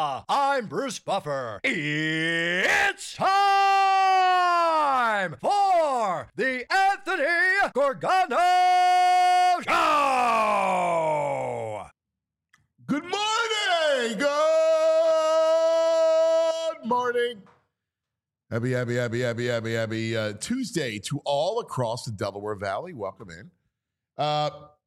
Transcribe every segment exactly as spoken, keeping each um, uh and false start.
I'm Bruce Buffer. It's time for the Anthony Gorgano Show. Good morning. Good morning. Happy, happy, happy, happy, happy, happy uh, Tuesday to all across the Delaware Valley. Welcome in. Uh,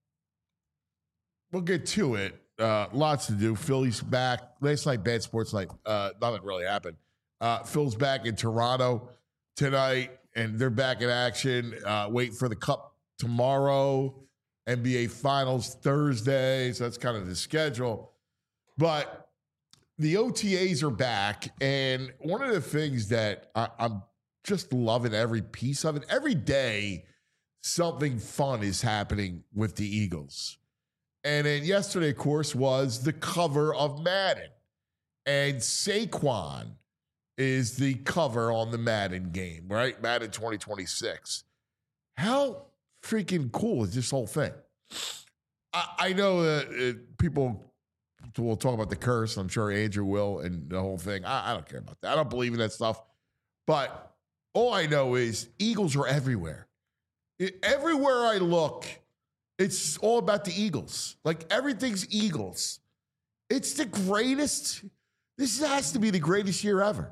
we'll get to it. Uh, lots to do. Philly's back. Last night, bad sports night. Uh, nothing really happened. Uh, Phil's back in Toronto tonight, and they're back in action. Uh, wait for the Cup tomorrow. N B A Finals Thursday. So that's kind of the schedule. But the O T As are back, and one of the things that I, I'm just loving every piece of it, every day, something fun is happening with the Eagles. And then yesterday, of course, was the cover of Madden. And Saquon is the cover on the Madden game, right? Madden twenty twenty-six. How freaking cool is this whole thing? I, I know that uh, people will talk about the curse. I'm sure Andrew will and the whole thing. I, I don't care about that. I don't believe in that stuff. But all I know is Eagles are everywhere. It, everywhere I look, it's all about the Eagles. Like, everything's Eagles. It's the greatest. This has to be the greatest year ever.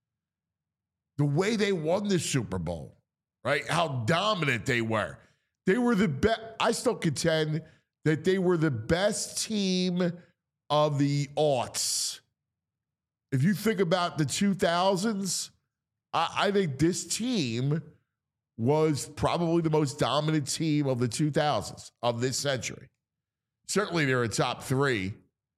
The way they won the Super Bowl, right? How dominant they were. They were the best. I still contend that they were the best team of the aughts. If you think about the two thousands, I, I think this team was probably the most dominant team of the two thousands of this century. Certainly they're a top three.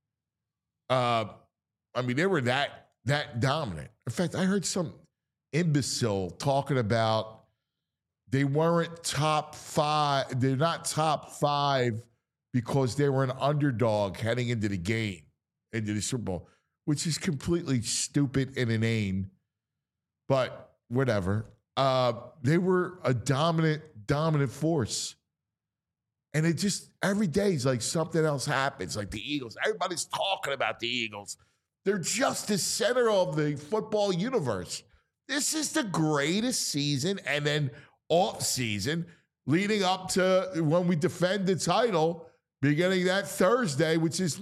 Uh, I mean, they were that that dominant. In fact, I heard some imbecile talking about they weren't top five. They're not top five because they were an underdog heading into the game, into the Super Bowl, which is completely stupid and inane. But whatever. Uh, they were a dominant, dominant force. And it just, every day is like something else happens. Like the Eagles. Everybody's talking about the Eagles. They're just the center of the football universe. This is the greatest season, and then off season leading up to when we defend the title beginning that Thursday, which is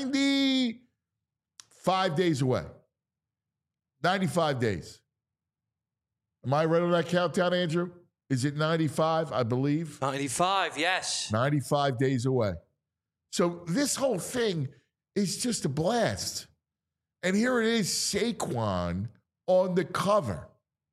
ninety-five days away. ninety-five days. Am I right on that countdown, Andrew? Is it ninety-five, I believe? ninety-five, yes. ninety-five days away. So this whole thing is just a blast. And here it is, Saquon on the cover.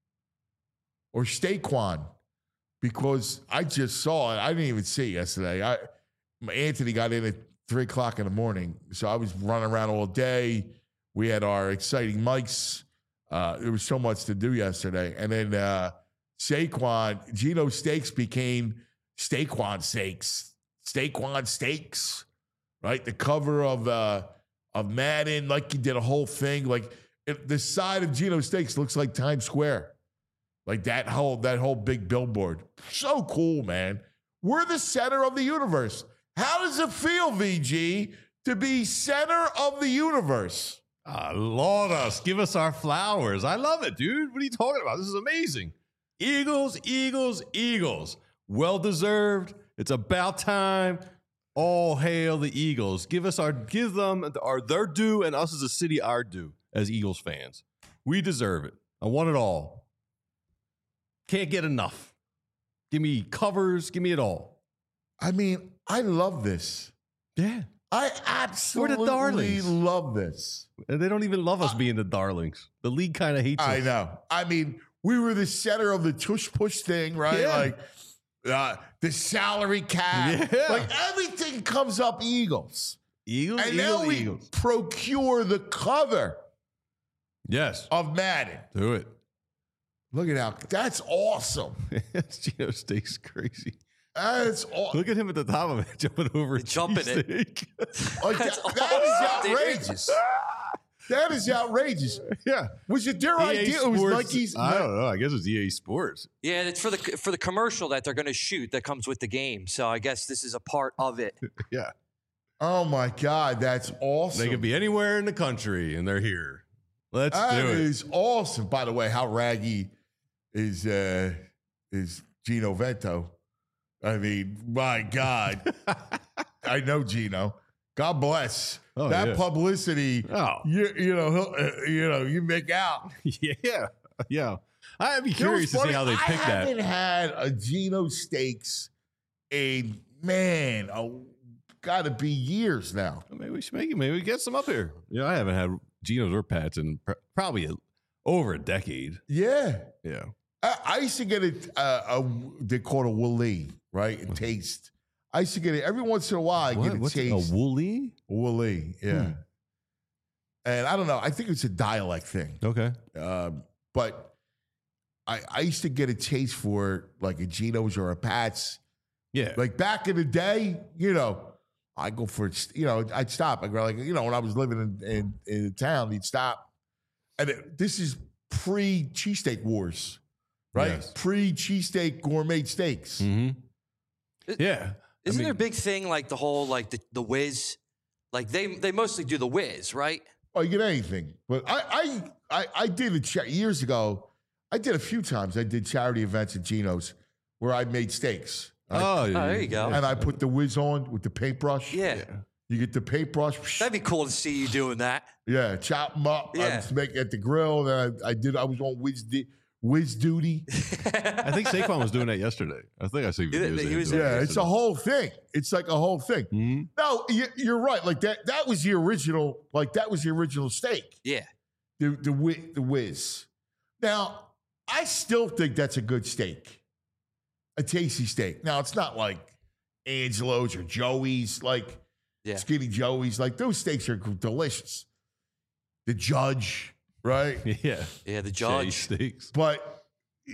Or Staquan, because I just saw it. I didn't even see it yesterday. I, Anthony got in at three o'clock in the morning, so I was running around all day. We had our exciting mics. Uh, there was so much to do yesterday. And then uh, Saquon, Geno Steaks became Staquan Steaks. Staquan Steaks, right? The cover of uh, of Madden, like he did a whole thing. Like it, the side of Geno Steaks looks like Times Square. Like that whole that whole big billboard. So cool, man. We're the center of the universe. How does it feel, V G, to be center of the universe? Uh, Lord us, give us our flowers. I love it, dude. What are you talking about? This is amazing. Eagles, Eagles, Eagles. Well-deserved. It's about time. All hail the Eagles. Give us our, give them our their due, and us as a city our due as Eagles fans. We deserve it. I want it all. Can't get enough. Give me covers. Give me it all. I mean, I love this. Yeah. I absolutely We're the darlings. love this. And they don't even love us uh, being the darlings. The league kind of hates us. I know. I mean, we were the center of the tush push thing, right? Yeah. Like uh, the salary cap. Yeah. Like everything comes up Eagles. Eagles, and Eagles, now we Eagles. procure the cover yes. of Madden. Do it. Look at how, that's awesome. Geno Steaks crazy. That's awesome. Look at him at the top of it, jumping over a jumping it. Like that, that is outrageous. That is outrageous. Yeah. Was it their E A idea? Sports, It was Nike's. I don't know. I guess it's E A Sports. Yeah, it's for the for the commercial that they're going to shoot that comes with the game. So I guess this is a part of it. Yeah. Oh my God, that's awesome. They could be anywhere in the country, and they're here. Let's That do it. is awesome. By the way, how raggy is uh, is Gino Vento? I mean, my God. I know Gino. God bless. Oh, that yeah. publicity, Oh. you, you know, he'll, uh, you know, you make out. Yeah, yeah. I'd be You know curious what's to see funny? how they I pick that. haven't had a Gino Steaks in, man, oh, got to be years now. Maybe we should make it. Maybe we get some up here. You know, I haven't had Geno's or Pat's in pr- probably a, over a decade. Yeah. Yeah. I, I used to get it, uh, a, they call it a Willie, right? A taste. I used to get it every once in a while. I What? get a What's it? taste. A woolly? Willie, yeah. Hmm. And I don't know. I think it's a dialect thing. Okay. Um, but I, I used to get a taste for like a Geno's or a Pat's. Yeah. Like back in the day, you know, I go for, you know, I'd stop. I go like, you know, when I was living in, in, in town, he'd stop. And it, this is pre cheesesteak wars, right? Yes. Pre cheesesteak gourmet steaks. Mm-hmm. Yeah. Isn't I there a mean- big thing like the whole like the, the whiz? Like they they mostly do the whiz, right? Oh, you get anything. But I I I, I did a cha- years ago. I did a few times. I did charity events at Geno's where I made steaks. I- Oh, yeah. there you go. and I put the whiz on with the paintbrush. Yeah. You get the paintbrush. That'd be cool to see you doing that. Yeah, chop them up. I Yeah. was making at the grill. And I, I did. I was on whiz, di- whiz duty. I think Saquon was doing that yesterday. I think I see He- videos. he of him was doing there Yeah, it it's a whole thing. It's like a whole thing. Mhm. No, you, you're right. Like that. That was the original. Like that was the original steak. Yeah. The the whiz, the whiz. Now, I still think that's a good steak, a tasty steak. Now, it's not like Angelo's or Joey's, like Yeah. Skinny Joey's. Like those steaks are delicious. The Judge, right? Yeah. Yeah, the Jay judge. steaks. But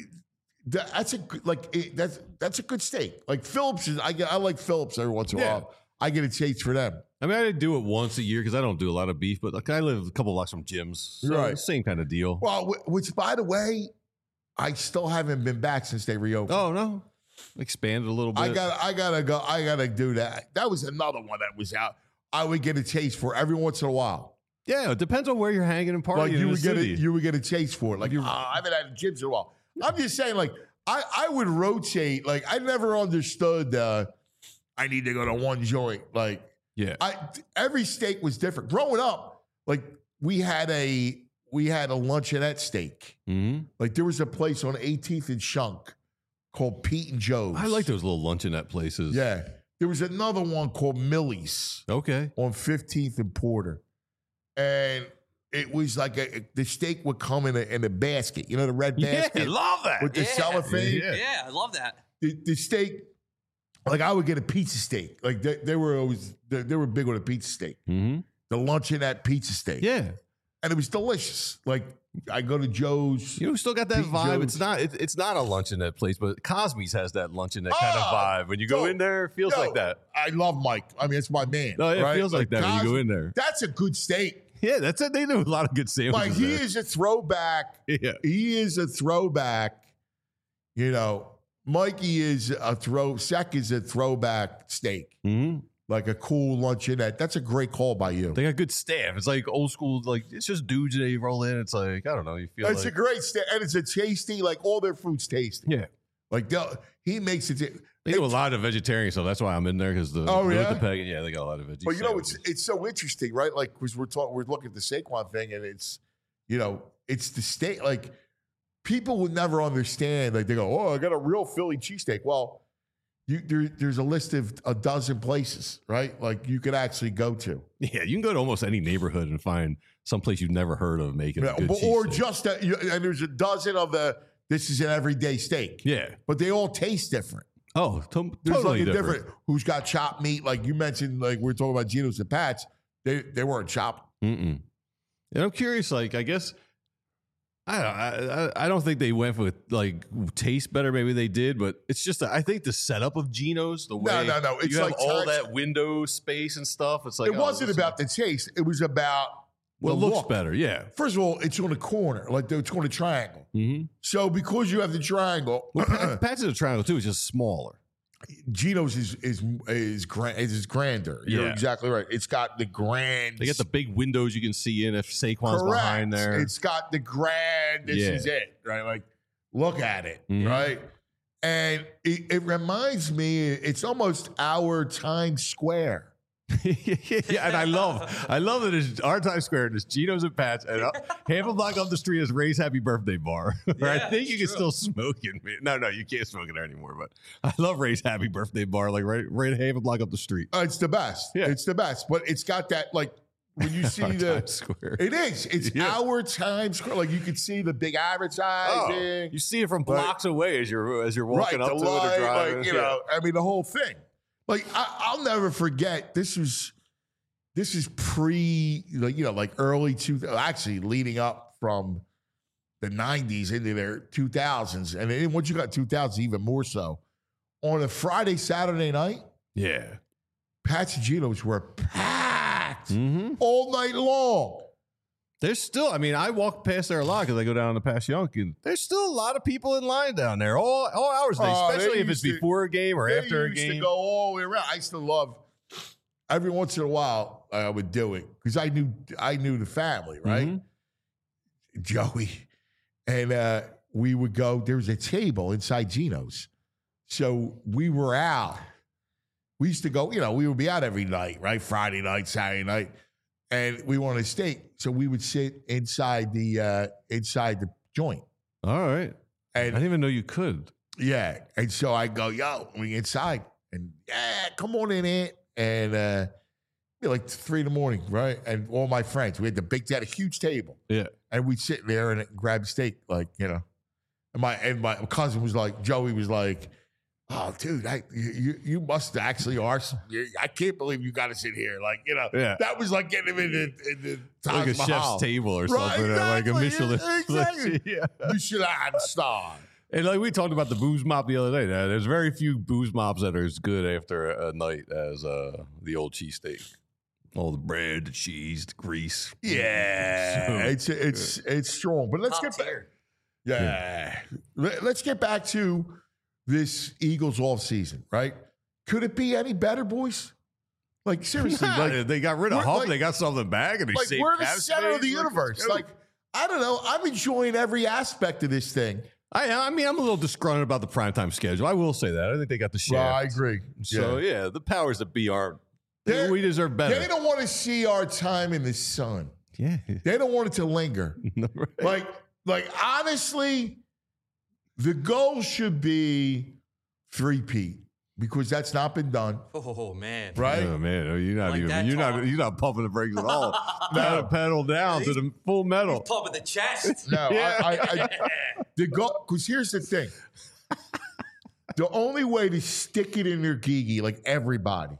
that, that's a good- like it, that's that's a good steak. Like Phillips is. I get. I like Phillips every once in a Yeah. while. I get a taste for them. I mean, I do it once a year because I don't do a lot of beef, but like I live a couple blocks from gyms. So Right. Same kind of deal. Well, wh- which by the way, I still haven't been back since they reopened. Oh, no. Expanded a little bit. I got. I gotta go. I gotta do that. That was another one that was out. I would get a taste for every once in a while. Yeah, it depends on where you're hanging and partying Like in you the would get a, city. you would get a taste for it. Like ah, I haven't had gyms in a while. I'm just saying, like I, I would rotate. Like I never understood. Uh, I need to go to one joint. Like yeah. I, every steak was different. Growing up, like we had a we had a luncheonette steak. Mm-hmm. Like there was a place on eighteenth and Shunk called Pete and Joe's. I like those little luncheonette places. Yeah, there was another one called Millie's Okay. on fifteenth and Porter, and it was like a the steak would come in a in a basket. You know the red Yeah, basket love that. with the Yeah. cellophane. Yeah. Yeah, I love that. The, the steak, like I would get a pizza steak. Like they, they were always they, they were big on a pizza steak. Mm-hmm. The luncheonette pizza steak. Yeah. And it was delicious. Like I go to Joe's. You know, still got that Pete vibe. Jones. It's not. It, it's not a luncheonette place, but Cosby's has that luncheonette kind of Oh, vibe. When you go yo, in there, it feels yo, like that. I love Mike. I mean, it's my man. No, it right? feels like, that when you go Cosby, in there. That's a good steak. Yeah, that's it. They do a lot of good sandwiches. Like he there. is a throwback. Yeah. He is a throwback. You know, Mikey is a throw. Sec is a throwback steak, Mm-hmm. like a cool luncheonette. That's a great call by you. They got good staff. It's like old school. Like it's just dudes they roll in. It's like I don't know. You feel It's like a great steak, and it's a tasty. Like all their food's tasty. yeah. Like they'll- he makes it. They do a lot of vegetarian stuff. That's why I'm in there because the Oh, with yeah? the pagan, yeah, they got a lot of veggies. But you know, it's it's so interesting, right? Like, because we're talking, we're looking at the Saquon thing, and it's, you know, it's the steak. Like, people would never understand. Like, they go, "Oh, I got a real Philly cheesesteak." Well, you there, there's a list of a dozen places, right? Like, you could actually go to, yeah. You can go to almost any neighborhood and find some place you've never heard of making Yeah, a good but- or cheesesteak. just a, you- and there's a dozen of the. This is an everyday steak, yeah. but they all taste different. Oh, to- There's totally like a different. different. Who's got chopped meat? Like you mentioned, like we are talking about Geno's and Pat's. They they weren't chopped. Mm-mm. And I'm curious. Like, I guess I don't. I, I I don't think they went with like taste better. Maybe they did, but it's just. I think the setup of Geno's, the way No, no, no, it's you have like all touch- that window space and stuff. It's like It oh, wasn't this is- about the taste. It was about Well, it the looks look. better. Yeah. First of all, it's on a corner, like it's on a triangle. Mm-hmm. So because you have the triangle, Well, Pat- Pat's is a triangle too. It's just smaller. Geno's is is is grand is grander. You're Yeah. exactly right. It's got the grand. They get the big windows you can see in if Saquon's correct. behind there. It's got the grand. This Yeah. is it, right? Like, look at it, Mhm. right? And it, it reminds me. It's almost our Times Square. yeah, and I love, I love that it's our Times Square. There's Geno's and Pat's, and uh, half a block up the street is Ray's Happy Birthday Bar. Where I Yeah, think you can it's still smoke it. No, no, you can't smoke it there anymore. But I love Ray's Happy Birthday Bar, like right, right half a block up the street. Uh, it's the best. Yeah. It's the best. But it's got that like when you see Our the. Times Square. It is. It's Yeah. our Times Square. Like you can see the big Oh, advertising. you see it from Right. blocks away as you're as you're walking right, up the to it or light, driving. like, you Yeah. know, I mean, the whole thing. Like, I, I'll never forget. This was, this is pre, like, you know, like early two. Actually, leading up from the nineties into their two thousands, and then once you got two thousands, even more so. On a Friday, Saturday night, yeah. Pat's and Geno's were packed Mm-hmm. all night long. There's still, I mean, I walk past there a lot because I go down to Passyunk. There's still a lot of people in line down there, all all hours of the day, Oh, they especially if it's used to- before a game or They after a used game. to go all the way around. I used to love. Every once in a while, I would do it because I knew I knew the family, right? Mhm. Joey, and uh, we would go. There was a table inside Geno's, so we were out. We used to go. You know, we would be out every night, right? Friday night, Saturday night, and we wanted steak, so we would sit inside the uh, inside the joint, All right. I and didn't even know you could. yeah, and so I go, yo, we inside, and yeah, come on in it, and uh, be like three in the morning, right? And all my friends, we had the big, they had a huge table, Yeah. and we'd sit there and grab steak, like you know. And my and my cousin was like, Joey was like, oh, dude, I you you must actually are. you- I can't believe you got to sit here, like you know. Yeah. That was like getting him in the, in the Like a Taj Mahal. chef's table or Right, something, or like a exactly, Michelin. exactly. yeah. Michelin star. And like we talked about the booze mop the other day. uh, There's very few booze mops that are as good after a night as uh, the old cheesesteak. All the bread, the cheese, the grease. Yeah, So it's it's it's strong. But let's Top get back. tier. Yeah, Let- let's get back to this Eagles off season. Right? Could it be any better, boys? Like seriously, Nah, like they got rid of we're Hump. like- they got something back, and they like saved we're the cap center of the space. Like, universe. dude. Like I don't know. I'm enjoying every aspect of this thing. I, I mean, I'm a little disgruntled about the primetime schedule. I will say that. I think they got the shaft. Well, I agree. So yeah. yeah, the powers that be are. They're- we deserve better. They don't want to see our time in the sun. yeah. They don't want it to linger. Right. Like, like honestly, the goal should be three-peat because that's not been done, Oh man. right? Oh man, you're not Like even. that You're not. talk. You're not pumping the brakes at all. No. Pedal, pedal down to the full metal. Pumping the chest. No, Yeah. I, I, I, the goal because here's the thing: the only way to stick it in their gigi, like everybody,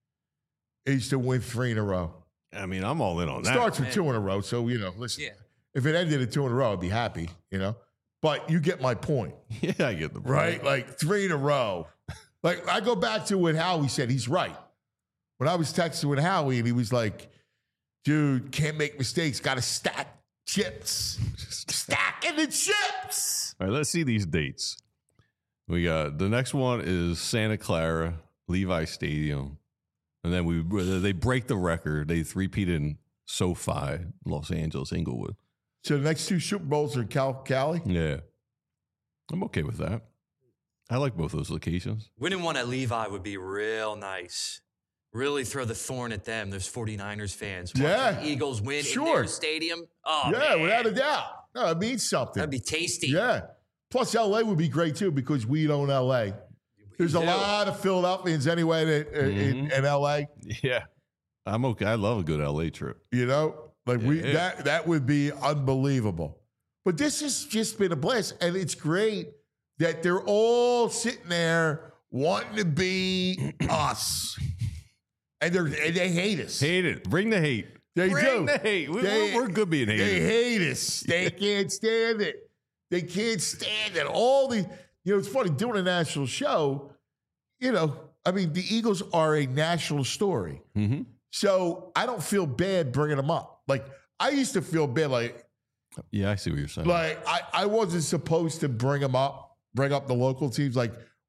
is to win three in a row. I mean, I'm all in on It that. starts with man. two in a row, so you know. Listen, Yeah. if it ended at two in a row, I'd be happy, you know. But you get my point. Yeah, I get the point. Right? Like three in a row. Like I go back to what Howie said. He's right. When I was texting with Howie and he was like, dude, can't make mistakes. Got to stack chips. Stacking the chips. All right, let's see these dates. We got the next one is Santa Clara, Levi Stadium, and then we they break the record. They three-peat in SoFi, Los Angeles, Inglewood. So the next two Super Bowls are Cal Cali. Yeah, I'm okay with that. I like both those locations. Winning one at Levi would be real nice. Really throw the thorn at them, those 49ers fans. Watching Yeah. the Eagles win in Sure. their stadium. Oh, yeah, man. without a doubt. No, it means something. That'd be tasty. Yeah. Plus, L A would be great too because we own L A. There's a do. lot of Philadelphians anyway that, uh, in, in L A. Yeah, I'm okay. I love a good L A trip. You know, like we Yeah. that that would be unbelievable. But this has just been a blast, and it's great that they're all sitting there wanting to be us, and they and they hate us. Hate it. Bring the hate. They Bring do. the hate. We, They- we're, we're good being They hated. hate us. They can't stand it. They can't stand it. All the you know, it's funny doing a national show. You know, I mean, the Eagles are a national story. Mm-hmm. So I don't feel bad bringing them up. Like I used to feel bad, like Yeah, I see what you're saying. like I, I wasn't supposed to bring them up, bring up the local teams. Like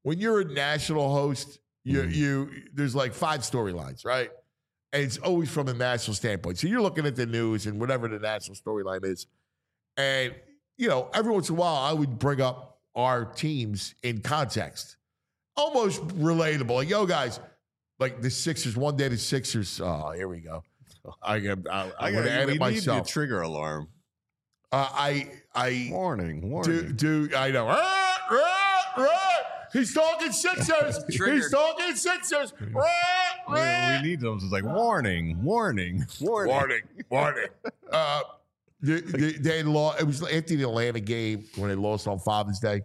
when you're a national host, you Mhm. you there's like five storylines, right? And it's always from a national standpoint. So you're looking at the news and whatever the national storyline is. And, you know, every once in a while, I would bring up our teams in context. Almost relatable. Like, yo, guys, like the Sixers, one day the Sixers, oh, here we go. I, I, I, I would add we it need myself. the trigger alarm. Uh, I, I, Warning, warning. do, do, I know. Ah, ah, ah. He's talking Sixers. He's Triggered. talking Sixers. Ah, we, ah. we need those. It's like warning, warning, warning. Warning, warning. Uh, they, they, they lost. It was after the Atlanta game when they lost on Father's Day,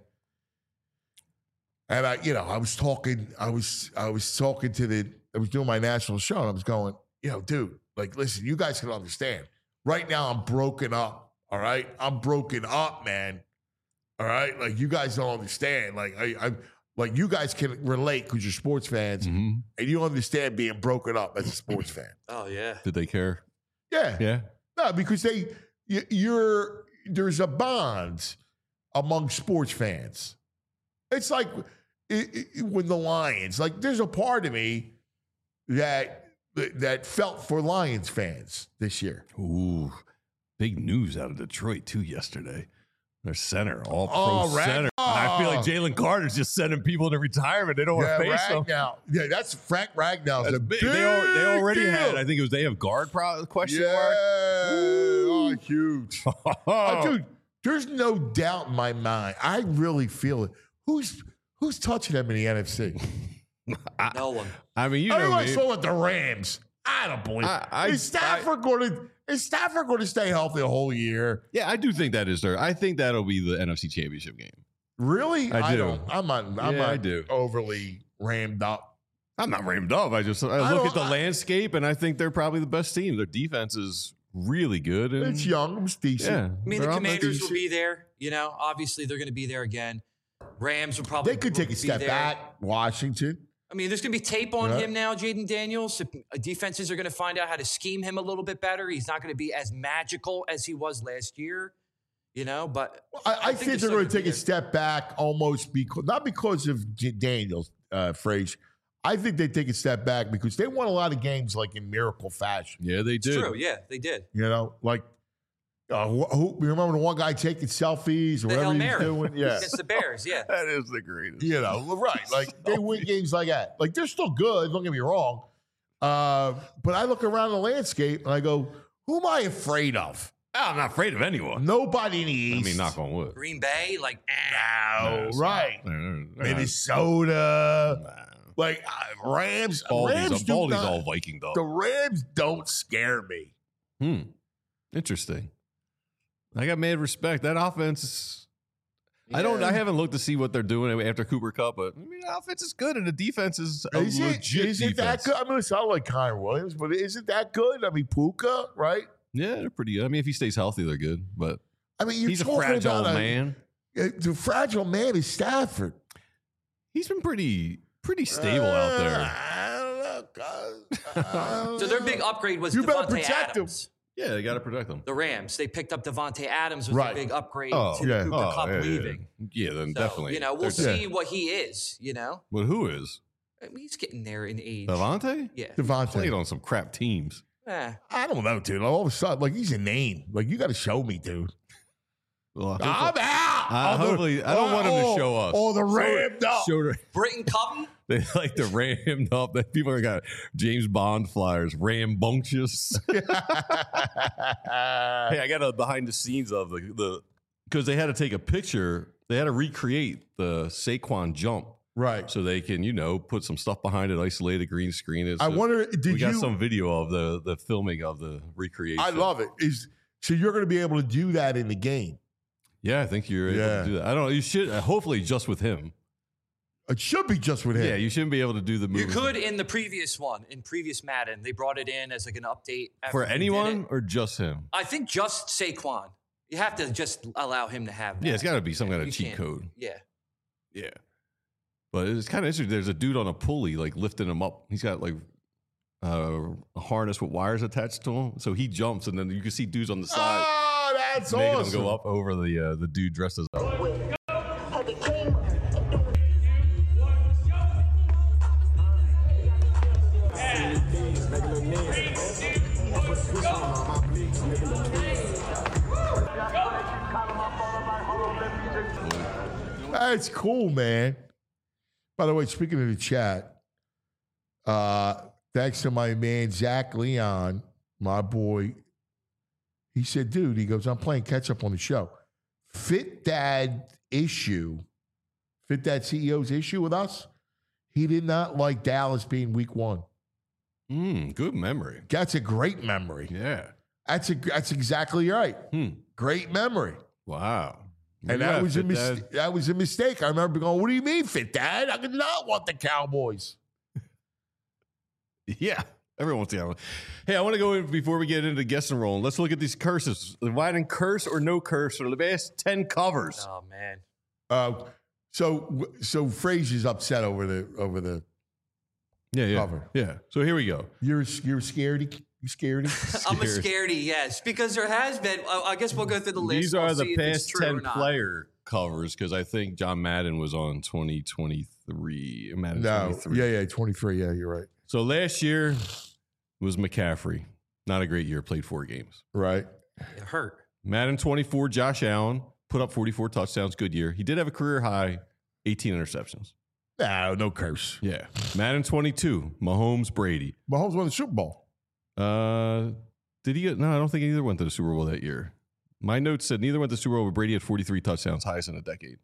and I, you know, I was talking. I was, I was talking to the. I was doing my national show, and I was going, you know, dude, like, listen, you guys can understand. Right now, I'm broken up. All right, I'm broken up, man. All right, like you guys don't understand. Like I, I like you guys can relate because you're sports fans, Mm-hmm. and you understand being broken up as a sports fan. Oh yeah. Did they care? Yeah, Yeah. no, because they, you, you're there's a bond among sports fans. It's like it, it, when the Lions, like there's a part of me that that felt for Lions fans this year. Ooh, big news out of Detroit too yesterday. Their center, all pro Oh, Ragnar. center. And I feel like Jalen Carter's just sending people into retirement. They don't want Yeah, to face them. Ragnall. Yeah, that's Frank Ragnall's That's a big. big They, al- they already deal. had, I think it was they have guard pro- question Yeah, mark. oh, huge. Oh, Uh, dude, there's no doubt in my mind. I really feel it. Who's who's touching them in the N F C? No one. I mean, you know Everyone me. saw with the Rams. I don't believe. I- I- is Stafford going to? Is Stafford going to stay healthy the whole year? Yeah, I do think that is there. I think that'll be the N F C Championship game. Really? I do. don't. I'm not. I'm Yeah, not I do. overly rammed up. I'm not rammed up. I just I I look don't- at the I- landscape and I think they're probably the best team. Their defense is really good. And It's young. It's decent. Yeah, I mean, they're the on Commanders decent. will be there. You know, obviously they're going to be there again. Rams will probably. They could take a be step there. back. Washington. I mean, there's going to be tape on Yeah. him now, Jaden Daniels. Uh, Defenses are going to find out how to scheme him a little bit better. He's not going to be as magical as he was last year, you know. But I, I, think, they're going to take a there. step back, almost because not because of J- Daniels, uh, phrase. I think they take a step back because they won a lot of games like in miracle fashion. yeah, they It's did. true. Yeah, they did. You know, like uh, who, who you remember the one guy taking selfies or The Hail whatever he was Mary doing? Yeah. against the Bears. Yeah. That is the greatest. You know, right. Like they win games like that. Like they're still good, don't get me wrong. Uh, but I look around the landscape and I go, who am I afraid of? I'm not afraid of anyone. Nobody in the East. I mean, knock on wood. Green Bay, like, eh. No, No, it's right. not. They're- they're Minnesota. not- nah. Like uh, Rams. Baldy's, Rams do Baldy's not- all Viking dog. The Rams don't scare me. Hmm. Interesting. I got mad respect. That offense is, I don't Yeah. I haven't looked to see what they're doing after Cooper Cup, but I mean the offense is good and the defense is a Is it, legit is it that defense. good? I mean, it sounds like Connor Williams, but isn't that good? I mean, Puka, right? Yeah, they're pretty good. I mean, if he stays healthy, they're good. But I mean, you're he's a talking fragile about a- man. uh, the fragile man is Stafford. He's been pretty pretty stable out Uh, there. I don't know. guys. I don't So their know. big upgrade was You better Devontae protect him. Adams. Yeah, they got to protect him. The Rams, they picked up Devontae Adams was Right. a big upgrade Oh, to yeah. Cooper Oh, Cup yeah, yeah, leaving. Yeah, Yeah, then So, definitely. You know, we'll They're- see what he is, you know. But who is? I mean, he's getting there in age. Devontae? Yeah. Devontae. Played on some crap teams. Eh. I don't know, dude. All of a sudden, like he's a name. Like you got to show me, dude. Well, I'm out. Uh, Oh, the- hopefully- I don't want him to oh, show us. Oh, the rammed up. Showed Britton Covey? They like to ram up. That people are got James Bond flyers, rambunctious. Hey, I got a behind the scenes of the the because they had to take a picture. They had to recreate the Saquon jump Right. so they can you know put some stuff behind it, isolate a green screen it. I So wonder. we Did got you? some video of the the filming of the recreation. I love it. Is so you're going to be able to do that in the game. Yeah, I think you're able Yeah. to do that. I don't know. You should uh, hopefully just with him. It should be just with him. Yeah, you shouldn't be able to do the move. You could in the previous one, in previous Madden. They brought it in as like an update. after for they did anyone it. or just him. I think just Saquon. You have to just allow him to have that. Yeah, it's got to be some kind of You cheat can't- code. Yeah. Yeah. But it's kind of interesting. There's a dude on a pulley, like lifting him up. He's got like uh, a harness with wires attached to him. So he jumps, and then you can see dudes on the side Oh, that's making awesome. him go up over the uh, the dude dressed as. Had the king That's cool, man. By the way, speaking of the chat, uh, thanks to my man, Zach Leon, my boy. He said, dude, he goes, I'm playing catch up on the show. Fit Dad issue, Fit Dad C E O's issue with us, he did not like Dallas being week one. Mm, good memory. That's a great memory. Yeah. That's a, that's exactly right. Hmm. Great memory. Wow. And Yeah, that was a Fit mis- Dad. that was a mistake. I remember going, what do you mean, Fit Dad? I did not want the Cowboys. Yeah. Everyone wants the other one. Hey, I want to go in before we get into guessing rolling. Let's look at these curses. Dividing curse or no curse for the last ten covers. Oh man. Uh, so so Frazier's upset over the over the Yeah, yeah. cover. Yeah. So here we go. You're you're scaredy. You scaredy? I'm a Scared. scaredy, yes, because there has been. I I guess we'll go through the list. These We'll are the see if it's past true or ten not. player covers because I think John Madden was on twenty twenty-three. Madden No. twenty-three. Yeah, yeah, twenty-three. Yeah, you're right. So last year was McCaffrey. Not a great year. Played four games. Right. It hurt. Madden twenty-four, Josh Allen put up forty-four touchdowns. Good year. He did have a career high eighteen interceptions. No, no curse. Yeah. Madden twenty-two, Mahomes, Brady. Mahomes won the Super Bowl. Uh, did he? No, I don't think either went to the Super Bowl that year. My notes said neither went to the Super Bowl, but Brady had forty-three touchdowns, highest in a decade.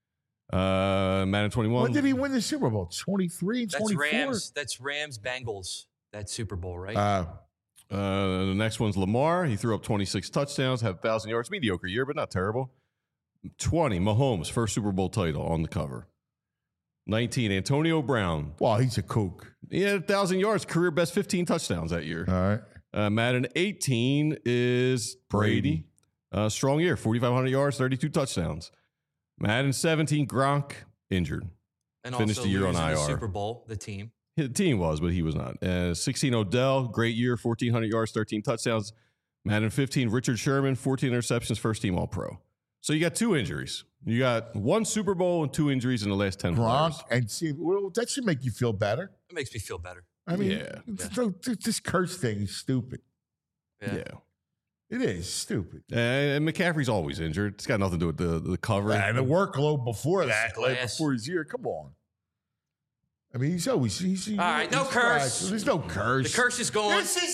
Uh, Madden twenty-one. When did he win the Super Bowl? twenty-three and That's twenty-four? Rams. That's Rams Bengals. That Super Bowl, right? Uh, Uh, the next one's Lamar. He threw up twenty-six touchdowns, had one thousand yards. Mediocre year, but not terrible. twenty, Mahomes, first Super Bowl title on the cover. nineteen, Antonio Brown. well, he's a kook. He had one thousand yards, career best fifteen touchdowns that year. All right. Uh, Madden eighteen is Brady. Uh, strong year, forty-five hundred yards, thirty-two touchdowns. Madden seventeen, Gronk, injured. and finished also the year on losing I R. the Super Bowl, the team. The team was, but he was not. Uh, sixteen, Odell, great year, fourteen hundred yards, thirteen touchdowns. Madden fifteen, Richard Sherman, fourteen interceptions, first team All-Pro. So you got two injuries. You got one Super Bowl and two injuries in the last ten Gronk players. and see, well, that should make you feel better. It makes me feel better. I mean, Yeah. it's so- this curse thing is stupid. Yeah. Yeah. It is stupid. Uh, and McCaffrey's always injured. It's got nothing to do with the, the cover. And the workload before It's that, like glass. before his year, come on. I mean, he's always he's. he's All right, no he's curse. fried. There's no curse. The curse is going. This is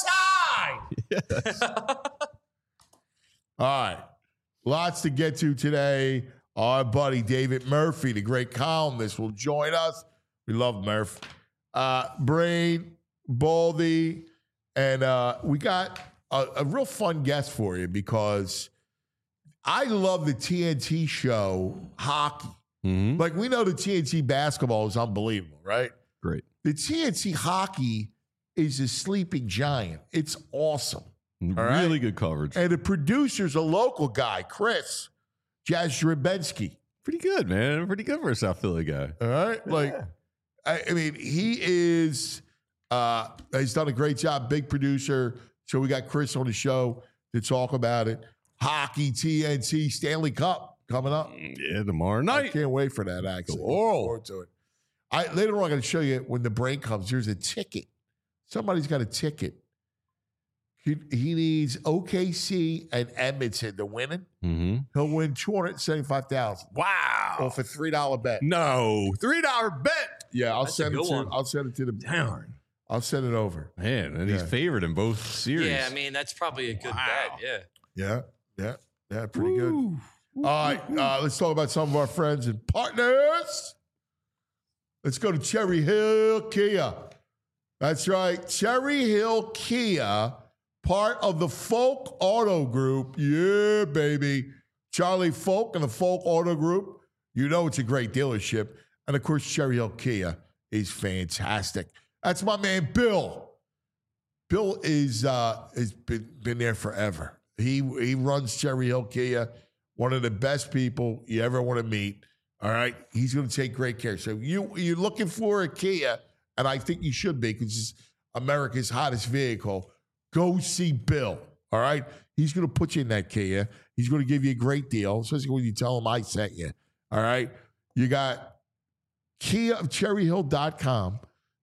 our side. All right, lots to get to today. Our buddy David Murphy, the great columnist, will join us. We love Murph. Uh, Brain, Baldy, and uh, we got a, a real fun guest for you because I love the T N T show hockey. Mhm. Like, we know the T N T basketball is unbelievable, right? Great. The T N T hockey is a sleeping giant. It's awesome. Really right. good coverage. And the producer's a local guy, Chris Jastrzębski. Pretty good, man. Pretty good for a South Philly guy. All right? Like, I, I mean, he is, uh, he's done a great job, big producer. So we got Chris on the show to talk about it. Hockey, T N T, Stanley Cup coming up. Yeah, tomorrow I night. can't wait for that, actually. Looking Oh. forward to it. I, later on, I'm going to show you when the break comes. There's a ticket. Somebody's got a ticket. He, he needs O K C and Edmonton to win it. Mm-hmm. He'll win two hundred seventy-five thousand Wow. off a three dollar bet. No. three dollar bet. Yeah, I'll That's a send it good to. one. I'll send it to the. Darn. I'll send it over. Man, and he's Yeah. favored in both series. Yeah, I mean that's probably a good Wow. bet. Yeah. Yeah, yeah, yeah. Pretty good. Woo. All right, uh, let's talk about some of our friends and partners. Let's go to Cherry Hill Kia. That's right, Cherry Hill Kia, part of the Folk Auto Group. Yeah, baby. Charlie Folk and the Folk Auto Group. You know it's a great dealership. And of course, Cherry Hill Kia is fantastic. That's my man, Bill. Bill is uh, has been, been there forever. He he runs Cherry Hill Kia, one of the best people you ever want to meet. All right, he's going to take great care. So you you're looking for a Kia, and I think you should be because it's America's hottest vehicle. Go see Bill. All right, he's going to put you in that Kia. He's going to give you a great deal, especially when you tell him I sent you. All right, you got Kia of Cherry Hill dot com.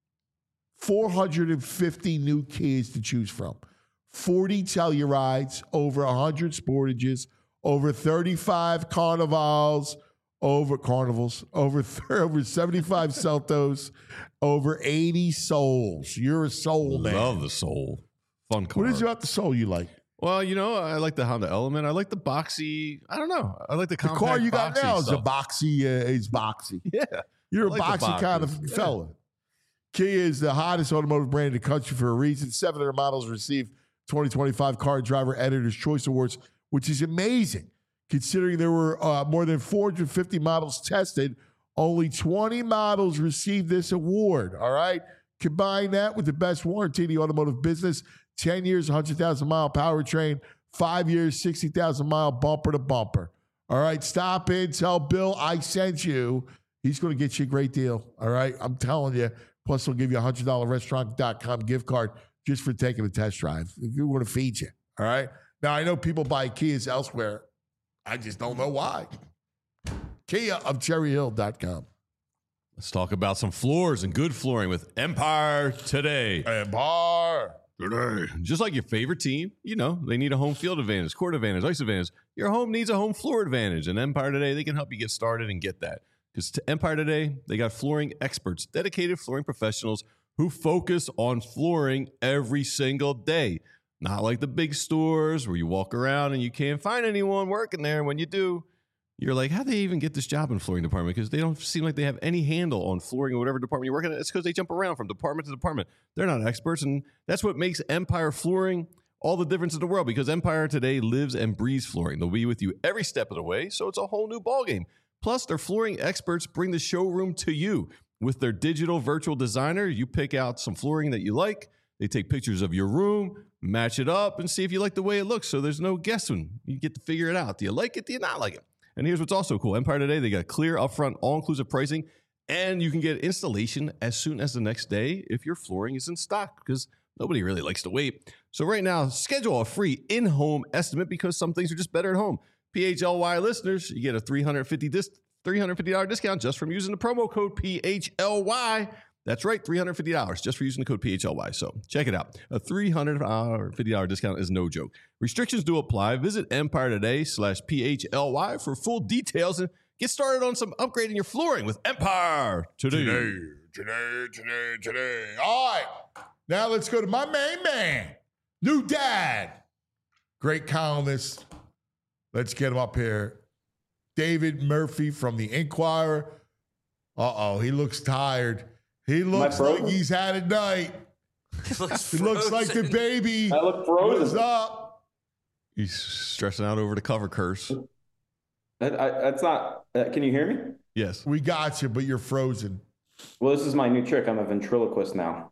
four hundred fifty new Kias to choose from. forty Tellurides, over one hundred Sportages, over thirty-five Carnivals, over Carnivals, over over seventy-five Celtos, over eighty Souls. You're a Soul man. Love the Soul. Fun car. What is it about the Soul you like? Well, you know, I like the Honda Element. I like the boxy. I don't know. I like the The compact car you got boxy now is a stuff. boxy. Uh, is boxy. Yeah. You're I a like the boxy kind boxes. of Yeah. fella. Kia is the hottest automotive brand in the country for a reason. seven hundred models received twenty twenty-five Car and Driver Editor's Choice Awards, which is amazing. Considering there were uh, more than four hundred fifty models tested, only twenty models received this award, all right? Combine that with the best warranty in the automotive business, ten years, one hundred thousand mile powertrain, five years, sixty thousand mile bumper to bumper. All right, stop in, tell Bill I sent you. He's going to get you a great deal, all right? I'm telling you. Plus, he'll give you a one hundred dollars restaurant dot com gift card just for taking a test drive. If you want to feed you, all right? Now, I know people buy Kias elsewhere. I just don't know why. Kia of cherry hill dot com. Let's talk about some floors and good flooring with Empire Today. And bar. Today. Just like your favorite team, you know, they need a home field advantage, court advantage, ice advantage. Your home needs a home floor advantage. And Empire Today, they can help you get started and get that. Because to Empire Today, they got flooring experts, dedicated flooring professionals who focus on flooring every single day. Not like the big stores where you walk around and you can't find anyone working there. When you do, you're like, how'd they even get this job in flooring department? Because they don't seem like they have any handle on flooring or whatever department you're working at. It's because they jump around from department to department. They're not experts. And that's what makes Empire Flooring all the difference in the world, because Empire Today lives and breathes flooring. They'll be with you every step of the way. So it's a whole new ballgame. Plus, their flooring experts bring the showroom to you. With their digital virtual designer, you pick out some flooring that you like. They take pictures of your room, match it up, and see if you like the way it looks. So there's no guessing. You get to figure it out. Do you like it? Do you not like it? And here's what's also cool. Empire Today, they got clear, upfront, all-inclusive pricing, and you can get installation as soon as the next day if your flooring is in stock, because nobody really likes to wait. So right now, schedule a free in-home estimate, because some things are just better at home. P H L Y listeners, you get a three hundred fifty dollars dis- three hundred fifty dollars discount just from using the promo code P H L Y. That's right, three hundred fifty dollars just for using the code P H L Y. So check it out. A three hundred fifty dollars discount is no joke. Restrictions do apply. Visit Empire Today slash P H L Y for full details and get started on some upgrading your flooring with Empire Today. Today, today, today, today. All right. Now let's go to my main man, New Dad. Great columnist. Let's get him up here. David Murphy from the Inquirer. Uh-oh, he looks tired. He looks like he's had a night. He looks, He looks like the baby. I look What's frozen. up? He's stressing out over the cover curse. That, I, that's not. Uh, can you hear me? Yes. We got you, but you're frozen. Well, this is my new trick. I'm a ventriloquist now.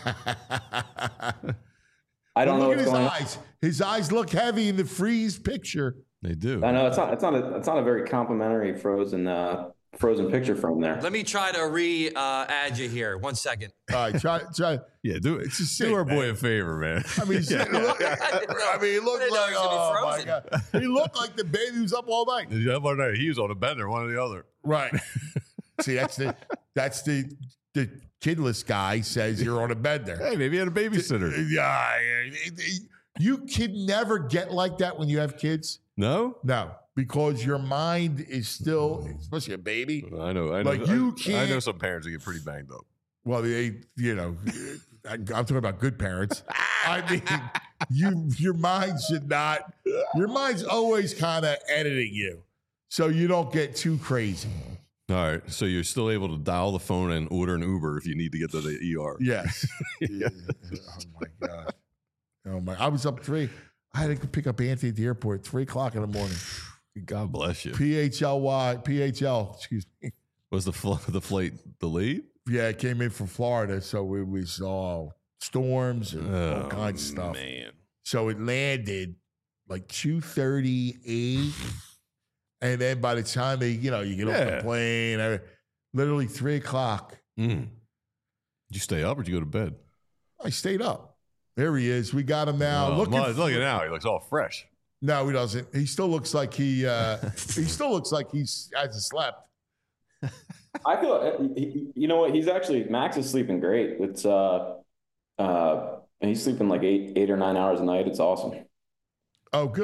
I don't Well, know look at what's his going on. eyes. His eyes look heavy in the freeze picture. They do. I know it's not. It's not. A, it's not a very complimentary frozen. Uh, frozen picture from there. Let me try to re uh, add you here. One second. All right, try, try. Yeah, do it. It's just Do sick, our boy man. a favor, man. I mean, Yeah. look, I didn't know- I mean, he I looked didn't know like, he was gonna be oh my frozen. God. He looked like the baby who's up all night. The other night, he was on a bender, one or the other. Right. See, that's the, that's the, the kidless guy says you're on a bender. Hey, maybe he had a babysitter. Yeah, yeah. You can never get like that when you have kids. No? No, because your mind is still, especially a baby. I know. I know. Like, you I, I know can't- some parents that get pretty banged up. Well, they, you know, I- I'm talking about good parents. I mean, you, your mind should not. Your mind's always kind of editing you, so you don't get too crazy. All right. So you're still able to dial the phone and order an Uber if you need to get to the E R. Yes. Yeah. Oh my God. Oh my! I was up three. I had to pick up Anthony at the airport at three o'clock in the morning. God bless you. P H L Y, P H L. Excuse me. Was the fl- the flight delayed? Yeah, it came in from Florida, so we, we saw storms and all Oh, kinds of stuff. Man. So it landed like two thirty-eight, and then by the time they, you know, you get off Yeah. the plane, uh, literally three o'clock. Mm. Did you stay up or did you go to bed? I stayed up. There he is. We got him now. Oh, Looking well, for- look at now. He looks all fresh. No, he doesn't. He still looks like he. Uh, he still looks like he's hasn't slept. I feel. You know what? He's actually Max is sleeping great. It's uh, uh, he's sleeping like eight, eight or nine hours a night. It's awesome. Oh, good,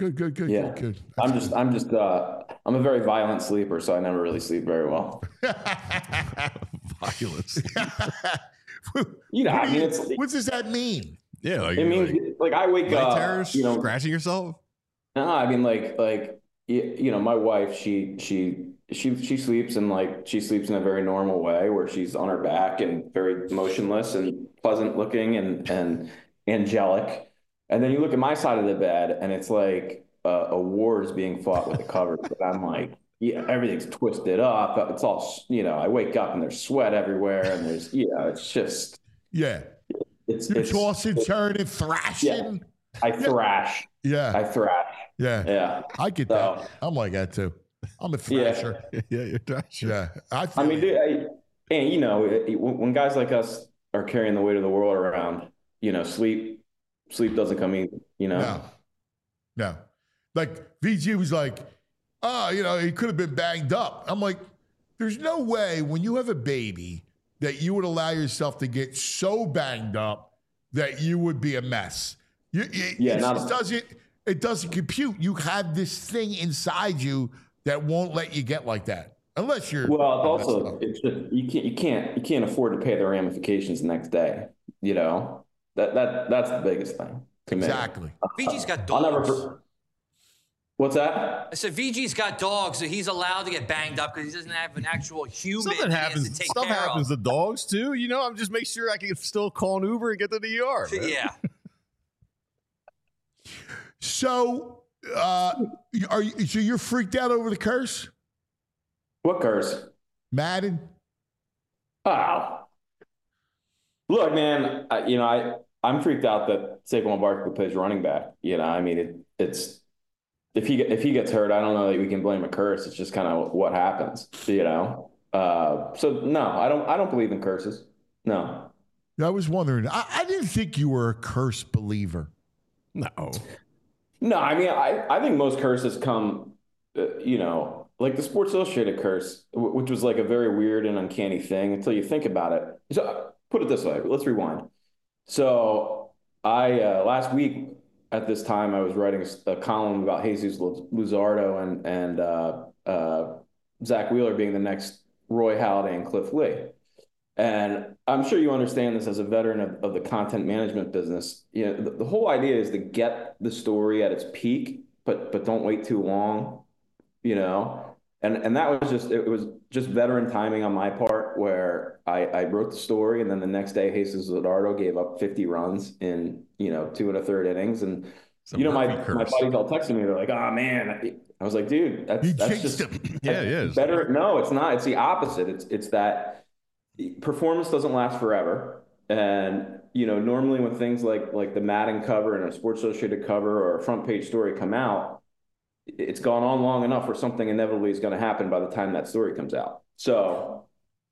Good, good, good, Yeah. good, good. I'm That's just, I'm just, uh, I'm a very violent sleeper, so I never really sleep very well. Violence. You know, What I do mean, you- it's, what does that mean? Yeah, like, it means like like, I wake night up, terrors, you know, scratching yourself. no, I mean, like, like, you, you know, my wife, she, she, she, she sleeps and like, she sleeps in a very normal way where she's on her back and very motionless and pleasant looking and, and angelic. And then you look at my side of the bed and it's like uh, a war is being fought with the covers. But I'm like, yeah, everything's twisted up. It's all, you know, I wake up and there's sweat everywhere and there's, you know, it's just, Yeah. it's, You're it's, tossing, turning, thrashing. I thrash. Yeah. I thrash. Yeah. Yeah. I get So- that. I'm like that too. I'm a Yeah. thrasher. Yeah, you're trash. Yeah. I, feel I mean, you. dude, I, and you know, it- it- when guys like us are carrying the weight of the world around, you know, sleep, sleep doesn't come easy. You know, No. No. Like V G was like, oh, you know, he could have been banged up. I'm like, there's no way when you have a baby that you would allow yourself to get so banged up that you would be a mess. You, it, Yeah, it not- just doesn't, it doesn't compute. You have this thing inside you that won't let you get like that. Unless you're well, it's messed also up. it's just you can't you can't you can't afford to pay the ramifications the next day. You know, that that that's the biggest thing to me. Exactly. V G's got I'll dogs. never. What's that? I said V G's got dogs, so he's allowed to get banged up because he doesn't have an actual human. Something he has happens. to take Stuff care happens of. to dogs too. You know, I'm just make sure I can still call an Uber and get to the E R. man. Yeah. So, uh, are you, so you're freaked out over the curse, What curse? Madden? Oh, look, man. I, you know, I I'm freaked out that Saquon Barkley plays running back. You know, I mean, it, it's if he if he gets hurt, I don't know that we can blame a curse. It's just kind of what happens. You know. Uh, so no, I don't I don't believe in curses. No. I was wondering. I, I didn't think you were a curse believer. No. No, I mean, I, I think most curses come, uh, you know, like the Sports Illustrated curse, w- which was like a very weird and uncanny thing until you think about it. So uh, put it this way, let's rewind. So I, uh, last week at this time, I was writing a, a column about Jesus Luzardo and, and uh, uh, Zach Wheeler being the next Roy Halladay and Cliff Lee. And I'm sure you understand this as a veteran of, of the content management business. You know, the, the whole idea is to get the story at its peak, but but don't wait too long, you know. And and that was just it was just veteran timing on my part, where I, I wrote the story, and then the next day, Jesus Luzardo gave up fifty runs in you know two and a third innings, and It's a you know my Murphy my curse. buddies all texting me. They're like, "Oh man," I was like, "Dude, that's You that's jinxed just him. Yeah, it is. better." No, it's not. It's the opposite. It's it's that performance doesn't last forever, and you know normally when things like like the Madden cover and a Sports Illustrated cover or a front page story come out, it's gone on long enough where something inevitably is going to happen by the time that story comes out. So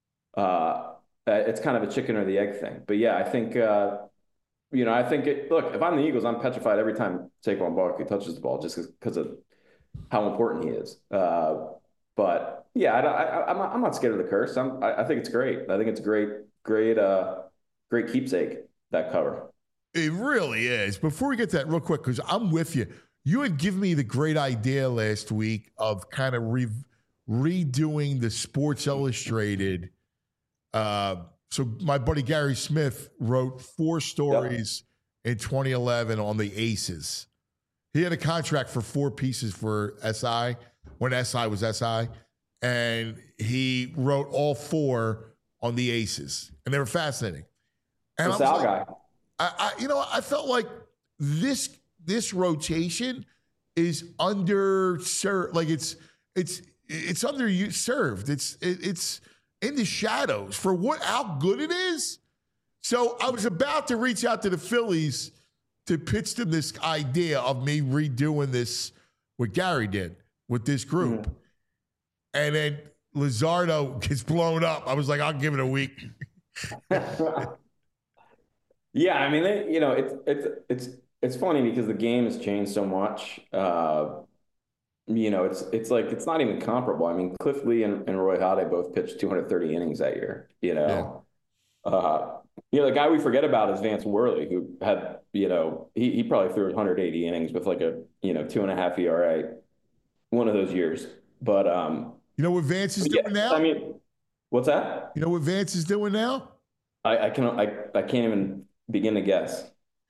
uh, it's kind of a chicken or the egg thing. But yeah, I think uh, you know I think it, look, if I'm the Eagles, I'm petrified every time Saquon Barkley touches the ball just because of how important he is. Uh, but yeah, I, I, I'm not, I'm not scared of the curse. I'm, I, I think it's great. I think it's great, great, uh, great keepsake, that cover. It really is. Before we get to that real quick, because I'm with you. You had given me the great idea last week of kind of re- redoing the Sports Illustrated. Uh, so my buddy Gary Smith wrote four stories in twenty eleven on the Aces. He had a contract for four pieces for S I when S I was S I. And he wrote all four on the Aces. And they were fascinating. And The I was Sal like, guy. I, I, you know, I felt like this this rotation is underserved. Like it's it's it's underserved. It's it, it's in the shadows for what how good it is. So I was about to reach out to the Phillies to pitch them this idea of me redoing this, what Gary did with this group, Mm-hmm. and then Luzardo gets blown up. I was like, I'll give it a week. Yeah, I mean, they, you know, it's it's it's it's funny because the game has changed so much. Uh, you know, it's it's like it's not even comparable. I mean, Cliff Lee and, and Roy Halladay both pitched two hundred thirty innings that year. You know, uh, You know, the guy we forget about is Vance Worley, who had, you know, he, he probably threw one hundred eighty innings with like a, you know, two and a half E R A one of those years. But, um, You know what Vance is yeah, doing now? I mean, what's that? You know what Vance is doing now? I, I can I, I can't even begin to guess.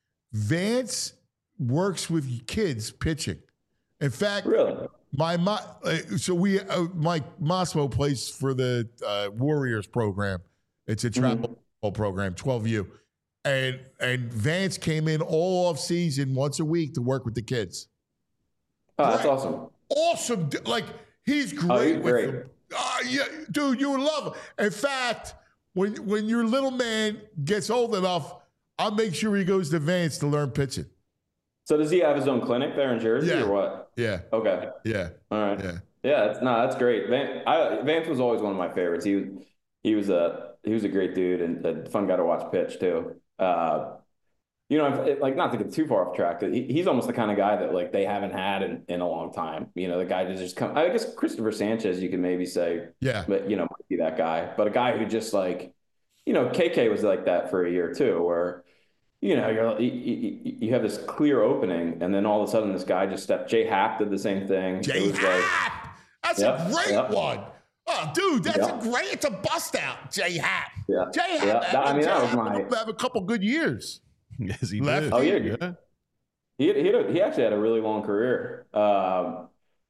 Vance works with kids pitching. In fact, Really? my mo- uh, so we uh, Mike Mossmo plays for the uh, Warriors program. It's a travel Mm-hmm. program, twelve U, and and Vance came in all off season once a week to work with the kids. Oh, that's Right. awesome. Awesome, like he's great Oh, he's with great. them. Uh, yeah, dude, you would love him. In fact, when when your little man gets old enough, I'll make sure he goes to Vance to learn pitching. So does he have his own clinic there in Jersey Yeah. or what? Yeah, Okay. yeah, All right. yeah. Yeah, that's no, that's great. Van, I, Vance was always one of my favorites. He was he was a he was a great dude and a fun guy to watch pitch too. Uh, you know, if- like not to get too far off track, he, he's almost the kind of guy that like they haven't had in, in a long time. You know, the guy to just come. I guess Christopher Sanchez, you could maybe say, Yeah. but you know, might be that guy. But a guy who just like, you know, K K was like that for a year too, where you know you're you, you, you have this clear opening, and then all of a sudden this guy just stepped. Jay Happ did the same thing. It J was like- Happ. That's Yep, a great yep. one. Oh, dude, that's Yep. a great. It's a bust out, J Happ. Yeah. J Happ. Yeah, that- I mean, that was my- have a couple good years. Yes, he Left. did. Oh, yeah. He he had a, he actually had a really long career. Um,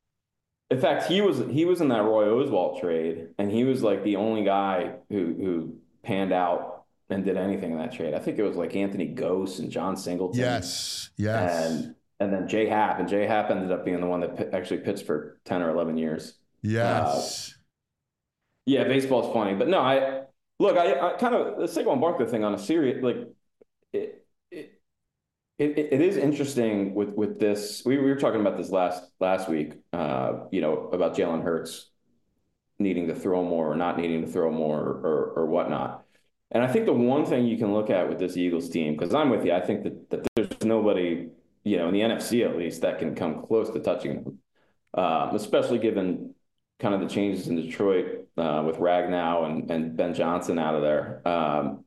in fact, he was he was in that Roy Oswalt trade, and he was like the only guy who who panned out and did anything in that trade. I think it was like Anthony Gose and John Singleton. Yes, yes, And and then Jay Happ, and Jay Happ ended up being the one that pi- actually pitched for ten or eleven years. yes. Yeah, baseball's funny, but no, I look, I, I kind of the Saquon Barkley thing on a serious like it, it it it is interesting with with this. We, we were talking about this last last week, uh, you know, about Jalen Hurts needing to throw more or not needing to throw more or, or or whatnot. And I think the one thing you can look at with this Eagles team, because I'm with you, I think that, that there's nobody, you know, in the N F C at least, that can come close to touching them, um, especially given kind of the changes in Detroit uh, with Ragnow and, and Ben Johnson out of there. Um,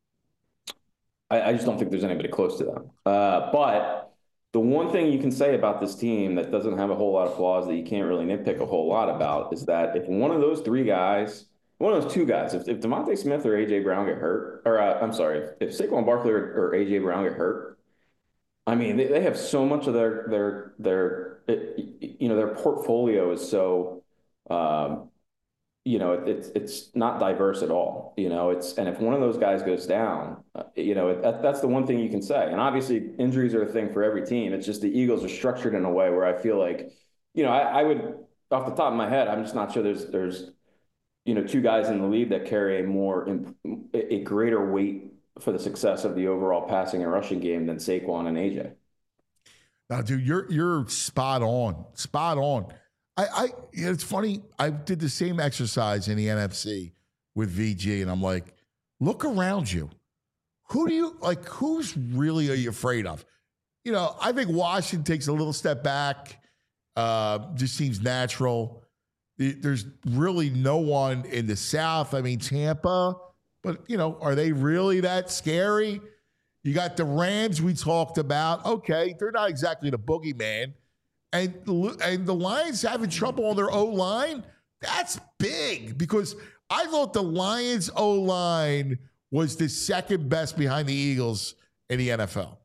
I, I just don't think there's anybody close to them. Uh, but the one thing you can say about this team that doesn't have a whole lot of flaws that you can't really nitpick a whole lot about is that if one of those three guys, one of those two guys, if, if DeVonta Smith or A J Brown get hurt, or uh, I'm sorry, if, if Saquon Barkley or, or A J Brown get hurt, I mean, they, they have so much of their, their, their, it, you know, their portfolio is so, um, you know, it, it's it's not diverse at all. You know, it's and if one of those guys goes down, uh, you know, that, that's the one thing you can say. And obviously, injuries are a thing for every team. It's just the Eagles are structured in a way where I feel like, you know, I, I would off the top of my head, I'm just not sure there's there's, you know, two guys in the league that carry a more a greater weight for the success of the overall passing and rushing game than Saquon and A J. Now, dude, you're you're spot on, spot on. I, I you know, it's funny. I did the same exercise in the N F C with V G, and I'm like, look around you. Who do you like? Who's really are you afraid of? You know, I think Washington takes a little step back. Uh, just seems natural. There's really no one in the South. I mean, Tampa, but you know, are they really that scary? You got the Rams we talked about. Okay, they're not exactly the boogeyman. And, and the Lions having trouble on their O-line, that's big because I thought the Lions O-line was the second best behind the Eagles in the N F L.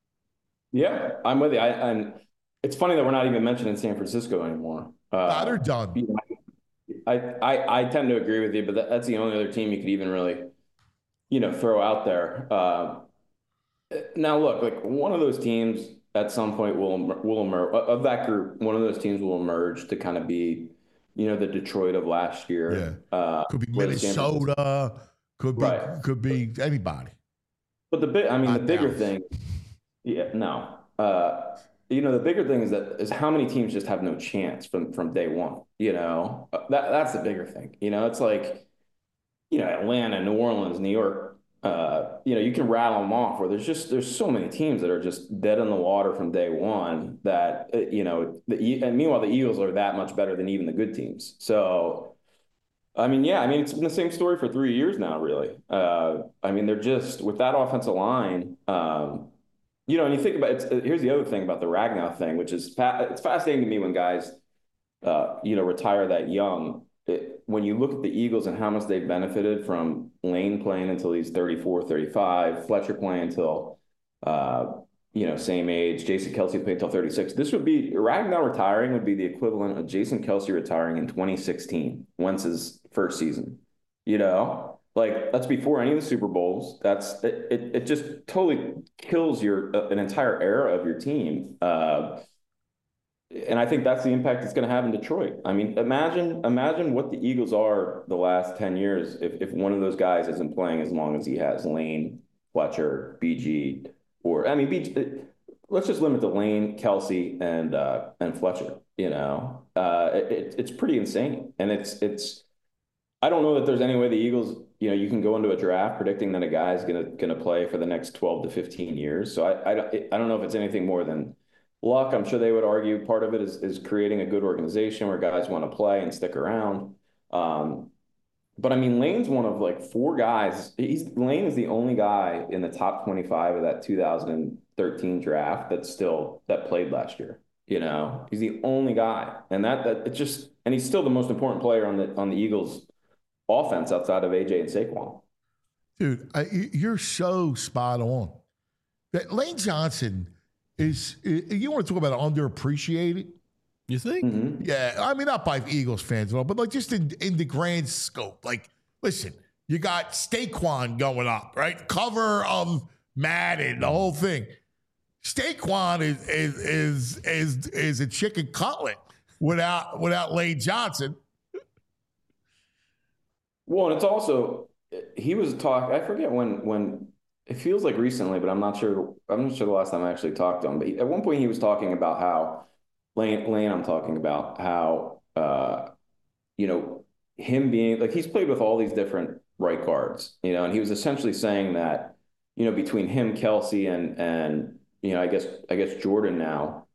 Yeah, I'm with you. I, and it's funny that we're not even mentioning San Francisco anymore. Uh, Nah, they're done. I, I, I tend to agree with you, but that, that's the only other team you could even really, you know, throw out there. Uh, now, look, like one of those teams at some point will will emerge of that group. One of those teams will emerge to kind of be, you know, the Detroit of last year. Yeah, uh, could be where the San Francisco- Minnesota, could be Right. could be anybody. But the big, I mean, Not the bigger Dallas. thing, yeah, no. Uh, you know, the bigger thing is that is how many teams just have no chance from from day one. You know, Uh, that that's the bigger thing. You know, it's like, you know, Atlanta, New Orleans, New York. Uh, you know, you can rattle them off where there's just there's so many teams that are just dead in the water from day one that uh, you know, the, and meanwhile the Eagles are that much better than even the good teams. So, I mean, yeah, I mean, it's been the same story for three years now, really. Uh, I mean, they're just, with that offensive line, um, you know, and you think about it, here's the other thing about the Ragnow thing, which is, fa- it's fascinating to me when guys, uh, you know, retire that young. It, when you look at the Eagles and how much they've benefited from Lane playing until he's thirty-four, thirty-five, Fletcher playing until, uh, you know, same age, Jason Kelce playing until thirty-six. This would be, Ragnow retiring would be the equivalent of Jason Kelce retiring in twenty sixteen, Wentz's first season. You know, like that's before any of the Super Bowls. That's it. It, it just totally kills your uh, an entire era of your team. Uh, and I think that's the impact it's going to have in Detroit. I mean, imagine imagine what the Eagles are the last ten years if if one of those guys isn't playing as long as he has. Lane, Fletcher, B G, or I mean, B G. Let's just limit to Lane, Kelce, and uh, and Fletcher. You know, uh, it, it's pretty insane, and it's it's. I don't know that there's any way the Eagles, you know, you can go into a draft predicting that a guy's gonna gonna play for the next twelve to fifteen years. So I I, I don't know if it's anything more than luck. I'm sure they would argue part of it is is creating a good organization where guys want to play and stick around. Um, but I mean, Lane's one of like four guys. He's Lane is the only guy in the top twenty-five of that two thousand thirteen draft that's still that played last year. You know, he's the only guy, and that that it's just, and he's still the most important player on the on the Eagles offense outside of A J and Saquon. Dude, I, you're so spot on. That Lane Johnson is, you want to talk about underappreciated? You think? Mm-hmm. Yeah, I mean, not by Eagles fans at all, but like just in, in the grand scope. Like, listen, you got Saquon going up, right? Cover of Madden, the whole thing. Saquon is is is is, is a chicken cutlet without without Lane Johnson. Well, and it's also, he was talk. I forget when when it feels like recently, but I'm not sure. I'm not sure the last time I actually talked to him. But he, at one point, he was talking about how Lane. Lane, I'm talking about how uh, you know, him being like he's played with all these different right guards, you know, and he was essentially saying that, you know, between him, Kelce, and and you know, I guess I guess Jordan now,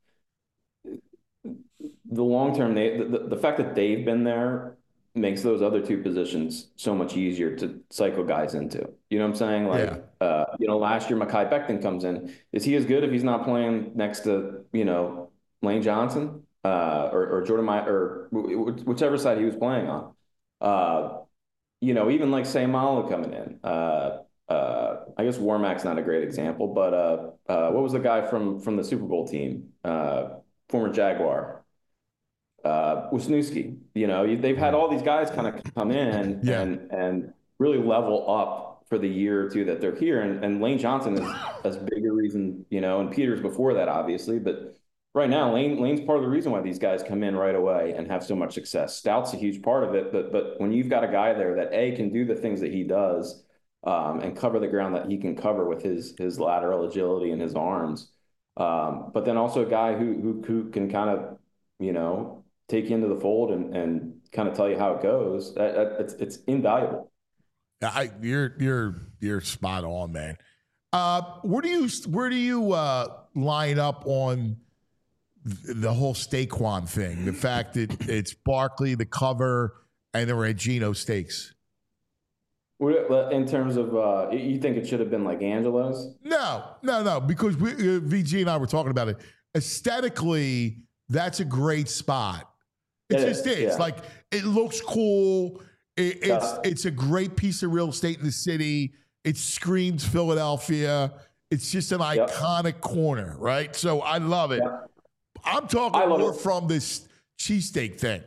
the long term, they the, the fact that they've been there makes those other two positions so much easier to cycle guys into. You know what I'm saying? Like, yeah. uh, you know, last year, Mekhi Becton comes in. Is he as good if he's not playing next to, you know, Lane Johnson uh, or, or Jordan My or whichever side he was playing on? Uh, you know, even like Seumalo coming in. Uh, uh, I guess Warmack's not a great example, but uh, uh, what was the guy from from the Super Bowl team? Uh, former Jaguar. Uh, Wisniewski, you know, they've had all these guys kind of come in yeah. and and really level up for the year or two that they're here. And, and Lane Johnson is as big a reason, you know, and Peters before that, obviously. But right now, Lane Lane's part of the reason why these guys come in right away and have so much success. Stout's a huge part of it. But but when you've got a guy there that, A, can do the things that he does um, and cover the ground that he can cover with his his lateral agility and his arms, um, but then also a guy who who, who can kind of, you know, take you into the fold and, and kind of tell you how it goes. That, that, it's it's invaluable. I, you're you're you're spot on, man. Uh, where do you where do you uh, line up on the whole Saquon thing? The fact that it's Barkley, the cover, and the Regino stakes. In terms of, uh, you think it should have been like Angelo's? No, no, no. Because we, uh, V G and I were talking about it. Aesthetically, that's a great spot. It, it just is. is. Yeah. Like, it looks cool. It, it's uh, it's a great piece of real estate in the city. It screams Philadelphia. It's just an yep. iconic corner, right? So I love it. Yep. I'm talking more it. from this cheesesteak thing.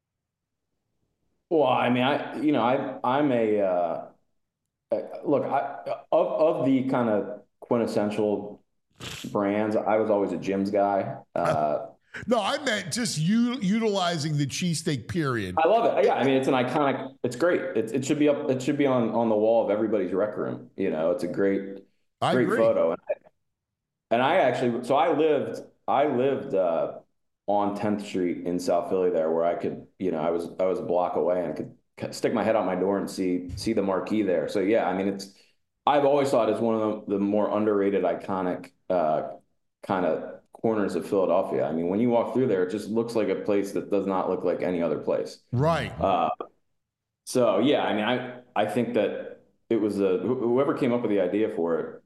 Well, I mean, I you know, I I'm a uh, look I, of of the kind of quintessential brands. I was always a Jim's guy. Uh, No, I meant just u- utilizing the cheesesteak period. I love it. Yeah, I mean, it's an iconic. It's great. It, it should be up. It should be on, on the wall of everybody's rec room. You know, it's a great, I great agree. photo. And I, and I actually, so I lived, I lived uh, on tenth Street in South Philly there, where I could, you know, I was I was a block away and I could stick my head out my door and see see the marquee there. So yeah, I mean, it's. I've always thought it's one of the, the more underrated, iconic uh, kind of corners of Philadelphia. I mean, when you walk through there, it just looks like a place that does not look like any other place. Right. Uh, So yeah, I mean, I I think that it was a whoever came up with the idea for it,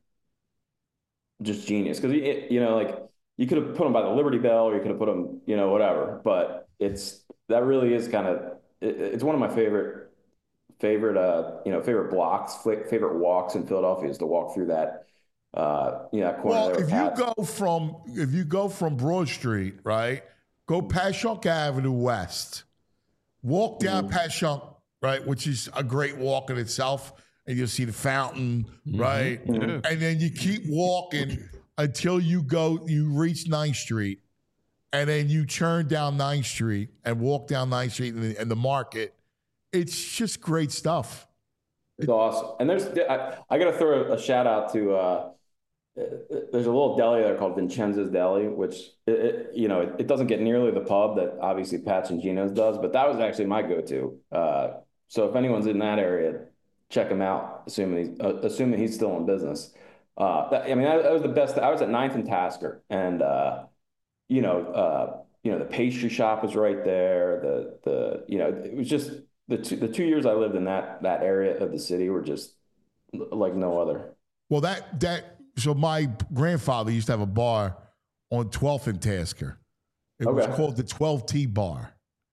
just genius. Because you know, like you could have put them by the Liberty Bell, or you could have put them, you know, whatever. But it's that really is kind of it, it's one of my favorite favorite uh you know favorite blocks, favorite walks in Philadelphia is to walk through that uh you know that corner Well, there. if you go from if you go from Broad Street, right, go Passyunk Avenue West, walk down Mm-hmm. Passyunk, right, which is a great walk in itself, and you'll see the fountain, right, Mhm. and then you keep walking until you go you reach Ninth Street, and then you turn down Ninth Street and walk down Ninth Street and the, and the market. It's just great stuff. It's awesome. And there's I, I got to throw a shout out to uh there's a little deli there called Vincenzo's Deli, which it, it, you know it, it doesn't get nearly the pub that obviously Patch and Gino's does, but that was actually my go-to. Uh, so if anyone's in that area, check him out. Assuming he's uh, assuming he's still in business. Uh, that, I mean that, that was the best. I was at Ninth and Tasker, and uh, you know uh, you know the pastry shop was right there. The the you know it was just the two, the two years I lived in that that area of the city were just like no other. Well, that that so my grandfather used to have a bar on twelfth and Tasker. It was Okay. called the twelve T Bar.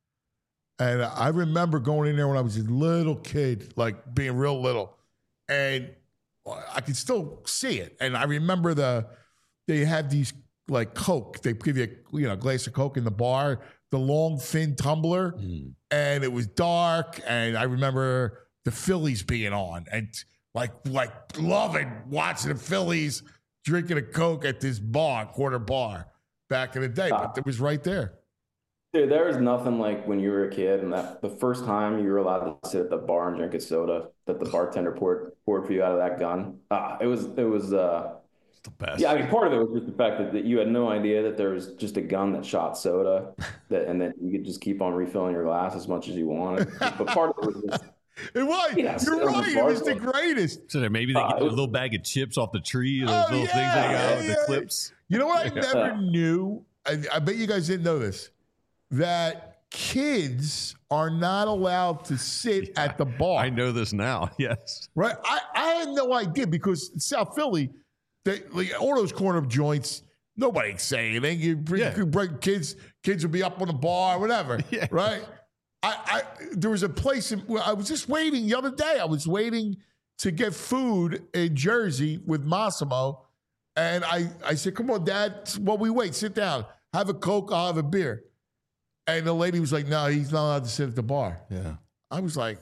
And I remember going in there when I was a little kid, like being real little. And I could still see it. And I remember the they had these like Coke. They give you a, you know, a glass of Coke in the bar, the long thin tumbler, and it was dark. And I remember the Phillies being on, and like like loving watching the Phillies drinking a Coke at this bar, quarter bar, back in the day. But it was right there. Dude, there is nothing like when you were a kid and that the first time you were allowed to sit at the bar and drink a soda that the bartender poured poured for you out of that gun. Ah, it was it was uh It's the best. yeah, I mean part of it was just the fact that, that you had no idea that there was just a gun that shot soda that and that you could just keep on refilling your glass as much as you wanted. But part of it was just It was. Yeah, sit You're on the right. It bar was the bar. greatest. So there maybe they Uh, get a it- little bag of chips off the tree, those Oh, little things they yeah, got, yeah, the yeah. clips. You know what I Yeah. never knew? I, I bet you guys didn't know this. That kids are not allowed to sit at the bar. I know this now. Yes. Right? I, I had no idea because in South Philly, they, like, all those corner joints, nobody'd say anything. You bring, Yeah. you bring kids, kids would be up on the bar, whatever. Yeah. Right? I, I there was a place in, where I was just waiting the other day. I was waiting to get food in Jersey with Massimo. And I, I said, come on, Dad. While we wait, sit down. Have a Coke, I'll have a beer. And the lady was like, no, he's not allowed to sit at the bar. Yeah. I was like,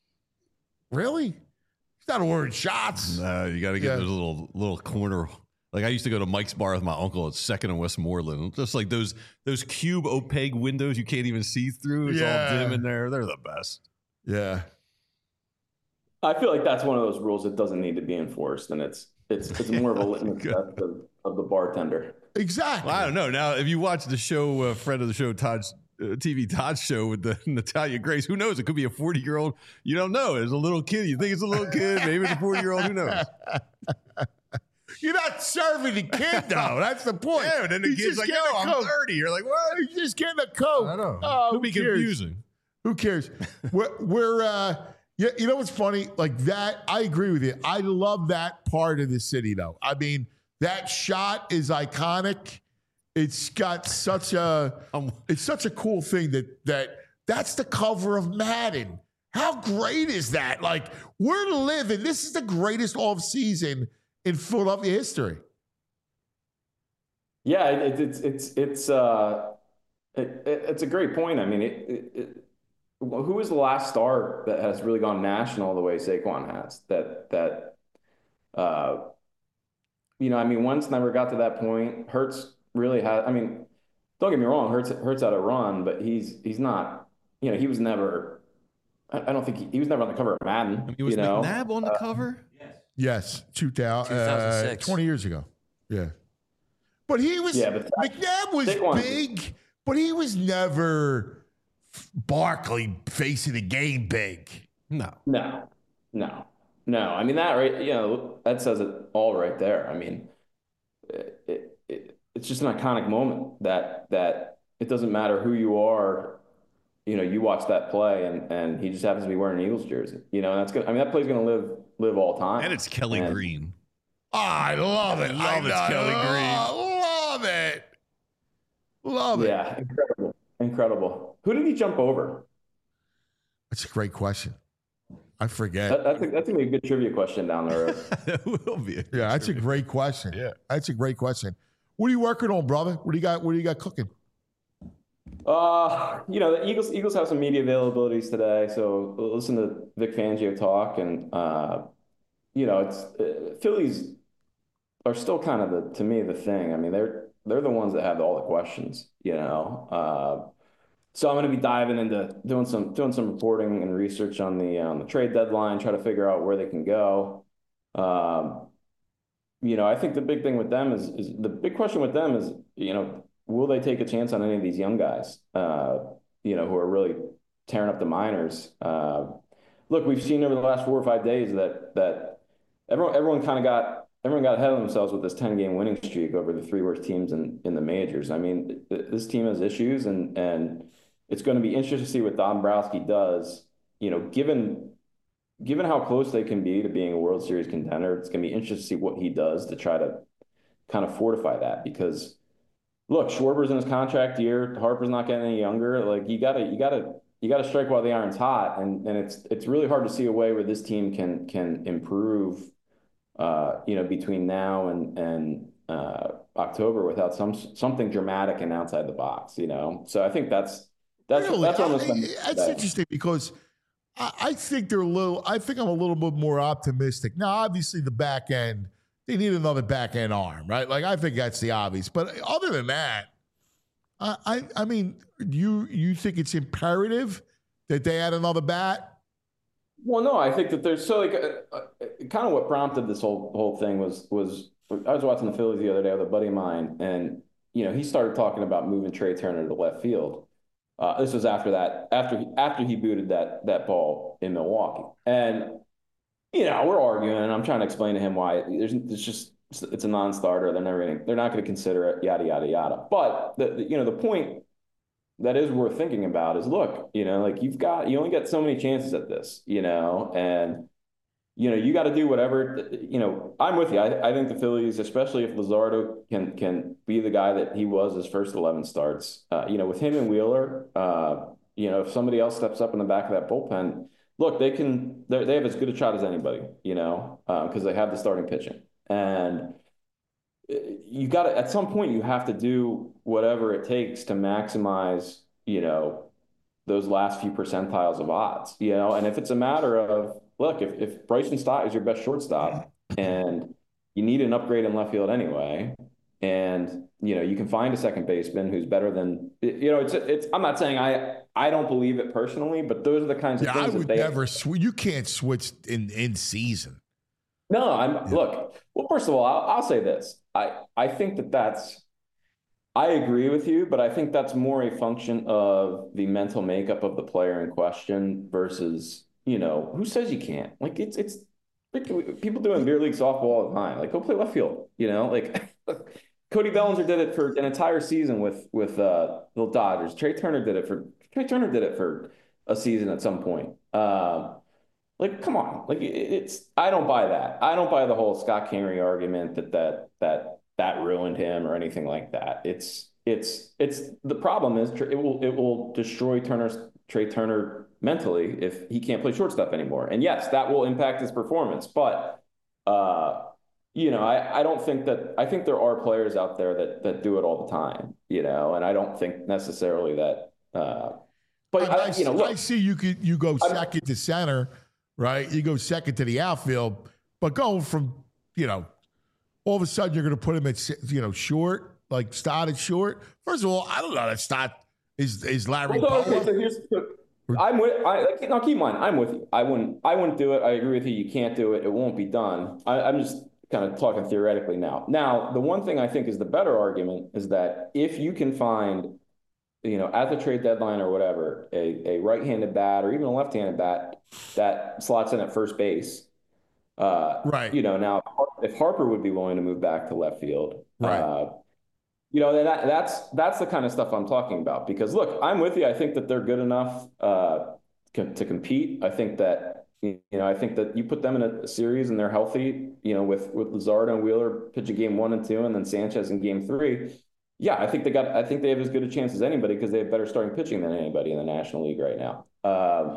really? He's not ordering shots. No, you got to get Yeah. those little little corner. Like I used to go to Mike's bar with my uncle at Second and Westmoreland. Just like those those cube opaque windows you can't even see through. It's Yeah. all dim in there. They're the best. Yeah. I feel like that's one of those rules that doesn't need to be enforced, and it's it's it's more of a litmus Good. test of, of the bartender. Exactly. Well, I don't know. Now, if you watch the show, uh, friend of the show, Todd's uh, T V Todd's show with the Natalia Grace, who knows? It could be a forty year old. You don't know. It's a little kid. You think it's a little kid. Maybe it's a forty year old. Who knows? You're not serving the kid, though. That's the point. Yeah, and then the He's kid's just like, getting yo, a I'm Coke. thirty. You're like, what? He's just getting a Coke. I know. Oh, Could be who cares? confusing. Who cares? we're, we're uh, yeah, you know what's funny? Like that, I agree with you. I love that part of the city, though. I mean, that shot is iconic. It's got such a, Um, it's such a cool thing that that that's the cover of Madden. How great is that? Like we're living. This is the greatest off season in Philadelphia history. Yeah, it, it's it's it's uh, it, it, it's a great point. I mean, it, it, it, who is the last star that has really gone national the way Saquon has? That that, uh, you know, I mean, Wentz never got to that point. Hurts really had. I mean, don't get me wrong, Hurts Hurts had a run, but he's he's not. You know, he was never. I, I don't think he, he was never on the cover of Madden. I mean, was you know, McNabb on the cover? Yes, two thousand, uh, two thousand six. twenty years ago. Yeah. But he was, Yeah, but McNabb was Saquon- big, but he was never Barkley facing the game big. No. No, no, no. I mean that right. You know that says it all right there. I mean, it, it, it it's just an iconic moment that that it doesn't matter who you are. you know, you watch that play and and he just happens to be wearing an Eagles jersey. You know, and that's good. I mean, that play's going to live live all time. And it's Kelly and, Green. Oh, I love it. I love I it's Kelly Green. Love it. Love it. Yeah, incredible. Incredible. Who did he jump over? That's a great question. I forget. That, that's, a, that's going to be a good trivia question down the road. That will be. A yeah, that's a great question. Yeah. That's a great question. What are you working on, brother? What do you got? What do you got cooking? Uh, you know, the Eagles Eagles have some media availabilities today, so listen to Vic Fangio talk, and uh, you know, it's uh, Phillies are still kind of the to me the thing. I mean, they're they're the ones that have all the questions, you know. Uh, so I'm going to be diving into doing some doing some reporting and research on the on the trade deadline, try to figure out where they can go. Um, you know, I think the big thing with them is is the big question with them is, you know, will they take a chance on any of these young guys, uh, you know, who are really tearing up the minors? Uh, look, we've seen over the last four or five days that that everyone everyone kind of got everyone got ahead of themselves with this ten game winning streak over the three worst teams in, in the majors. I mean, th- this team has issues, and and it's going to be interesting to see what Dombrowski does. You know, given given how close they can be to being a World Series contender, it's going to be interesting to see what he does to try to kind of fortify that, because look, Schwarber's in his contract year. Harper's not getting any younger. Like, you gotta, you gotta, you gotta strike while the iron's hot, and and it's it's really hard to see a way where this team can can improve, uh, you know, between now and and uh, October without some something dramatic and outside the box. You know, so I think that's that's really? that's almost. I, that's that. interesting because I, I think they're a little. I think I'm a little bit more optimistic now. Obviously, the back end. They need another back end arm, right? Like, I think that's the obvious. But other than that, I, I, I mean, you you think it's imperative that they add another bat? Well, no, I think that there's so like uh, uh, kind of what prompted this whole whole thing was was I was watching the Phillies the other day with a buddy of mine, and you know, he started talking about moving Trey Turner to left field. Uh, this was after that after he, after he booted that that ball in Milwaukee, and. You know, we're arguing, and I'm trying to explain to him why there's it's just it's a non-starter. They're never gonna, they're not going to consider it, yada yada yada. But the, the you know the point that is worth thinking about is, look, you know, like you've got you only get so many chances at this, you know, and you know you got to do whatever. You know, I'm with you. I, I think the Phillies, especially if Luzardo can can be the guy that he was his first eleven starts, uh, you know, with him and Wheeler, uh, you know, if somebody else steps up in the back of that bullpen. Look, they can. They have as good a shot as anybody, you know, because uh, they have the starting pitching, and you got to. At some point, you have to do whatever it takes to maximize, you know, those last few percentiles of odds, you know. And if it's a matter of, look, if if Bryson Stott is your best shortstop, and you need an upgrade in left field anyway, and you know you can find a second baseman who's better than, you know, it's it's. I'm not saying I. I don't believe it personally, but those are the kinds of yeah, things I would that they never sw- you can't switch in, in season. No, I'm yeah. look. Well, first of all, I'll, I'll say this. I I think that that's. I agree with you, but I think that's more a function of the mental makeup of the player in question versus, you know, who says you can't? Like it's it's people doing beer league softball all the time. Like, go play left field. You know, like. Cody Bellinger did it for an entire season with with uh, the Dodgers. Trey Turner did it for Trey Turner did it for a season at some point. Uh, like, come on, like it, it's. I don't buy that. I don't buy the whole Scott Kingery argument that that that that ruined him or anything like that. It's it's it's the problem is it will it will destroy Turner's Trey Turner mentally if he can't play shortstop anymore. And yes, that will impact his performance, but. Uh, You know, I, I don't think that I think there are players out there that that do it all the time, you know, and I don't think necessarily that. Uh, but I, I, you know, look, I see you could you go second I'm, to center, right? You go second to the outfield, but going from, you know, all of a sudden you're going to put him at, you know, short, like Stott at short. First of all, I don't know that Stott is is Larry. Well, so, okay, so here's, so I'm with. I like, now keep in mind, I'm with you. I wouldn't. I wouldn't do it. I agree with you. You can't do it. It won't be done. I, I'm just. Kind of talking theoretically now. Now, the one thing I think is the better argument is that if you can find, you know, at the trade deadline or whatever, a, a right-handed bat or even a left-handed bat that slots in at first base, uh, right? You know, now if Harper would be willing to move back to left field, right? Uh, You know, that that's that's the kind of stuff I'm talking about. Because look, I'm with you. I think that they're good enough uh, to compete. I think that you know, I think that you put them in a series and they're healthy. You know, with with Luzardo and Wheeler pitching game one and two, and then Sanchez in game three. Yeah, I think they got. I think they have as good a chance as anybody because they have better starting pitching than anybody in the National League right now. Um,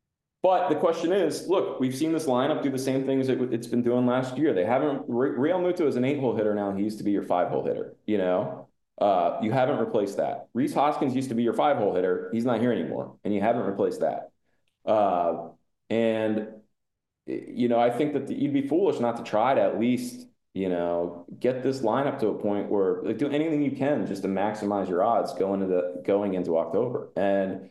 but the question is, look, we've seen this lineup do the same things it, it's been doing last year. They haven't. Real Muto is an eight-hole hitter now. He used to be your five-hole hitter. You know, uh, you haven't replaced that. Rhys Hoskins used to be your five-hole hitter. He's not here anymore, and you haven't replaced that. Uh, and you know, I think that the, you'd be foolish not to try to at least, you know, get this lineup to a point where like do anything you can just to maximize your odds going into going into October. And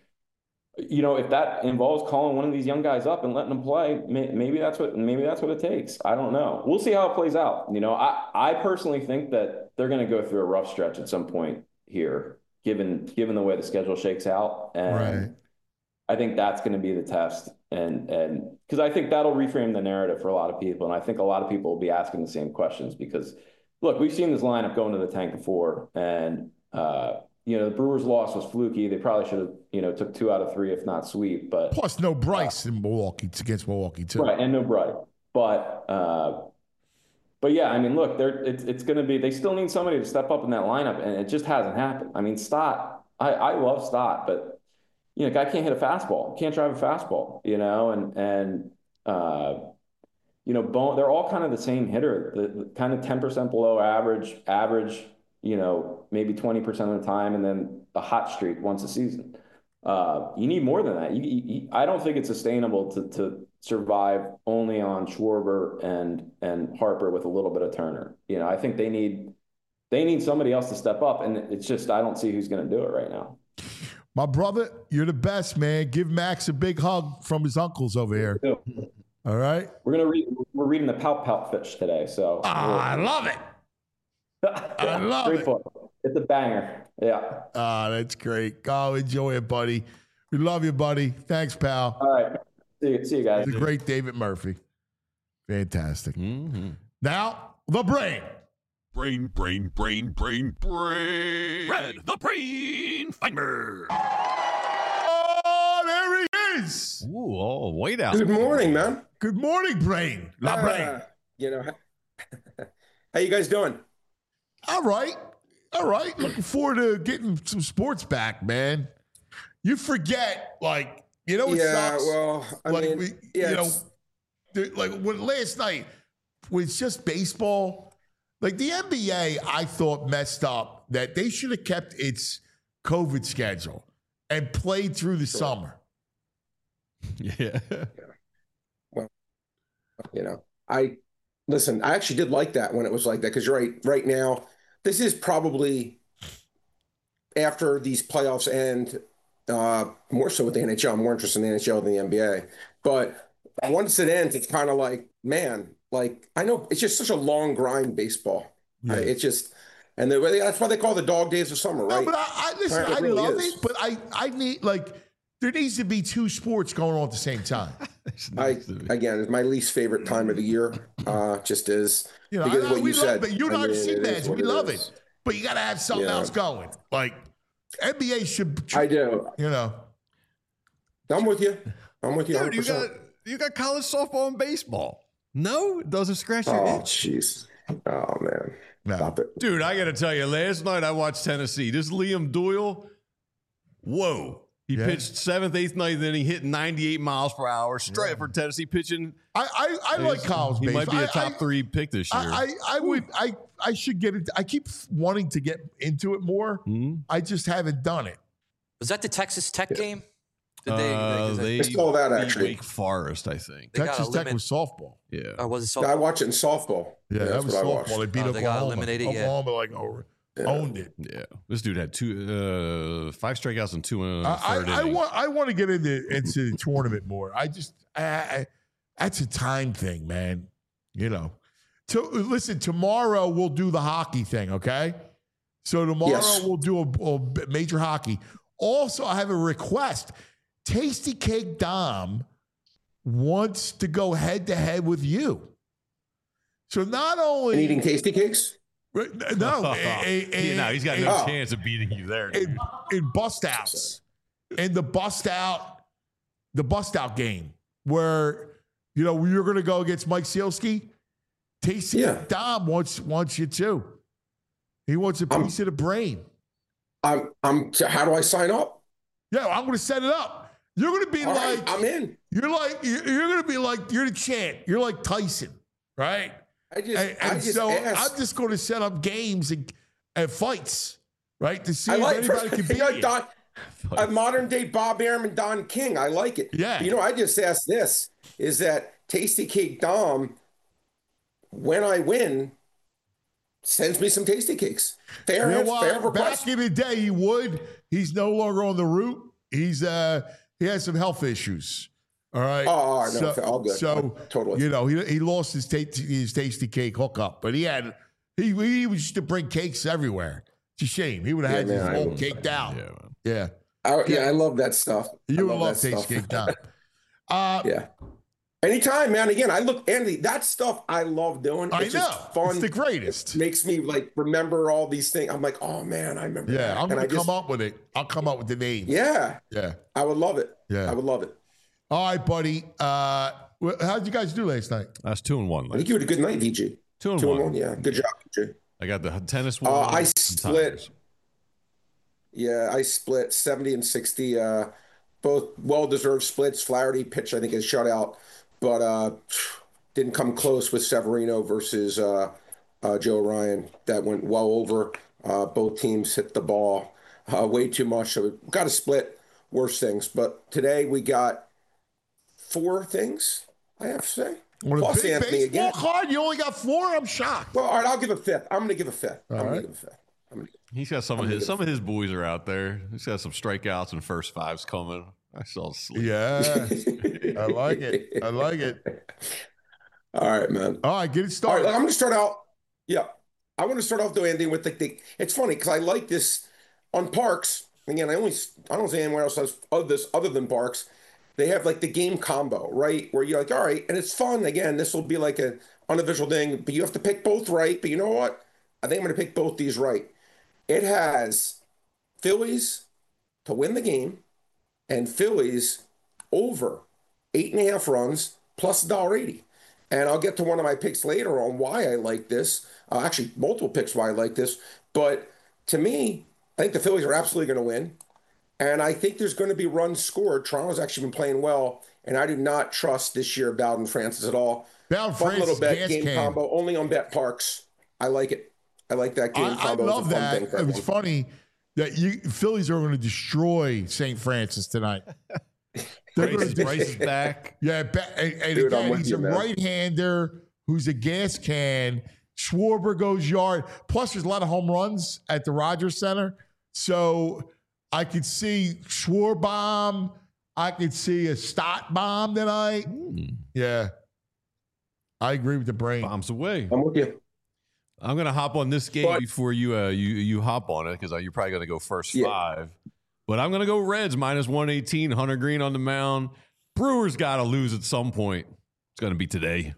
you know, if that involves calling one of these young guys up and letting them play, may, maybe that's what maybe that's what it takes. I don't know. We'll see how it plays out. You know, I I personally think that they're going to go through a rough stretch at some point here, given given the way the schedule shakes out. And Right. I think that's going to be the test. And and because I think that'll reframe the narrative for a lot of people. And I think a lot of people will be asking the same questions because, look, we've seen this lineup go into the tank before. And, uh, you know, the Brewers' loss was fluky. They probably should have, you know, took two out of three, if not sweep. But Plus, no Bryce in Milwaukee it's against Milwaukee, too. right, and no Bright. But, uh, but yeah, I mean, look, they're, it's, it's going to be, they still need somebody to step up in that lineup. And it just hasn't happened. I mean, Stott, I, I love Stott, but you know, guy can't hit a fastball, can't drive a fastball, you know, and, and, uh, you know, Bone, they're all kind of the same hitter, the, the kind of ten percent below average, average, you know, maybe twenty percent of the time, and then a hot streak once a season. Uh, you need more than that. You, you, I don't think it's sustainable to, to survive only on Schwarber and, and Harper with a little bit of Turner. You know, I think they need, they need somebody else to step up, and it's just, I don't see who's going to do it right now. My brother, you're the best, man. Give Max a big hug from his uncles over here. All right? We're gonna read. We're reading the Pout Pout Fish today, so. Ah, I love it. I love Great it. book. It's a banger. Yeah. Ah, that's great. Go enjoy it, buddy. We love you, buddy. Thanks, pal. All right. See you, see you guys. The great David Murphy. Fantastic. Mm-hmm. Now, the brain. Brain, brain, brain, brain, brain. Red, the brain finder. Oh, there he is. Ooh, oh, wait out. Good morning, man. Good morning, brain. La Uh, brain. You know, how you guys doing? All right. All right. Looking forward to getting some sports back, man. You forget, like, you know what yeah, sucks? well, I like, mean, we, yeah, you know, it's- the- like when last night was just baseball. Like the N B A, I thought messed up that they should have kept its COVID schedule and played through the summer. Yeah. you know, I listen. I actually did like that when it was like that because you're right. Right now, this is probably after these playoffs end. Uh, more so with the N H L. I'm more interested in the N H L than the N B A. But once it ends, it's kind of like, man, like I know it's just such a long grind baseball. Yeah. I, it's just, and the, that's why they call the dog days of summer, right? No, but I, I listen. Right, it I really love is. it, but I, I need like there needs to be two sports going on at the same time. I again, it's my least favorite time of the year. Uh, just is You know, because I, of what we you love said. it. You and I I mean, see it is that. what We love is. it, but you got to have something Yeah. else going. Like N B A should. I do. You know. I'm with you. I'm with you. Dude, you one hundred got percent. you got college softball and baseball. No, it doesn't scratch your Oh, itch. jeez. Oh man. No. Stop it. Dude, I got to tell you, last night I watched Tennessee. This Liam Doyle, whoa. He Yeah. pitched seventh, eighth, ninth, then he hit ninety-eight miles per hour straight for Tennessee pitching. I I, I like college He baseball. might be a I- top I- three pick this year. I, I, I would I I should get it. I keep wanting to get into it more. Hmm? I just haven't done it. Was that the Texas Tech game? Did they, Uh, because they, they I saw that, beat actually. Wake Forest, I think. They got Texas Tech elimin- was softball. Yeah. or was it so? I watch it in softball. Yeah, that that's was what I softball. watched. They beat Oh, they got Oklahoma. eliminated, yeah. Oklahoma like over, owned it. Yeah. This dude had two, uh, five strikeouts and two in the I, third I, I inning. want I want to get into into the tournament more. I just I, I, that's a time thing, man. You know. To, listen, tomorrow we'll do the hockey thing. Okay. So tomorrow Yes. we'll do a, a major hockey. Also, I have a request. Tasty Cake Dom wants to go head to head with you. So not only And eating tasty cakes? No, a, a, a, yeah, no, he's got no Oh. chance of beating you there. in, in bust outs, in the bust out, the bust out game where you know you're going to go against Mike Sealski. Tasty Yeah. Dom wants wants you too. He wants a I'm- piece of the brain. I'm. I'm. How do I sign up? Yeah, I'm going to set it up. You're going to be All like right, I'm in. you're like you're, you're going to be like you're the champ. You're like Tyson, right? I just. And, I and just so asked. I'm just going to set up games and, and fights, right, to see I if like anybody can you beat know, you. Don, a modern day Bob Arum and Don King. I like it. Yeah. But you know, I just asked this: is that Tasty Cake Dom? When I win, sends me some tasty cakes. Fair, You know ans- what? fair request. Back in the day, he would. He's no longer on the route. He's uh he has some health issues. All right. Oh, all right, no, so, all good. So Totally. you know, he he lost his ta- his tasty cake hookup, but he had he he used to bring cakes everywhere. It's a shame. He would have Yeah, had man, I his whole wouldn't caked out. Yeah, man. Yeah. I, yeah, I love that stuff. I You would love love that tasty stuff. cake down. Uh Yeah. Anytime, man. Again, I look, Andy, that stuff I love doing. I It's know. just fun. It's the greatest. Makes me like remember all these things. I'm like, oh man, I remember Yeah, that. I'm And gonna I come just, up with it. I'll come up with the names. Yeah, Yeah. I would love it. Yeah. I would love it. All right, buddy. Uh wh- how'd you guys do last night? That's two and one. I Like, think you had a good night, V G. two and Two one. and one. Yeah, good job, V G. I got the tennis one. Uh, I and split. Tigers. Yeah, I split seventy and sixty. Uh, both well-deserved splits. Flaherty pitched, I think, a shutout, but uh, didn't come close with Severino versus uh, uh, Joe Ryan. That went well over. Uh, both teams hit the ball uh, way too much. So we got to split worse things. But today we got four things, I have to say. On a Plus big Anthony baseball again. card, you only got four? I'm shocked. Well, all right, I'll give a fifth. I'm going to give a fifth. I'm All going right. to give a fifth. I'm gonna, He's got some of I'm his gonna- some of his boys are out there. He's got some strikeouts and first fives coming. I saw sleep. Yeah. I like it. I like it. All right, man. All right, get it All right, started. I'm going to start out. Yeah, I want to start off though, Andy, with the. the it's funny because I like this on Parks. Again, I only I don't say anywhere else has other this other than Parks. They have like the game combo, right? Where you're like, all right, and it's fun. Again, this will be like a unofficial thing, but you have to pick both right. But you know what? I think I'm going to pick both these right. It has Phillies to win the game and Phillies over eight and a half runs plus one dollar eighty. And I'll get to one of my picks later on why I like this. Uh, actually, multiple picks why I like this. But to me, I think the Phillies are absolutely going to win. And I think there's going to be runs scored. Toronto's actually been playing well. And I do not trust this year Bowden Francis at all. Bowden Fun Francis, little bet gas game can. combo only on Bet Parks. I like it. I like that game I, I combo. It's a love fun that. thing for It was everyone. funny that you Phillies are going to destroy Saint Francis tonight. They're Bryce, gonna is- Bryce is back. Yeah, ba- and, and Dude, I'm again, with he's you, a man. right-hander who's a gas can. Schwarber goes yard. Plus, there's a lot of home runs at the Rogers Center, so I could see Schwarbomb. I could see a Stott bomb tonight. Yeah, I agree with the brain. Bombs away. I'm with you. I'm gonna hop on this game But- before you uh, you you hop on it because you're probably gonna go first Yeah. five. But I'm gonna go Reds minus one eighteen. Hunter Green on the mound. Brewers got to lose at some point. It's gonna be today.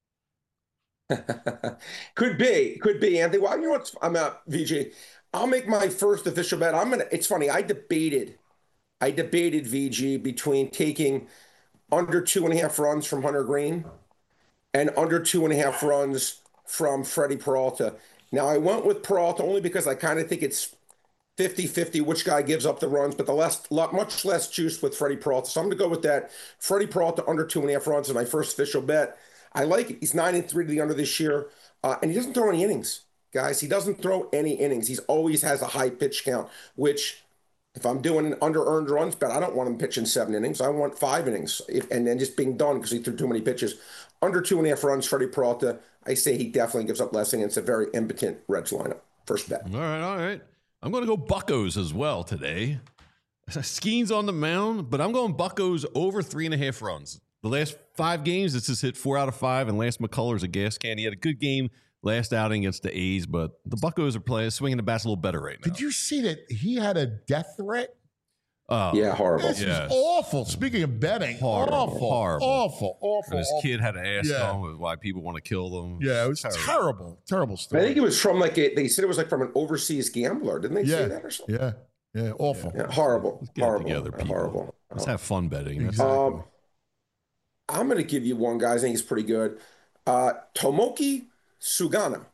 Could be, could be, Anthony. Well, you know what's? I'm out, V J. I'll make my first official bet. I'm gonna. It's funny. I debated, I debated V G between taking under two and a half runs from Hunter Green and under two and a half runs from Freddie Peralta. Now I went with Peralta only because I kind of think it's fifty-fifty which guy gives up the runs, but the less, lot, much less juice with Freddie Peralta. So I'm going to go with that. Freddie Peralta under two and a half runs is my first official bet. I like it. He's nine and three to the under this year, uh, and he doesn't throw any innings, guys. He doesn't throw any innings. He's always has a high pitch count, which if I'm doing an under earned runs bet, I don't want him pitching seven innings. I want five innings, if, and then just being done because he threw too many pitches. Under two and a half runs, Freddie Peralta. I say he definitely gives up less innings. It's a very impotent Reds lineup. First bet. All right, all right. I'm going to go Buccos as well today. Skeens on the mound, but I'm going Buccos over three and a half runs. The last five games, it's just hit four out of five, and Lance McCullers a gas can. He had a good game last outing against the A's, but the Buccos are playing, swinging the bats a little better right now. Did you see that he had a death threat? Oh, Yeah, horrible. This Yes. is awful. Speaking of betting, Horrible, awful, horrible. awful, awful. And this awful. kid had to ask Yeah. him why people want to kill them. Yeah, it was Terrible. terrible, terrible I story. think it was from like a, they said it was like from an overseas gambler. Didn't they yeah, say that or something? yeah, yeah, awful. Yeah, horrible. Let's get it horrible. together, people. Horrible. Let's have fun betting. That's Exactly. Um, I'm going to give you one, guys. I think he's pretty good. Uh, Tomoki Sugano,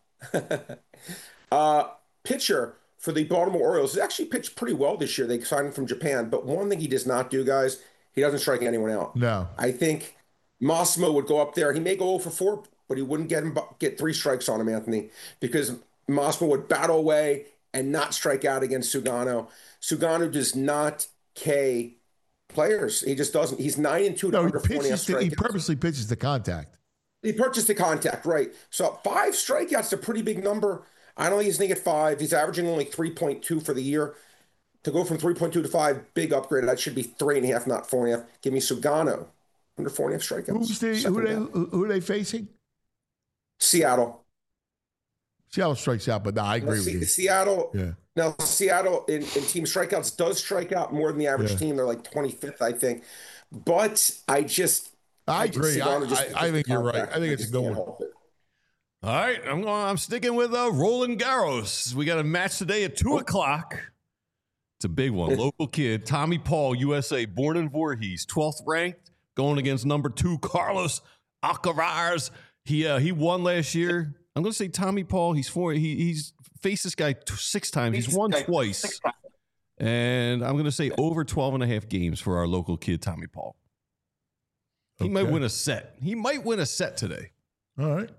uh, pitcher for the Baltimore Orioles. He's actually pitched pretty well this year. They signed him from Japan. But one thing he does not do, guys, he doesn't strike anyone out. No. I think Massimo would go up there. He may go oh for four, but he wouldn't get him get three strikes on him, Anthony, because Massimo would battle away and not strike out against Sugano. Sugano does not K players. He just doesn't. He's nine and two to No, he under four and a half pitches. To, he strikeouts. purposely pitches to contact. He purchased the contact, right? So five strikeouts is a pretty big number. I don't think he's going to get five. He's averaging only three point two for the year. To go from three point two to five, big upgrade. That should be three and a half, not four and a half. Give me Sugano under four and a half strikeouts. Who's the, Second who, they, down. who, who are they facing? Seattle. Seattle strikes out, but no, I agree Se- with you. Seattle. Yeah. Now, Seattle in, in team strikeouts does strike out more than the average Yeah. team. They're like twenty-fifth, I think. But I just. I just- agree. I, Sugano just- I, I think you're right. contact. I think it's a just good can't one. help it. All right, I'm going. I'm sticking with uh, Roland Garros. We got a match today at two o'clock. It's a big one. Local kid, Tommy Paul, U S A, born in Voorhees, twelfth ranked, going against number two Carlos Alcaraz. He uh, he won last year. I'm going to say Tommy Paul. He's four. He, he's faced this guy t- six times. He's won twice, and I'm going to say over twelve and a half games for our local kid, Tommy Paul. He might Okay. win a set. He might win a set today. All right.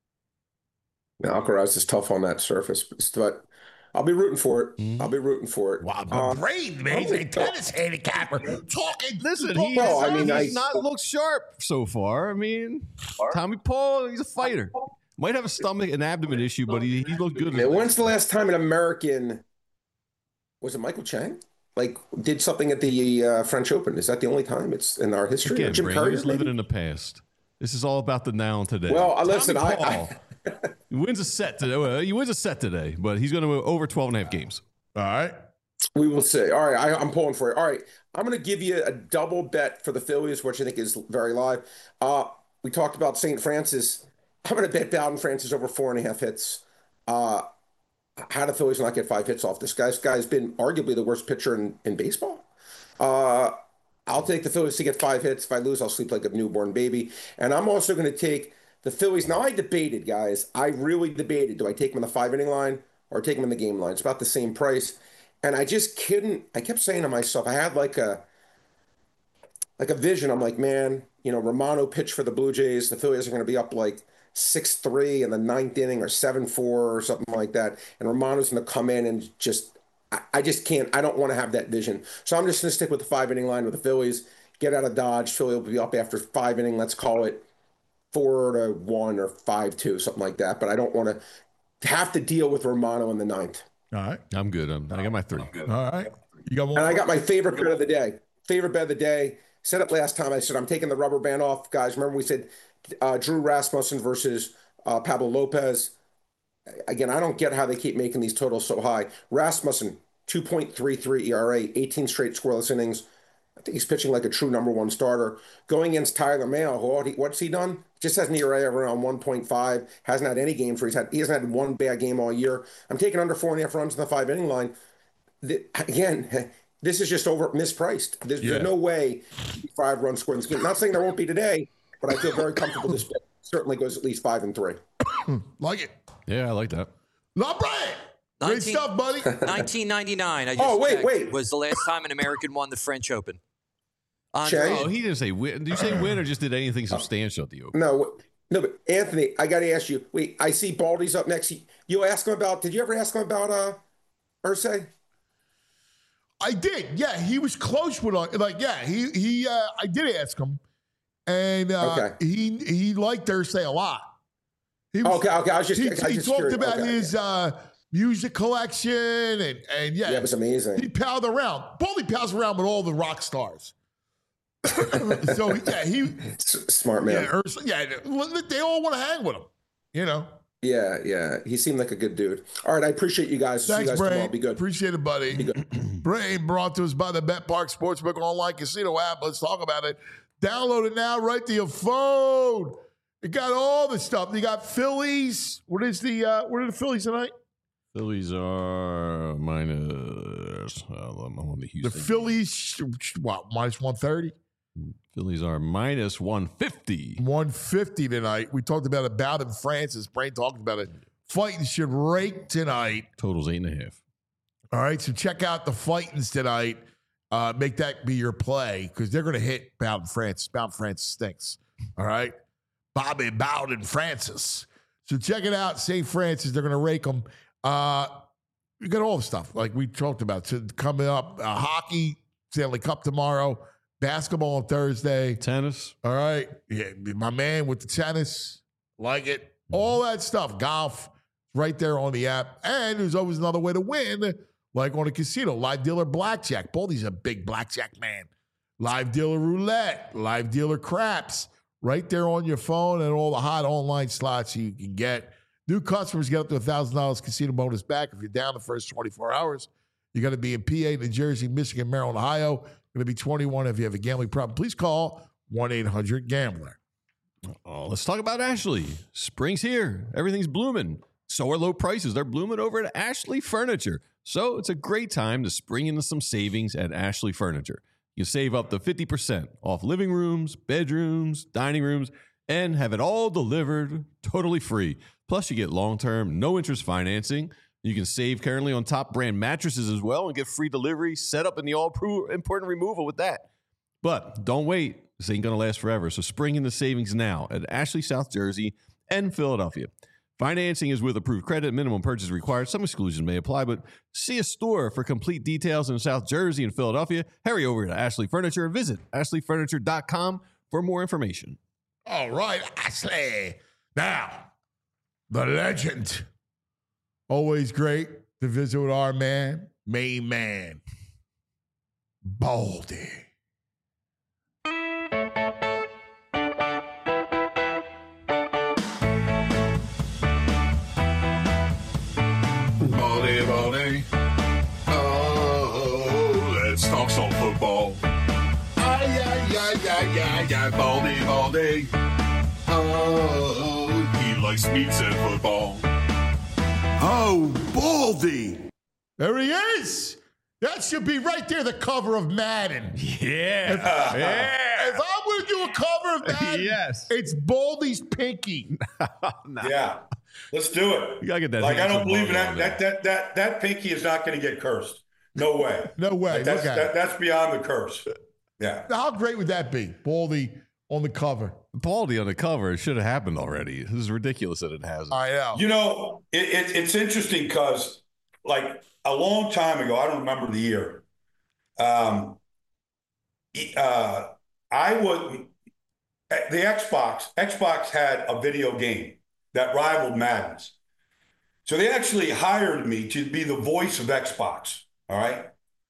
Now, Alcaraz is tough on that surface, but, but I'll be rooting for it. Mhm. I'll be rooting for it. Wow, Uh, the brain, man. He's a tennis handicapper. Talking. Listen, talking he's, Well, I mean, he's I- not looked sharp so far. I mean, Tommy Paul, he's a fighter. Might have a stomach and abdomen issue, but he, he looked good. Man, when's the last time an American, was it Michael Chang? Like, did something at the uh, French Open? Is that the only time it's in our history? Again, Jim Brandon, Curry, he's living maybe? in the past. This is all about the now and today. Well, uh, Tommy listen, I- Paul, he wins a set today. Well, he wins a set today, but he's going to over twelve and a half games. All right. We will see. All right, I, I'm pulling for it. All right, I'm going to give you a double bet for the Phillies, which I think is very live. Uh, we talked about Saint Francis. I'm going to bet Bowden Francis over four and a half hits. Uh, how do the Phillies not get five hits off this guy? This guy's been arguably the worst pitcher in, in baseball. Uh, I'll take the Phillies to get five hits. If I lose, I'll sleep like a newborn baby. And I'm also going to take the Phillies. Now, I debated, guys. I really debated. Do I take them in the five-inning line or take them in the game line? It's about the same price. And I just couldn't. I kept saying to myself, I had like a like a vision. I'm like, man, you know, Romano pitched for the Blue Jays. The Phillies are going to be up like six three in the ninth inning or seven four or something like that. And Romano's going to come in and just, I, I just can't, I don't want to have that vision. So I'm just going to stick with the five inning line with the Phillies, get out of Dodge. Philly will be up after five inning. Let's call it four to one or five two, something like that. But I don't want to have to deal with Romano in the ninth. All right. I'm good. I'm, I got my three. All right. You got one. And I got my favorite bet of the day. Favorite bet of the day. Said it last time. I said I'm taking the rubber band off, guys. Remember we said uh, Drew Rasmussen versus uh, Pablo Lopez. Again, I don't get how they keep making these totals so high. Rasmussen, two point three three E R A, eighteen straight scoreless innings. I think he's pitching like a true number one starter. Going against Tyler Mahle, what he, what's he done? Just has an E R A of around one point five. Hasn't had any games where he's had. He hasn't had one bad game all year. I'm taking under four and a half runs in the five inning line. The, again. This is just over mispriced. There's, Yeah. there's no way five runs scored in this game. Not saying there won't be today, but I feel very comfortable this bet certainly goes at least five and three. Like it. Yeah, I like that. Not Brian. Great nineteen stuff, buddy. nineteen ninety-nine. I just Oh, wait, checked, wait. was the last time an American won the French Open. Andre- Shay? Oh, he didn't say win. Did you say win or just did anything substantial at the Open? No, no, but Anthony, I got to ask you. Wait, I see Baldy's up next. You ask him about? Did you ever ask him about uh, Irsay? I did. Yeah, he was close with like. Yeah, he he. Uh, I did ask him, and uh, Okay. he he liked Irsay a lot. He was, Okay, okay. I was just. He, I was he just talked curious. about Okay, his uh, music collection and and yeah, Yeah, it was amazing. he palled around. Baldy pals around with all the rock stars. so yeah, he S- Smart man. yeah, Ursula, yeah, they all want to hang with him. You know. Yeah, yeah. He seemed like a good dude. All right, I appreciate you guys. See Thanks, you guys tomorrow. Brain. Be good. Appreciate it, buddy. Be good. Brain brought to us by the Bet Park Sportsbook Online Casino app. Let's talk about it. Download it now right to your phone. You got all the stuff. You got Phillies. What is the uh, what are the Phillies tonight? Phillies are minus. Uh, I'm on the The Houston. Phillies, what, minus one thirty? Phillies are minus one fifty. one fifty tonight. We talked about it. Bowden Francis. Brain talked about it. Fighting should rake tonight. Totals eight and a half. All right, so check out the Fightins tonight. Uh, make that be your play because they're going to hit Bowden Francis. Bowden Francis stinks. All right, Bobby Bowden Francis. So check it out. Saint Francis. They're going to rake them. Uh, you got all the stuff like we talked about. So coming up, uh, hockey, Stanley Cup tomorrow, basketball on Thursday. Tennis. All right, yeah, my man with the tennis, like it. All that stuff, golf, right there on the app. And there's always another way to win, like on a casino, live dealer blackjack. Baldy's a big blackjack man. Live dealer roulette, live dealer craps, right there on your phone and all the hot online slots you can get. New customers get up to one thousand dollars casino bonus back if you're down the first twenty-four hours. You're going to be in P A, New Jersey, Michigan, Maryland, Ohio. Going to be twenty-one. If you have a gambling problem, please call one eight hundred gambler. Oh, let's talk about Ashley. Spring's here. Everything's blooming. So are low prices. They're blooming over at Ashley Furniture. So it's a great time to spring into some savings at Ashley Furniture. You save up to fifty percent off living rooms, bedrooms, dining rooms, and have it all delivered totally free. Plus, you get long-term, no-interest financing. You can save currently on top brand mattresses as well and get free delivery set up in the all-important removal with that. But don't wait. This ain't going to last forever. So spring into savings now at Ashley, South Jersey, and Philadelphia. Financing is with approved credit. Minimum purchase required. Some exclusions may apply, but see a store for complete details in South Jersey and Philadelphia. Hurry over to Ashley Furniture and visit ashley furniture dot com for more information. All right, Ashley. Now, the legend. Always great to visit with our man, main man, Baldy. Baldy, Baldy. Oh, let's talk some football. Ay, ay, ay, ay, ay, ay, Baldy, Baldy. Oh, he likes meats and football. Oh, Baldy. There he is. That should be right there, the cover of Madden. Yeah. If, yeah. if I'm going to do a cover of Madden, Yes. it's Baldy's pinky. Yeah, let's do it. You gotta get that. Like, I handsome don't believe in logo that. on That that that that pinky is not going to get cursed. No way. No way. Like, that's Look at that, it. that's beyond the curse. Yeah. How great would that be? Baldy on the cover. Baldy on the cover. It should have happened already. This is ridiculous that it hasn't. I know. You know, it, it, it's interesting because, like, a long time ago, I don't remember the year. Um, uh, I would the Xbox. Xbox had a video game that rivaled Madden's, so they actually hired me to be the voice of Xbox. All right,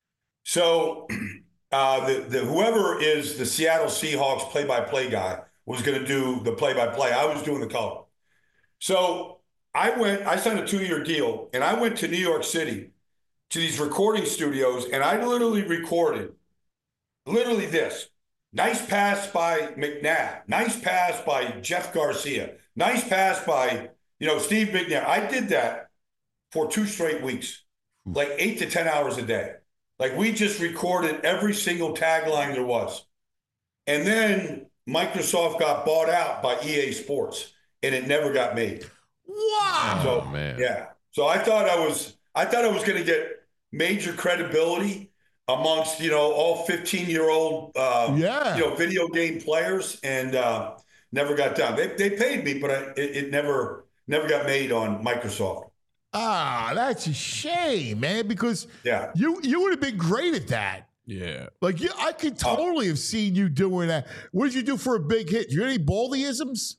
so uh, the the whoever is the Seattle Seahawks play-by-play guy was going to do the play-by-play. I was doing the color. So I went. I signed a two-year deal, and I went to New York City to these recording studios, and I literally recorded, literally this. Nice pass by McNabb. Nice pass by Jeff Garcia. Nice pass by, you know, Steve McNabb. I did that for two straight weeks, like eight to ten hours a day. Like, we just recorded every single tagline there was. And then Microsoft got bought out by E A Sports, and it never got made. Wow. So, Oh, man. yeah. So I thought I was, I thought I was going to get major credibility amongst, you know, all fifteen-year-old, uh, Yeah. you know, video game players, and uh, never got done. They they paid me, but I, it, it never never got made on Microsoft. Ah, that's a shame, man, because Yeah. you you would have been great at that. Yeah. Like, you, I could totally have seen you doing that. What did you do for a big hit? You got any Baldyisms?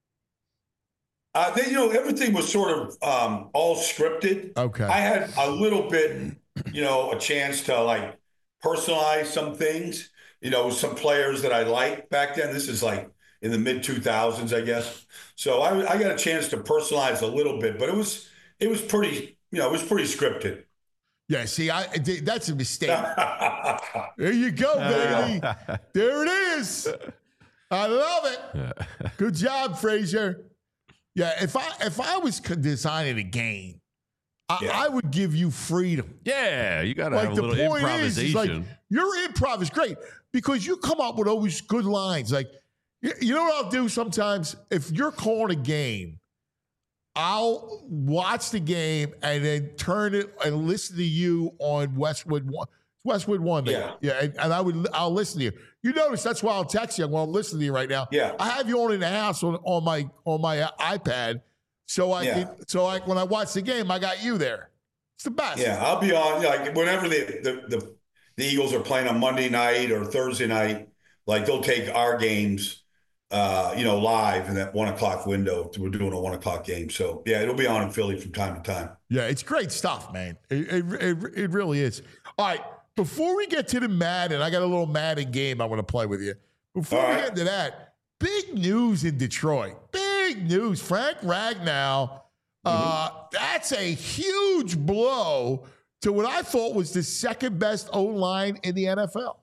Uh, they, you know, everything was sort of um, all scripted. Okay. I had a little bit, you know, a chance to like personalize some things, you know, some players that I liked back then. This is like in the mid two thousands, I guess. So I, I got a chance to personalize a little bit, but it was it was pretty, you know, it was pretty scripted. Yeah, see, I that's a mistake. There you go, baby. There it is. I love it. Good job, Frazier. Yeah, if I if I was designing a game, I, Yeah. I would give you freedom. Yeah, you got to Like have a the little point is, is like improvisation. your improv is great because you come up with always good lines. Like, you, you know what I'll do sometimes? If you're calling a game, I'll watch the game and then turn it and listen to you on Westwood One. Westwood One, baby. Yeah. yeah, and, and I would I'll listen to you. You notice that's why I'll text you while I'm listening to you right now. Yeah. I have you on in the house on, on my on my uh, iPad, so I Yeah. can, so I when I watch the game, I got you there. It's the best. Yeah, I'll be on, like, whenever the, the, the, the Eagles are playing on Monday night or Thursday night, like, they'll take our games, uh, you know, live in that one o'clock window. We're doing a one o'clock game. So, yeah, it'll be on in Philly from time to time. Yeah, it's great stuff, man. It, it, it, it really is. All right, before we get to the Madden, I got a little Madden game I want to play with you. Before All we right. get into that, big news in Detroit. Big news. Frank Ragnow, uh, that's a huge blow to what I thought was the second best O-line in the N F L.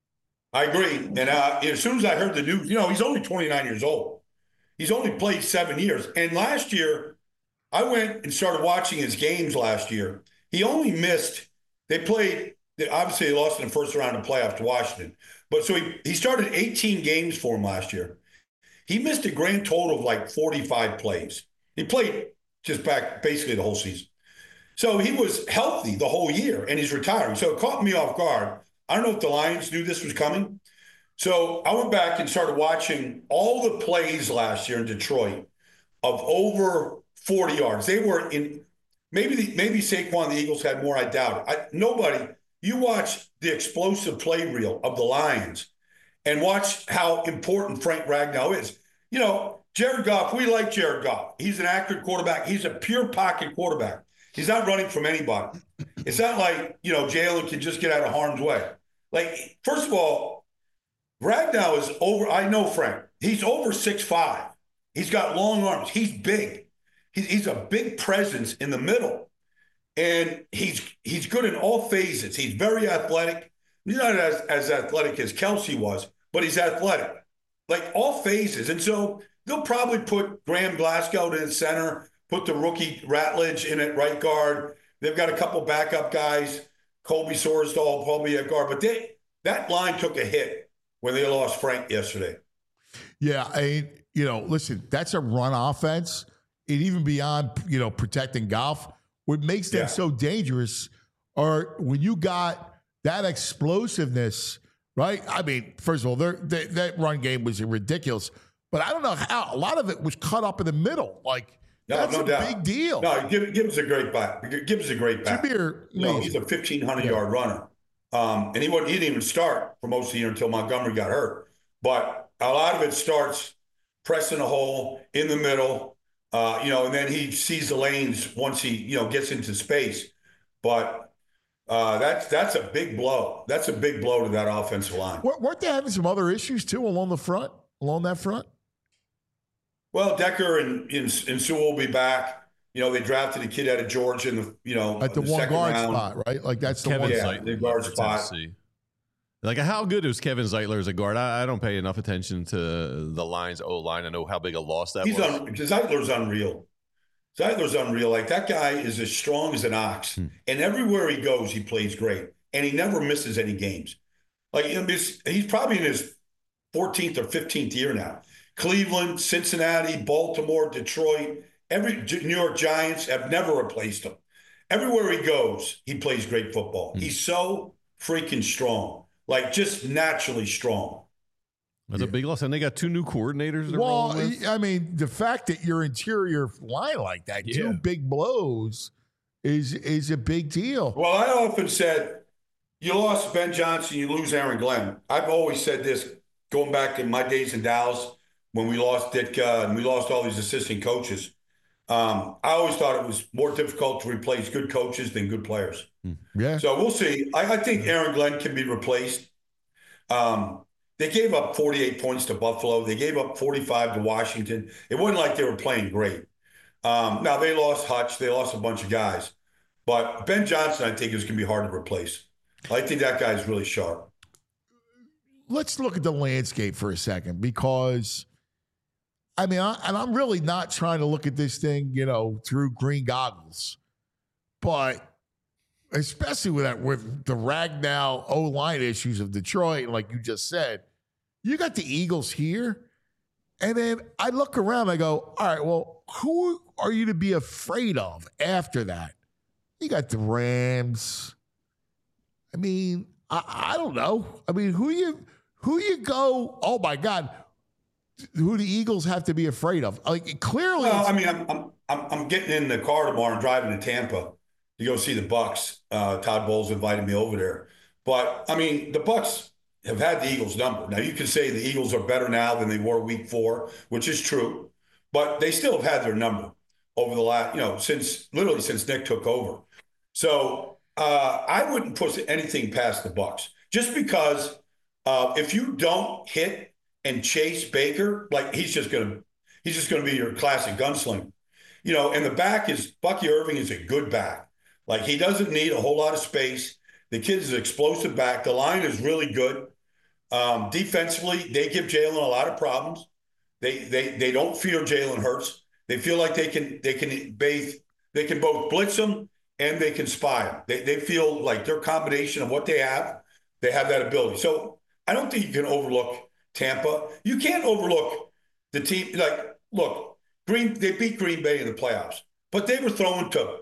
I agree. And uh, as soon as I heard the news, you know, he's only twenty-nine years old. He's only played seven years. And last year, I went and started watching his games last year. He only missed, they played, obviously they lost in the first round of playoffs to Washington. But so he, he started eighteen games for him last year. He missed a grand total of like forty-five plays. He played just back basically the whole season. So he was healthy the whole year, and he's retiring. So it caught me off guard. I don't know if the Lions knew this was coming. So I went back and started watching all the plays last year in Detroit of over forty yards. They were in maybe the, maybe Saquon and the Eagles had more. I doubt it. I, nobody. You watch the explosive play reel of the Lions and watch how important Frank Ragnow is. You know, Jared Goff, we like Jared Goff. He's an accurate quarterback. He's a pure pocket quarterback. He's not running from anybody. It's not like, you know, Jalen can just get out of harm's way. Like, first of all, Ragnow is over. I know Frank. He's over six five. He's got long arms. He's big. He's, he's a big presence in the middle. And he's he's good in all phases. He's very athletic. He's not as, as athletic as Kelsey was, but he's athletic. Like all phases. And so they'll probably put Graham Glasgow in center, put the rookie Ratledge in at right guard. They've got a couple backup guys, Colby Sorsdahl probably at guard. But they that line took a hit when they lost Frank yesterday. Yeah, I, you know, listen, that's a run offense. And even beyond, you know, protecting Goff, what makes them Yeah. so dangerous are when you got that explosiveness, right? I mean, first of all, they, that run game was ridiculous, but I don't know how a lot of it was cut up in the middle. Like, No, that's no a doubt. big deal. No, Gibb, Gibbs a great back. Gibbs a great back. Jameer, You know, man, he's a fifteen hundred yard runner. Um, and he, wasn't, he didn't even start for most of the year until Montgomery got hurt. But a lot of it starts pressing a hole in the middle, uh, you know, and then he sees the lanes once he, you know, gets into space. But uh, that's that's a big blow. That's a big blow to that offensive line. Wer- weren't they having some other issues too along the front, along that front? Well, Decker and, and, and Sewell will be back. You know, they drafted a kid out of Georgia in the, you know, At the the one second guard round. spot, right? Like that's the Kevin one. Yeah, Zeitler the guard for spot. Tennessee. Like, how good is Kevin Zeitler as a guard? I, I don't pay enough attention to the Lions O line. I know how big a loss that He's was. un, Zeitler's unreal. Zeitler's unreal. Like that guy is as strong as an ox, Hmm. and everywhere he goes, he plays great, and he never misses any games. Like in this, he's probably in his fourteenth or fifteenth year now. Cleveland, Cincinnati, Baltimore, Detroit, every New York Giants have never replaced him. Everywhere he goes, he plays great football. Hmm. He's so freaking strong, like just naturally strong. That's a big loss. And they got two new coordinators. they're Well, rolling with. I mean, the fact that your interior line like that, Yeah. two big blows, is is a big deal. Well, I often said, you lost Ben Johnson, you lose Aaron Glenn. I've always said this, going back to my days in Dallas, when we lost Ditka and we lost all these assistant coaches. Um, I always thought it was more difficult to replace good coaches than good players. Yeah. So we'll see. I, I think Aaron Glenn can be replaced. Um, they gave up forty-eight points to Buffalo. They gave up forty-five to Washington. It wasn't like they were playing great. Um, now, they lost Hutch. They lost a bunch of guys. But Ben Johnson, I think, is going to be hard to replace. I think that guy's really sharp. Let's look at the landscape for a second because, I mean, I, and I'm really not trying to look at this thing, you know, through green goggles. But especially with that, with the Ragnow O-line issues of Detroit, like you just said, you got the Eagles here. And then I look around, I go, all right, well, who are you to be afraid of after that? You got the Rams. I mean, I, I don't know. I mean, who you who you go, oh my God, who the Eagles have to be afraid of? Like clearly Well, I mean, I'm I'm I'm I'm getting in the car tomorrow and driving to Tampa to go see the Bucks. Uh, Todd Bowles invited me over there. But I mean, the Bucks have had the Eagles number. Now you can say the Eagles are better now than they were week four, which is true, but they still have had their number over the last, you know, since literally since Nick took over. So uh, I wouldn't push anything past the Bucks just because uh, if you don't hit and chase Baker, like he's just gonna he's just gonna be your classic gunslinger, you know. And the back is Bucky Irving is a good back. Like he doesn't need a whole lot of space. The kid is an explosive back. The line is really good. Um, defensively, they give Jalen a lot of problems. They they they don't fear Jalen Hurts. They feel like they can they can bathe they can both blitz them and they can spy them. They they feel like their combination of what they have, they have that ability. So I don't think you can overlook Tampa. You can't overlook the team. Like, look, Green they beat Green Bay in the playoffs, but they were throwing to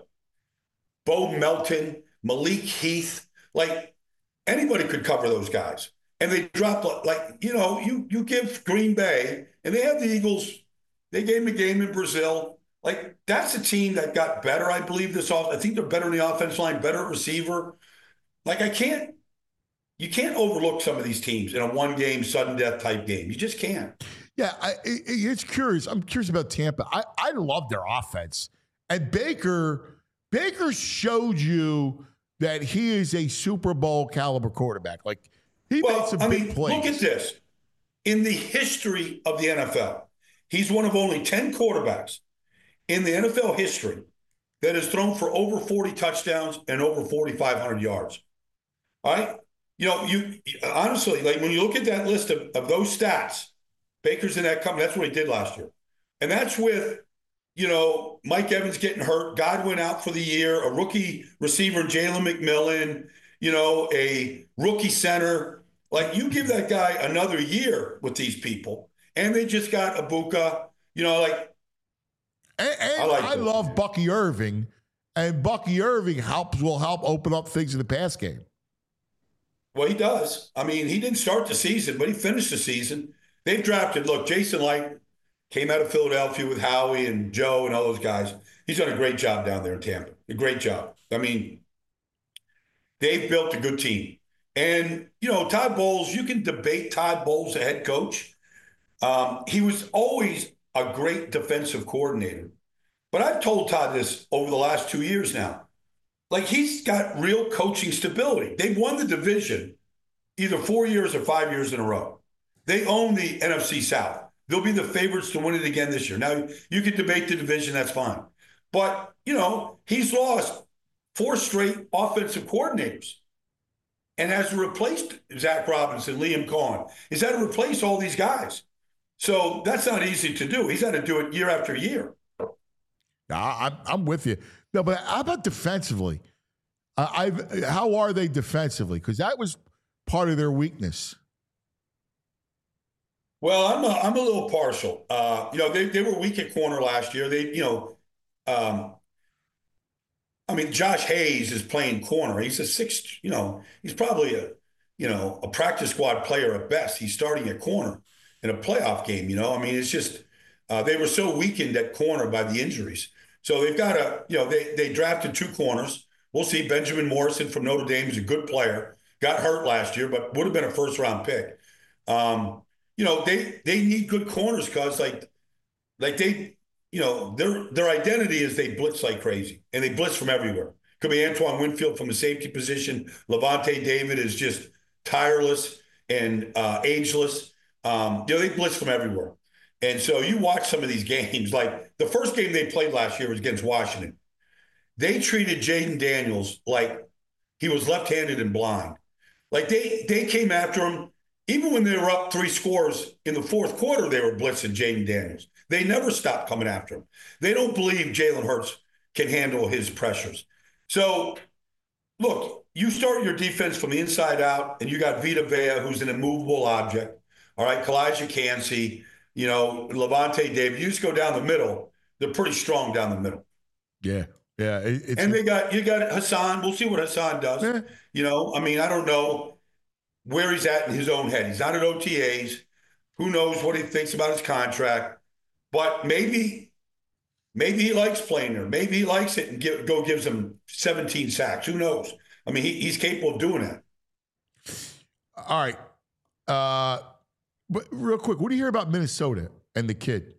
Bo Melton, Malik Heath. Like anybody could cover those guys. And they dropped, like, you know, you you give Green Bay, and they have the Eagles, they gave them a game in Brazil. Like, that's a team that got better, I believe, this off. I think they're better in the offensive line, better at receiver. Like, I can't, you can't overlook some of these teams in a one-game, sudden death type game. You just can't. Yeah, I, it, it's curious. I'm curious about Tampa. I, I love their offense. And Baker, Baker showed you that he is a Super Bowl caliber quarterback. Like, he well, made some I big mean, plays. Look at this. In the history of the N F L, he's one of only ten quarterbacks in the N F L history that has thrown for over forty touchdowns and over forty-five hundred yards. All right? You know, you honestly, like when you look at that list of, of those stats, Baker's in that company. That's what he did last year. And that's with, you know, Mike Evans getting hurt, Godwin out for the year, a rookie receiver, Jalen McMillan, you know, a rookie center. Like, you give that guy another year with these people, and they just got Ibuka, you know, like. And, and I, like I love Bucky Irving, and Bucky Irving helps will help open up things in the pass game. Well, he does. I mean, he didn't start the season, but he finished the season. They've drafted, look, Jason Light came out of Philadelphia with Howie and Joe and all those guys. He's done a great job down there in Tampa. A great job. I mean, they've built a good team. And, you know, Todd Bowles, you can debate Todd Bowles, the head coach. Um, he was always a great defensive coordinator. But I've told Todd this over the last two years now. Like, he's got real coaching stability. They've won the division either four years or five years in a row. They own the N F C South. They'll be the favorites to win it again this year. Now, you can debate the division, that's fine. But, you know, he's lost four straight offensive coordinators and has replaced Zach Robinson, Liam Cohen. He's had to replace all these guys. So that's not easy to do. He's had to do it year after year. I'm, I'm with you. No, but how about defensively? Uh, I've, how are they defensively? Because that was part of their weakness. Well, I'm a, I'm a little partial. Uh, you know, they, they were weak at corner last year. They, you know, um, I mean, Josh Hayes is playing corner. He's a sixth, you know, he's probably a, you know, a practice squad player at best. He's starting at corner in a playoff game, you know. I mean, it's just uh, they were so weakened at corner by the injuries. So they've got a, you know, they they drafted two corners. We'll see. Benjamin Morrison from Notre Dame is a good player. Got hurt last year, but would have been a first round pick. Um, you know, they they need good corners because like like they, you know, their their identity is they blitz like crazy and they blitz from everywhere. Could be Antoine Winfield from the safety position. Levante David is just tireless. and uh, ageless. Um, you know, they blitz from everywhere. And so you watch some of these games, like the first game they played last year was against Washington. They treated Jaden Daniels like he was left-handed and blind. Like they they came after him. Even when they were up three scores in the fourth quarter, they were blitzing Jaden Daniels. They never stopped coming after him. They don't believe Jalen Hurts can handle his pressures. So, look, you start your defense from the inside out, and you got Vita Vea, who's an immovable object. All right, Kalijah Kancey, you know, Levante David. You just go down the middle. They're pretty strong down the middle. Yeah, yeah. It, it's, and they got you got Hassan. We'll see what Hassan does. Yeah. You know, I mean, I don't know where he's at in his own head. He's not at O T As. Who knows what he thinks about his contract? But maybe, maybe he likes playing there. Maybe he likes it and give, go gives him seventeen sacks. Who knows? I mean, he, he's capable of doing that. All right. Uh, but real quick, what do you hear about Minnesota and the kid?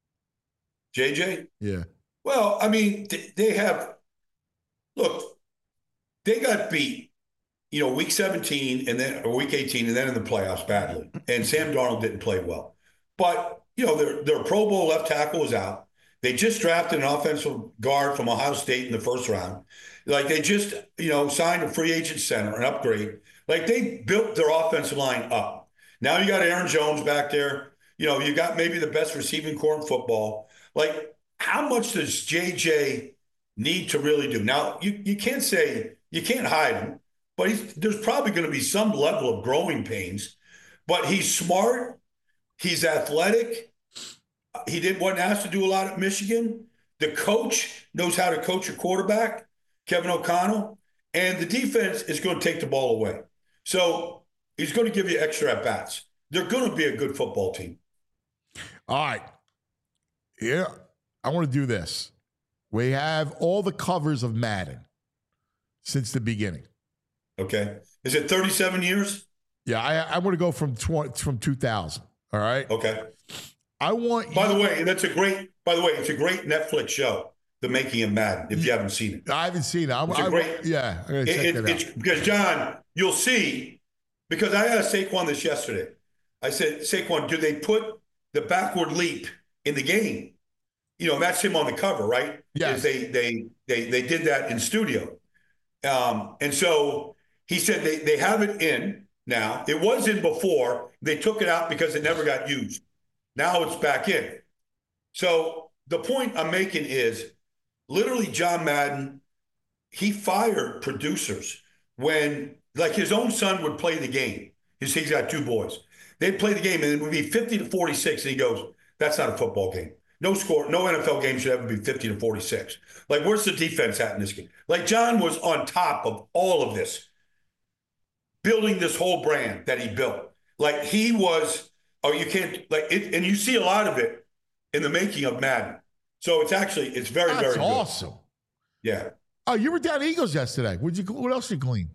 J J? Yeah. Well, I mean, they have – look, they got beat, you know, week seventeen and then or week eighteen and then in the playoffs badly. And Sam Darnold didn't play well. But, you know, their, their Pro Bowl left tackle was out. They just drafted an offensive guard from Ohio State in the first round. Like, they just, you know, signed a free agent center, an upgrade. Like, they built their offensive line up. Now you got Aaron Jones back there. You know, you got maybe the best receiving core in football. Like, how much does J J need to really do? Now, you, you can't say, you can't hide him, but he's, there's probably going to be some level of growing pains. But he's smart. He's athletic. He didn't wasn't asked to do a lot at Michigan. The coach knows how to coach a quarterback, Kevin O'Connell, and the defense is going to take the ball away. So he's going to give you extra at-bats. They're going to be a good football team. All right. Yeah, I want to do this. We have all the covers of Madden since the beginning. Okay. Is it thirty-seven years? Yeah, I, I want to go from twenty, from two thousand. All right. Okay. I want. By you, the way, that's a great. By the way, it's a great Netflix show, The Making of Madden. If you haven't seen it, I haven't seen it. I, it's a I, great. Yeah, I'm gonna check it, it, it, out. it's, because John, you'll see. Because I asked Saquon this yesterday. I said, Saquon, do they put the backward leap in the game? You know, that's him on the cover, right? Yes. They they they they did that in studio, um, and so he said they they have it in now. It was in before. They took it out because it never got used. Now it's back in. So the point I'm making is literally John Madden, he fired producers when, like, his own son would play the game. He's, he's got two boys. They'd play the game, and it would be fifty to forty-six, and he goes, that's not a football game. No score, no N F L game should ever be fifty to forty-six. Like, where's the defense at in this game? Like, John was on top of all of this, building this whole brand that he built. Like, he was, oh, you can't, like, it, and you see a lot of it in the making of Madden. So it's actually, it's very, That's very good. awesome. Yeah. Oh, you were down at Eagles yesterday. What'd you? What else did you glean?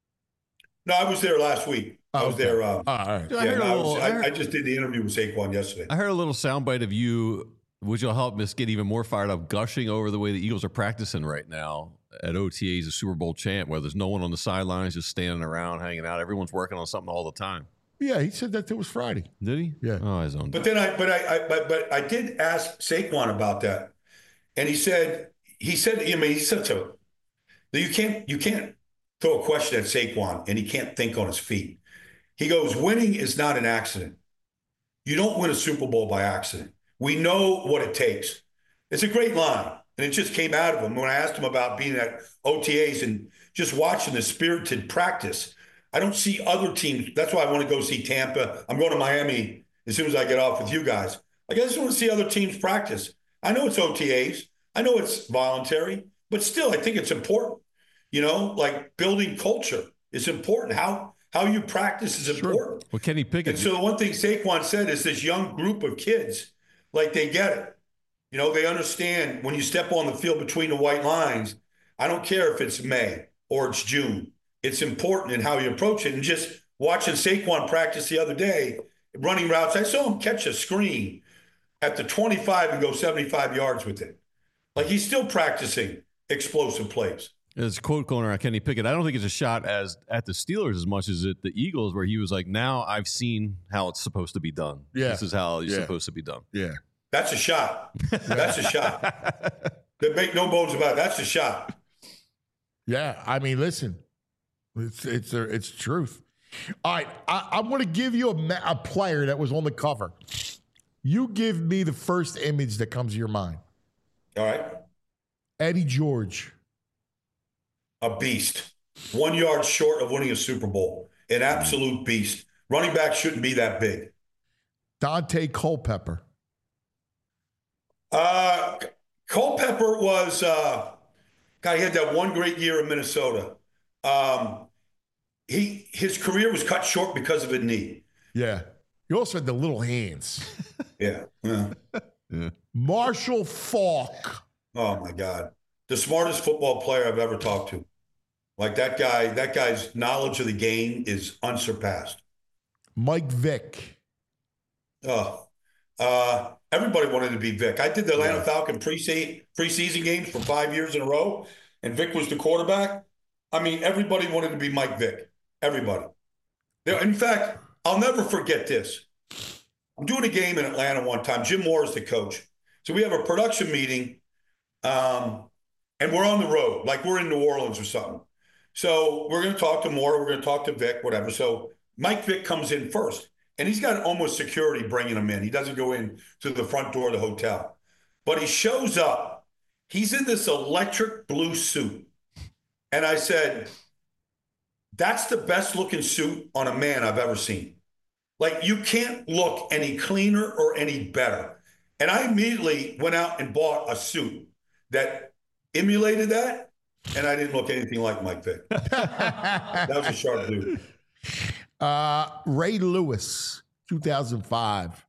No, I was there last week. I Oh, was okay. there. Um, All right. Dude, I, yeah, heard no, a I, little, was, I, I, heard, I just did the interview with Saquon yesterday. I heard a little soundbite of you, which will help us get even more fired up, gushing over the way the Eagles are practicing right now at O T As, a Super Bowl champ, where there's no one on the sidelines just standing around, hanging out. Everyone's working on something all the time. Yeah, he said that it was Friday. Did he? Yeah. Oh, his own. But then I, but I, I, but, but I did ask Saquon about that, and he said, he said, I mean, he's such a, you can't, you can't throw a question at Saquon and he can't think on his feet. He goes, winning is not an accident. You don't win a Super Bowl by accident. We know what it takes. It's a great line, and it just came out of him when I asked him about being at O T As and just watching the spirited practice. I don't see other teams. That's why I want to go see Tampa. I'm going to Miami as soon as I get off with you guys. I just want to see other teams practice. I know it's O T As. I know it's voluntary, but still, I think it's important. You know, like building culture is important. How how you practice is Sure. important. Well, Kenny Pickett. And so the one thing Saquon said is this young group of kids, like they get it. You know, they understand when you step on the field between the white lines, I don't care if it's May or it's June. It's important in how you approach it. And just watching Saquon practice the other day, running routes, I saw him catch a screen at the twenty-five and go seventy-five yards with it. Like he's still practicing explosive plays. There's a quote going around Kenny Pickett. I don't think it's a shot as at the Steelers as much as at the Eagles, where he was like, now I've seen how it's supposed to be done. Yeah. This is how it's Yeah. supposed to be done. Yeah. That's a shot. That's a shot. They make no bones about it. That's a shot. Yeah. I mean, listen, it's it's it's truth. All right. I, I'm going to give you a, ma- a player that was on the cover. You give me the first image that comes to your mind. All right. Eddie George. A beast. One yard short of winning a Super Bowl. An absolute beast. Running back shouldn't be that big. Dante Culpepper. Uh, Culpepper was, uh, God, he had that one great year in Minnesota. Um, he His career was cut short because of a knee. Yeah. You also had the little hands. Yeah. yeah. Marshall Faulk. Oh, my God. The smartest football player I've ever talked to. Like that guy, that guy's knowledge of the game is unsurpassed. Mike Vick. Oh, uh, everybody wanted to be Vic. I did the Atlanta Falcon preseason preseason games for five years in a row, and Vic was the quarterback. I mean, everybody wanted to be Mike Vick. Everybody. In fact, I'll never forget this. I'm doing a game in Atlanta one time. Jim Moore is the coach. So we have a production meeting, um, and we're on the road, like we're in New Orleans or something. So we're going to talk to Moore. We're going to talk to Vic, whatever. So Mike Vick comes in first. And he's got almost security bringing him in. He doesn't go in to the front door of the hotel. But he shows up. He's in this electric blue suit. And I said, that's the best looking suit on a man I've ever seen. Like, you can't look any cleaner or any better. And I immediately went out and bought a suit that emulated that. And I didn't look anything like Mike Vick. That was a sharp dude. Uh, Ray Lewis, two thousand five.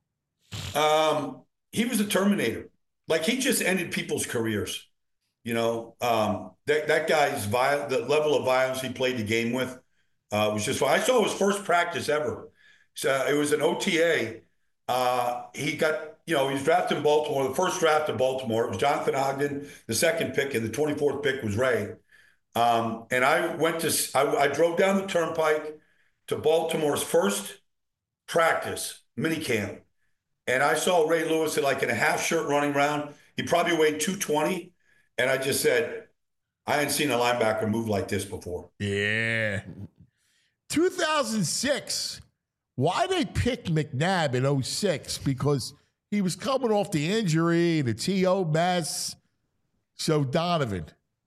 Um, he was a Terminator. Like, he just ended people's careers. You know, um, that that guy's viol- the level of violence he played the game with uh, was just. I saw his first practice ever. So it was an O T A. Uh, he got, you know, he was drafted in Baltimore. The first draft of Baltimore, it was Jonathan Ogden. The second pick and the twenty-fourth pick was Ray. Um, and I went to. I, I drove down the turnpike to Baltimore's first practice, minicamp. And I saw Ray Lewis in like in a half shirt running around. He probably weighed two twenty. And I just said, I hadn't seen a linebacker move like this before. Yeah. two thousand six. Why they pick McNabb in oh six? Because he was coming off the injury, the T O mess. So Donovan.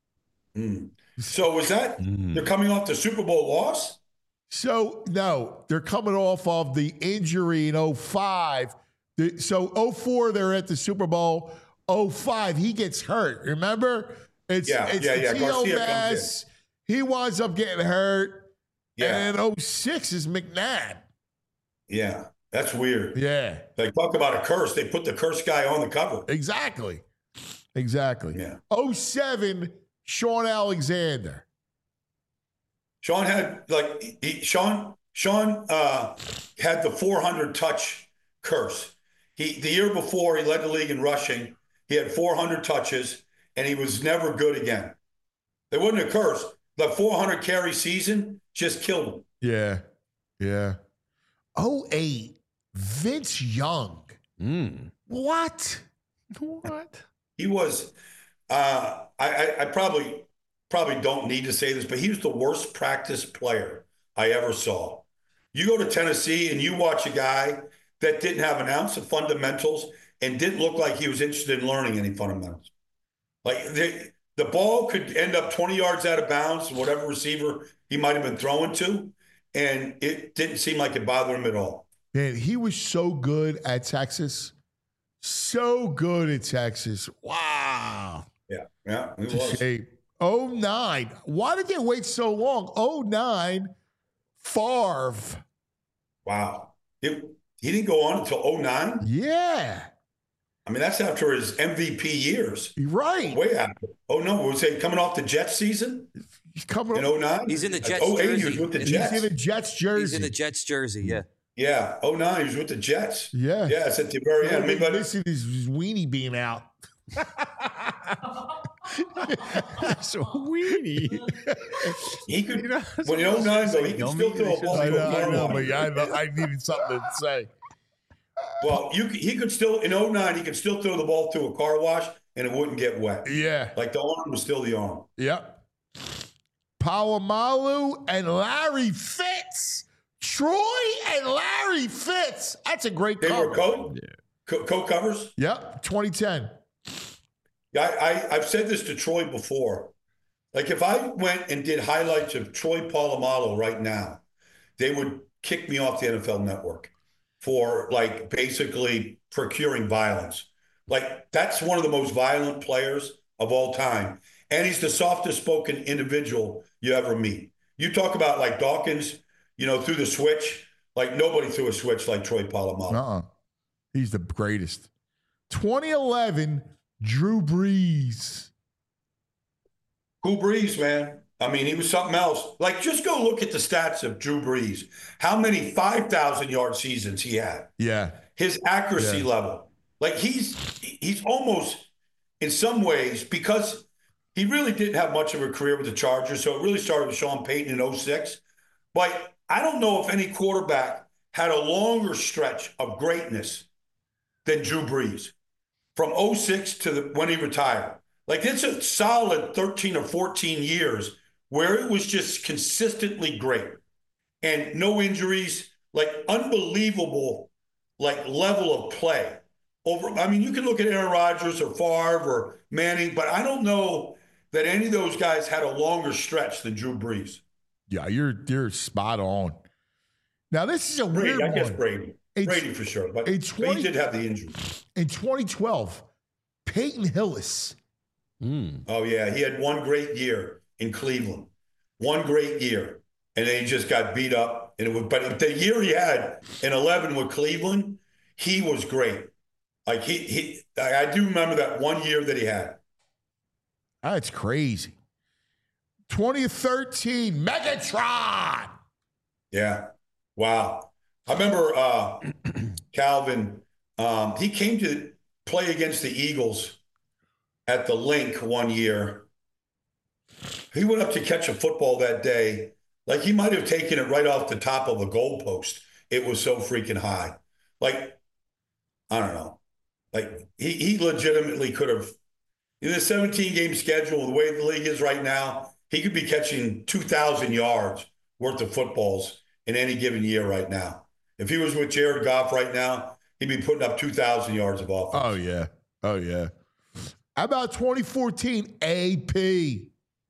Mm. So was that, Mm. they're coming off the Super Bowl loss? So, no, they're coming off of the injury in oh five. The, so, oh four, they're at the Super Bowl. oh five, he gets hurt. Remember? It's, Yeah, it's yeah, the yeah. T O Garcia comes mess. He winds up getting hurt. Yeah, And oh six is McNabb. yeah. That's weird. Yeah, Like, talk about a curse. They put the curse guy on the cover. exactly. Exactly. Yeah. oh seven, Sean Alexander. Sean had, like, he, Sean, Sean uh, had the four hundred touch curse. He The year before, he led the league in rushing. He had four hundred touches, and he was never good again. There wasn't a curse. The four hundred carry season just killed him. Yeah. Yeah. oh eight, Vince Young. Mm. What? What? He was, uh, I, I, I probably probably don't need to say this, but he was the worst practice player I ever saw. You go to Tennessee and you watch a guy that didn't have an ounce of fundamentals and didn't look like he was interested in learning any fundamentals. Like the, the ball could end up twenty yards out of bounds, whatever receiver he might have been throwing to, and it didn't seem like it bothered him at all. Man, he was so good at Texas. So good at Texas. Wow. Yeah, yeah, it It's a was. shame. oh nine. Why did they wait so long? oh nine, Favre. Wow. It, he didn't go on until oh nine? Yeah. I mean, that's after his M V P years. You're right. Way after. Oh, no. Was he coming off the Jets season He's coming in up. oh nine? He's in the Jets oh eight, he was jersey. with the He's He's Jets. in a Jets jersey. He's in the Jets jersey, yeah. Yeah. oh nine, he was with the Jets. Yeah. Yeah, it's at the very end. I mean, but Missing his, his weenie being out. That's a weenie. He could, You know, when in oh nine, though, he could Don't still mean throw they a ball I to know, a I car know, wash. but I, know, I needed something to say. Well, you could- he could still, in oh nine, he could still throw the ball to a car wash and it wouldn't get wet. Yeah. Like the arm was still the arm. Yep. Palomalu and Larry Fitz. Troy and Larry Fitz. That's a great They cover. were co, co, co-covers. Yep, twenty ten. Yeah, I, I, I've said this to Troy before. Like if I went and did highlights of Troy Polamalu right now, they would kick me off the N F L Network for like basically procuring violence. Like that's one of the most violent players of all time. And he's the softest spoken individual you ever meet. You talk about like Dawkins, you know, through the switch, like nobody threw a switch like Troy Polamalu. Uh-uh. He's the greatest. twenty eleven, Drew Brees. Drew Brees, man. I mean, he was something else. Like, just go look at the stats of Drew Brees. How many five thousand yard seasons he had. Yeah. His accuracy Yeah. level. Like, he's he's almost, in some ways, because he really didn't have much of a career with the Chargers, so it really started with Sean Payton in oh six. But I don't know if any quarterback had a longer stretch of greatness than Drew Brees from oh six to the, when he retired. Like, it's a solid thirteen or fourteen years where it was just consistently great and no injuries, like unbelievable, like level of play. Over, I mean, you can look at Aaron Rodgers or Favre or Manning, but I don't know that any of those guys had a longer stretch than Drew Brees. Yeah, you're you're spot on. Now, this is a Brady, weird I guess one. Brady. It's- Brady for sure, but, it's but twenty he did have the injury. In twenty twelve, Peyton Hillis. Mm. Oh, yeah. He had one great year in Cleveland. One great year. And then he just got beat up. And it was, but the year he had in eleven with Cleveland, he was great. Like he, he, I do remember that one year that he had. That's crazy. twenty thirteen, Megatron. Yeah. Wow. I remember uh, Calvin, um, he came to play against the Eagles at the Link one year. He went up to catch a football that day. Like he might have taken it right off the top of a goalpost. It was so freaking high. Like, I don't know. Like he, he legitimately could have, in the seventeen game schedule, the way the league is right now, he could be catching two thousand yards worth of footballs in any given year right now. If he was with Jared Goff right now, he'd be putting up two thousand yards of offense. Oh, yeah. Oh, yeah. How about twenty fourteen, A P?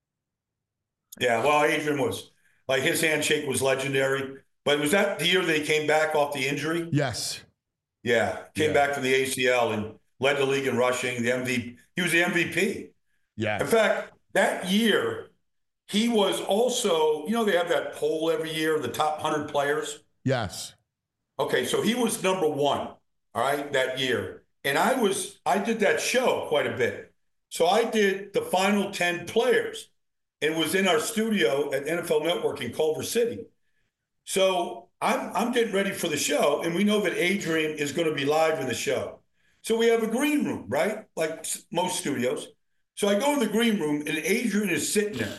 Yeah, well, Adrian was, like his handshake was legendary. But was that the year that he came back off the injury? Yes. Yeah, came Yeah. back from the A C L and led the league in rushing, the M V P. He was the M V P. Yeah. In fact, that year, he was also, you know, they have that poll every year, the top one hundred players. Yes. Okay, so he was number one, all right, that year. And I was, I did that show quite a bit. So I did the final ten players. It was in our studio at N F L Network in Culver City. So I'm, I'm getting ready for the show, and we know that Adrian is going to be live in the show. So we have a green room, right? Like s- most studios. So I go in the green room, and Adrian is sitting there.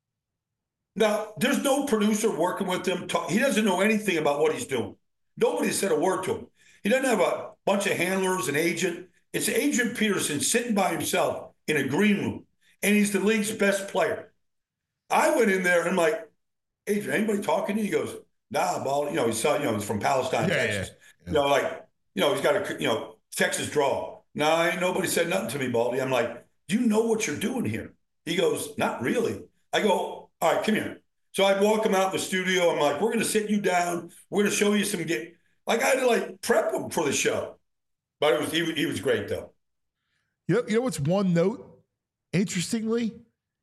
Now, there's no producer working with him. Talk, he doesn't know anything about what he's doing. Nobody said a word to him. He doesn't have a bunch of handlers, an agent. It's Adrian Peterson sitting by himself in a green room, and he's the league's best player. I went in there and I'm like, Adrian, anybody talking to you? He goes, nah, ball. You know, he's you know he's from Palestine, Yeah, Texas. yeah, yeah. You know, like you know he's got a you know Texas draw. No, nah, ain't nobody said nothing to me, Baldy. I'm like, do you know what you're doing here? He goes, not really. I go, all right, come here. So I'd walk him out in the studio. I'm like, we're going to sit you down. We're going to show you some game. Like I had to like prep him for the show. But it was he, he was great though. You know, you know what's one note? Interestingly,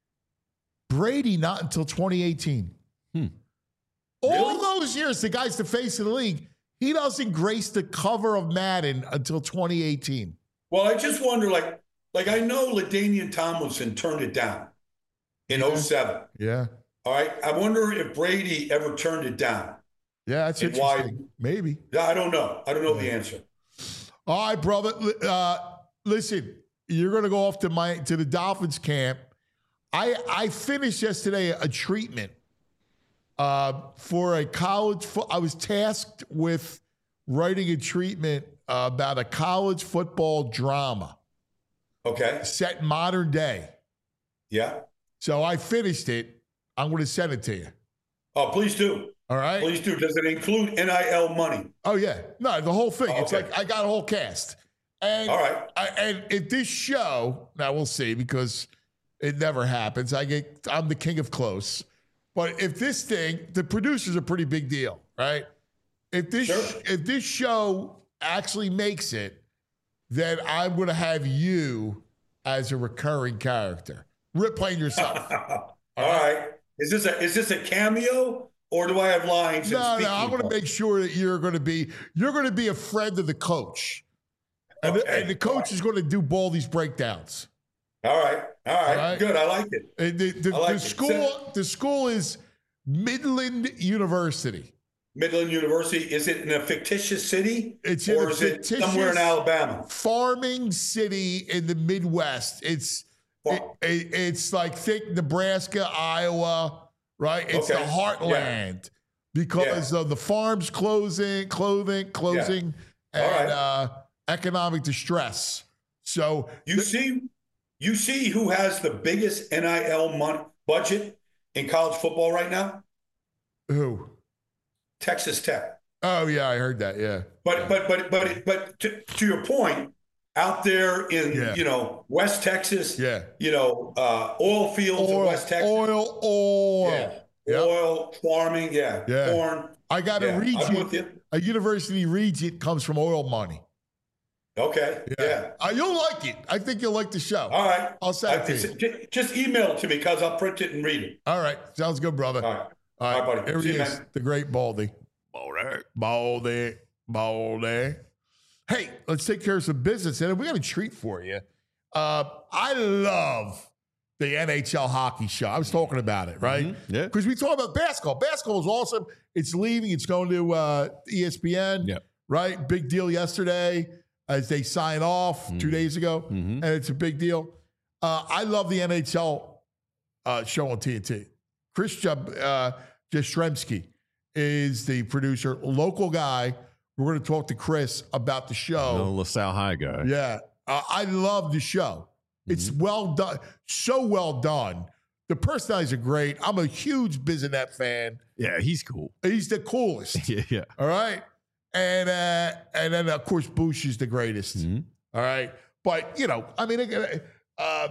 Brady not until twenty eighteen. Hmm. All Really? those years, the guy's the face of the league. He doesn't grace the cover of Madden until twenty eighteen. Well, I just wonder, like, like I know LaDainian Tomlinson turned it down in oh seven. Yeah. All right. I wonder if Brady ever turned it down. Yeah, that's And why- interesting. Maybe. I don't know. I don't know the answer. All right, brother. Uh, listen, you're going to go off to my to the Dolphins camp. I I finished yesterday a treatment uh, for a college. Fo- I was tasked with writing a treatment uh, about a college football drama. Okay. Set in modern day. Yeah. So I finished it. I'm going to send it to you. Oh, please do. All right. Please do. Does it include N I L money? Oh yeah. No, the whole thing. Oh, it's okay. like I got a whole cast. And All right. I, and if this show, now we'll see because it never happens. I get I'm the king of close. But if this thing, the producer's a pretty big deal, right? If this Sure. if this show actually makes it, then I'm going to have you as a recurring character. Rip playing yourself. All right. Is this a is this a cameo or do I have lines? No, and no, speaking I'm going to parts? make sure that you're going to be you're going to be a friend of the coach, and, the, Okay. and the coach is going to do Baldy's breakdowns. All right. All right. All right. Good. I like it. And the the, I like the it. school So- the school is Midland University. Midland University. Is it in a fictitious city? It's in or a is it fictitious somewhere in Alabama? farming city in the Midwest. It's it, it- it's like think Nebraska, Iowa, right? It's Okay. the heartland because of the farms closing, clothing, closing, All and right. uh, economic distress. So You see, you see who has the biggest N I L money budget in college football right now? who? Texas Tech. Oh yeah, I heard that. Yeah, But but but but but to, to your point, out there in Yeah. you know West Texas, yeah. you know uh, oil fields in Oil, West Texas, oil, oil. yeah, Yep. oil farming, yeah, Yeah. corn. I got Yeah, a I'm regent. with you. A university regent comes from oil money. Okay, yeah. Uh, you'll like it. I think you'll like the show. All right. I'll send it I- to it's- you. j- Just email it to me because I'll print it and read it. All right. Sounds good, brother. All right. All right, All right, buddy. Here See he you, is, man. the great Baldy. Baldy. Baldy. Baldy. Hey, let's take care of some business. And we got a treat for you. Uh, I love the N H L hockey show. I was talking about it, right? Mhm. Yeah. Because we talk about basketball. Basketball is awesome. It's leaving. It's going to uh, E S P N, Yeah. right? Big deal yesterday as they sign off two days ago. Mhm. And it's a big deal. Uh, I love the N H L uh, show on T N T. Chris Jab- uh, Jastrzemski is the producer, local guy. We're going to talk to Chris about the show. No LaSalle High guy. Yeah. Uh, I love the show. It's well done. So well done. The personalities are great. I'm a huge Bizanet fan. Yeah, he's cool. He's the coolest. Yeah, yeah. All right. And uh, and then, of course, Bush is the greatest. Mhm. All right. But, you know, I mean, uh,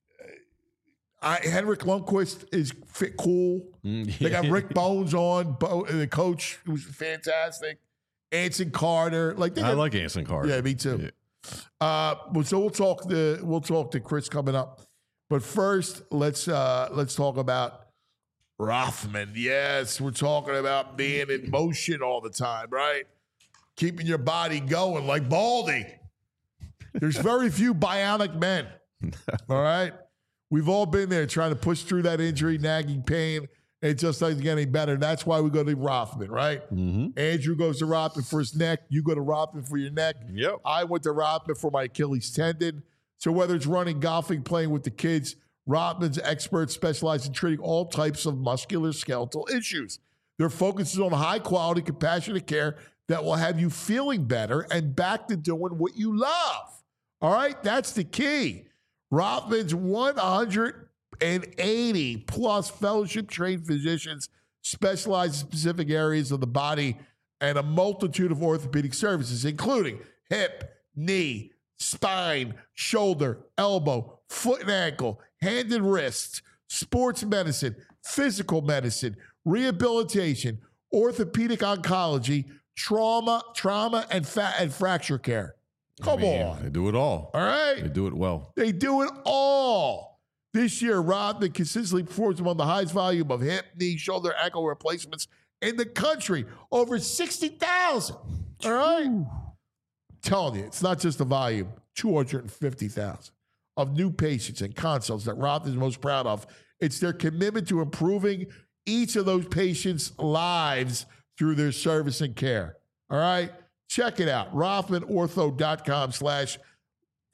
I, Henrik Lundqvist is fit, cool. Mm, They got yeah. Rick Bones on, Bo, the coach, who's fantastic. Anson Carter. Like they I got, like Anson Carter. Yeah, me too. Yeah. Uh, well, so we'll talk to we'll talk to Chris coming up, but first let's uh, let's talk about Rothman. Yes, we're talking about being in motion all the time, right? Keeping your body going like Baldy. There's very few bionic men. All right, we've all been there trying to push through that injury, nagging pain. It just doesn't get any better. That's why we go to Rothman, right? Mhm. Andrew goes to Rothman for his neck. You go to Rothman for your neck. Yep. I went to Rothman for my Achilles tendon. So whether it's running, golfing, playing with the kids, Rothman's experts specialize in treating all types of musculoskeletal issues. Their focus is on high quality, compassionate care that will have you feeling better and back to doing what you love. All right, that's the key. Rothman's one hundred eighty plus fellowship trained physicians specialize in specific areas of the body and a multitude of orthopedic services, including hip, knee, spine, shoulder, elbow, foot and ankle, hand and wrist, sports medicine, physical medicine, rehabilitation, orthopedic oncology, trauma, trauma, and fat and fracture care. Come I mean, on. They do it all. All right. They do it well. They do it all. This year, Rothman consistently performs among the highest volume of hip, knee, shoulder, ankle replacements in the country. Over sixty thousand. All right? I'm telling you, it's not just the volume, two hundred fifty thousand of new patients and consults that Rothman is most proud of. It's their commitment to improving each of those patients' lives through their service and care. All right? Check it out. Rothman Ortho dot com slash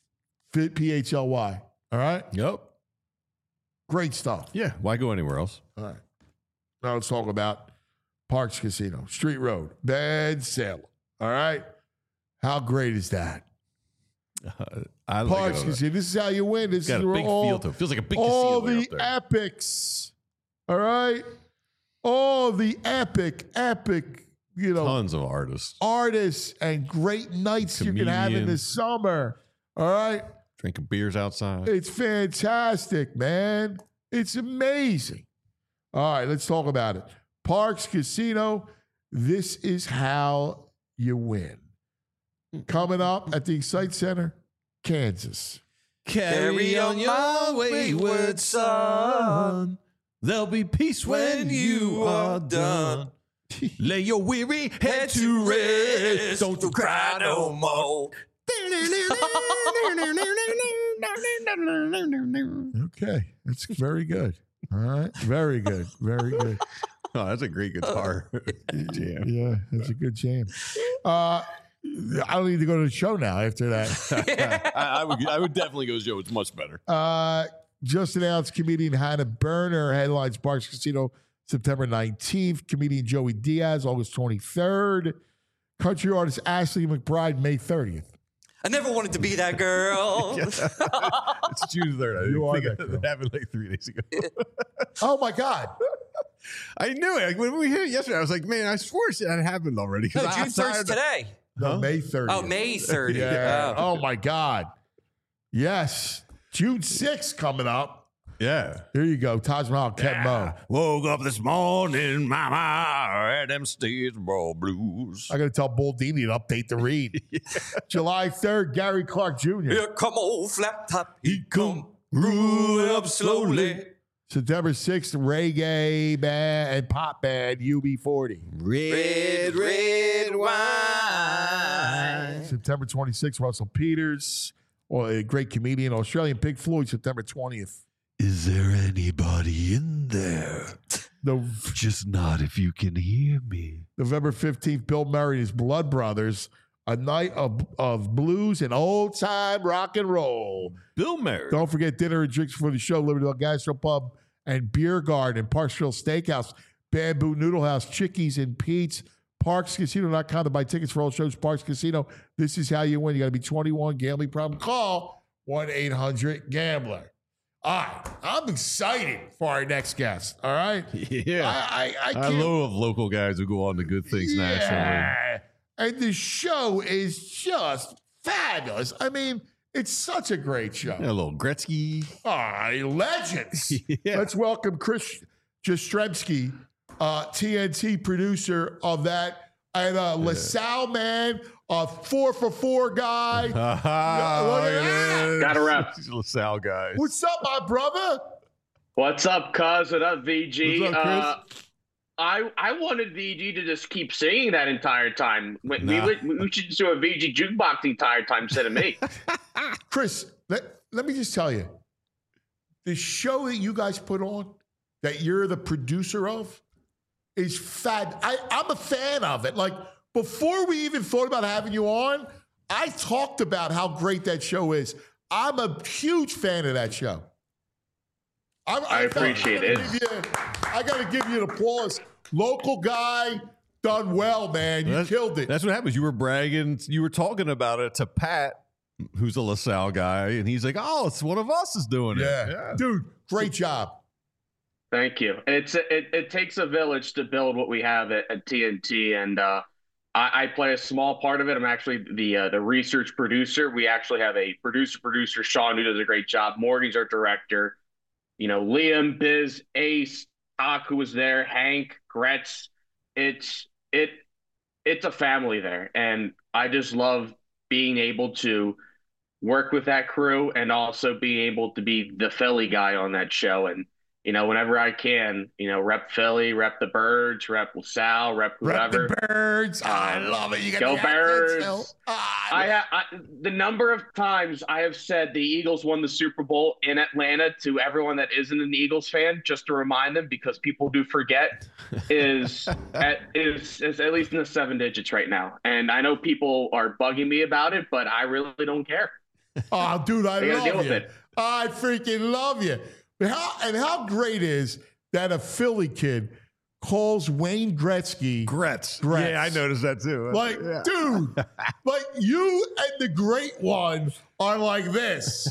Fit P H L Y. All right? Yep. Great stuff. Yeah. Why go anywhere else? All right. Now let's talk about Parks Casino, Street Road, Ben Salem. All right? How great is that? Uh, I like Parks it. Casino. This is how you win. This Got is a where big all, feel to it. Feels like a big all casino way the up there. epics. All right? All the epic, epic, you know, Tons of artists artists and great nights you can have in the Comedians. summer. All right? drinking beers outside. It's fantastic, man. It's amazing. All right, let's talk about it. Parks Casino, this is how you win. Coming up at the Excite Center, Kansas. Carry on your wayward son. There'll be peace when you are done. Lay your weary head to rest. Don't you cry no more. Okay, that's very good. All right, very good, very good. Oh, that's a great guitar jam. Yeah, that's a good jam. Uh, I don't need to go to the show now after that. I, I would. I would definitely go to Joe. It's much better. Uh, just announced comedian Hannah Berner headlines Parks Casino September nineteenth. Comedian Joey Diaz August twenty-third. Country artist Ashley McBride May thirtieth. I never wanted to be that girl. It's June third. I You are think that it girl. happened like three days ago. Oh my God. I knew it. Like, when we hit it yesterday, I was like, man, I swore it had happened already. 'Cause No, I- June I'm third's tired of- today. No, Huh? May thirtieth. Oh, May thirtieth. Yeah. Oh. Oh my God. Yes. June sixth coming up. Yeah. Here you go. Taj Mahal, Ken Mo. Woke up this morning, mama, I had them Statesboro blues. I got to tell Bull Dini to update the read. July third, Gary Clark Junior Here come old flat top. He come rolling up slowly. September sixth, reggae band and pop band U B forty. Red, red wine. September twenty-sixth, Russell Peters, or a great comedian, Australian Pink Floyd, September twentieth. Is there anybody in there? The, Just not if you can hear me. November fifteenth, Bill Murray and his Blood Brothers, a night of, of blues and old time rock and roll. Bill Murray. Don't forget dinner and drinks for the show, Liberty Gastro Pub and Beer Garden, Parksville Steakhouse, Bamboo Noodle House, Chickies and Pete's, parks casino dot com to buy tickets for all shows. Parks Casino, this is how you win. You got to be twenty-one, gambling problem. Call one eight hundred gambler. All right, I'm excited for our next guest, all right? Yeah. I, I, I I can't love local guys who go on to good things nationally. yeah. And the show is just fabulous. I mean, it's such a great show. Yeah, a little Gretzky. Ah, legends. Yeah. Let's welcome Chris Jastrzemski, uh, T N T producer of that, and uh, LaSalle man, a four for four guy. Ah, look at that. Gotta rep. These LaSalle guys. What's up, my brother? What's up, cuz? What up, V G? What's up, Chris? Uh, I I wanted V G to just keep singing that entire time. We, Nah. we, would- we should just do a V G jukebox the entire time instead of me. Chris, let, let me just tell you, the show that you guys put on, that you're the producer of, is fab. I, I'm a fan of it. Like, before we even thought about having you on, I talked about how great that show is. I'm a huge fan of that show. I'm, I appreciate I it. gotta give you- I got to give you an applause. Local guy, done well, man. You That's- killed it. That's what happens. You were bragging. You were talking about it to Pat, who's a LaSalle guy, and he's like, "Oh, it's one of us is doing yeah. it." Dude, great job. Thank you. It's it, it takes a village to build what we have at, at T N T, and uh, I, I play a small part of it. I'm actually the uh, the research producer. We actually have a producer producer, Sean, who does a great job. Morgan's our director. You know, Liam, Biz, Ace, Hawk, who was there, Hank, Gretz. It's it it's a family there, and I just love being able to work with that crew and also being able to be the Philly guy on that show. And you know, whenever I can, you know, rep Philly, rep the Birds, rep LaSalle, rep Rep whoever. the Birds. I Um, love it. You got go the accent Birds. still. Ah, I, ha- I the number of times I have said the Eagles won the Super Bowl in Atlanta to everyone that isn't an Eagles fan, just to remind them, because people do forget, is at is, is at least in the seven digits right now. And I know people are bugging me about it, but I really don't care. Oh, dude, I They gotta deal love with you. it. I freaking love you. But how, and how great is that a Philly kid calls Wayne Gretzky Gretz. Gretz. Yeah, I noticed that too. Like, Yeah. dude, like you and the great one are like this.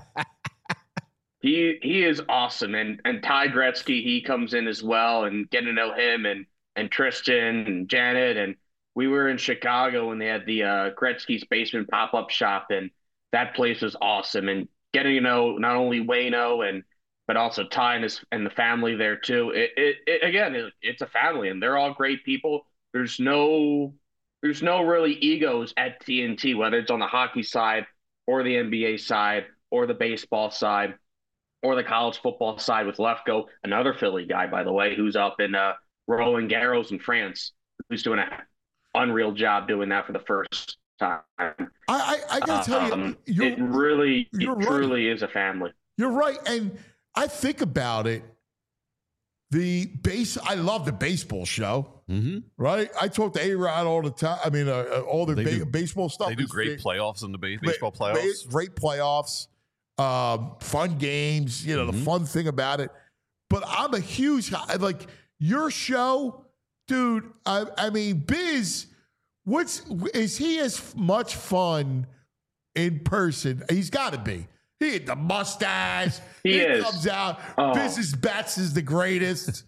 He he is awesome, and and Ty Gretzky, he comes in as well, and getting to know him and and Tristan and Janet, and we were in Chicago when they had the uh, Gretzky's Basement pop up shop, and that place was awesome, and getting to know not only Wayno and but also Ty and his and the family there too. It it, it again, it, it's a family, and they're all great people. There's no there's no really egos at T N T, whether it's on the hockey side or the N B A side or the baseball side or the college football side with Lefko, another Philly guy, by the way, who's up in uh, Roland Garros in France, who's doing an unreal job doing that for the first time. I I, I gotta tell Um, you, you're, it really, it you're right. truly is a family. You're right, and I think about it. The base, I love the baseball show. Mm-hmm. Right, I talk to A-Rod all the time. I mean, uh, uh, all the They ba- do- baseball stuff. They do is great big. playoffs in the ba- Ba- baseball ba- playoffs. Great playoffs, um, fun games. You know, Mm-hmm. the fun thing about it. But I'm a huge like your show, dude. I, I mean, Biz. What's is he as much fun in person? He's got to be. He had the mustache. He is. comes out. Oh. Biz's Bats is the greatest.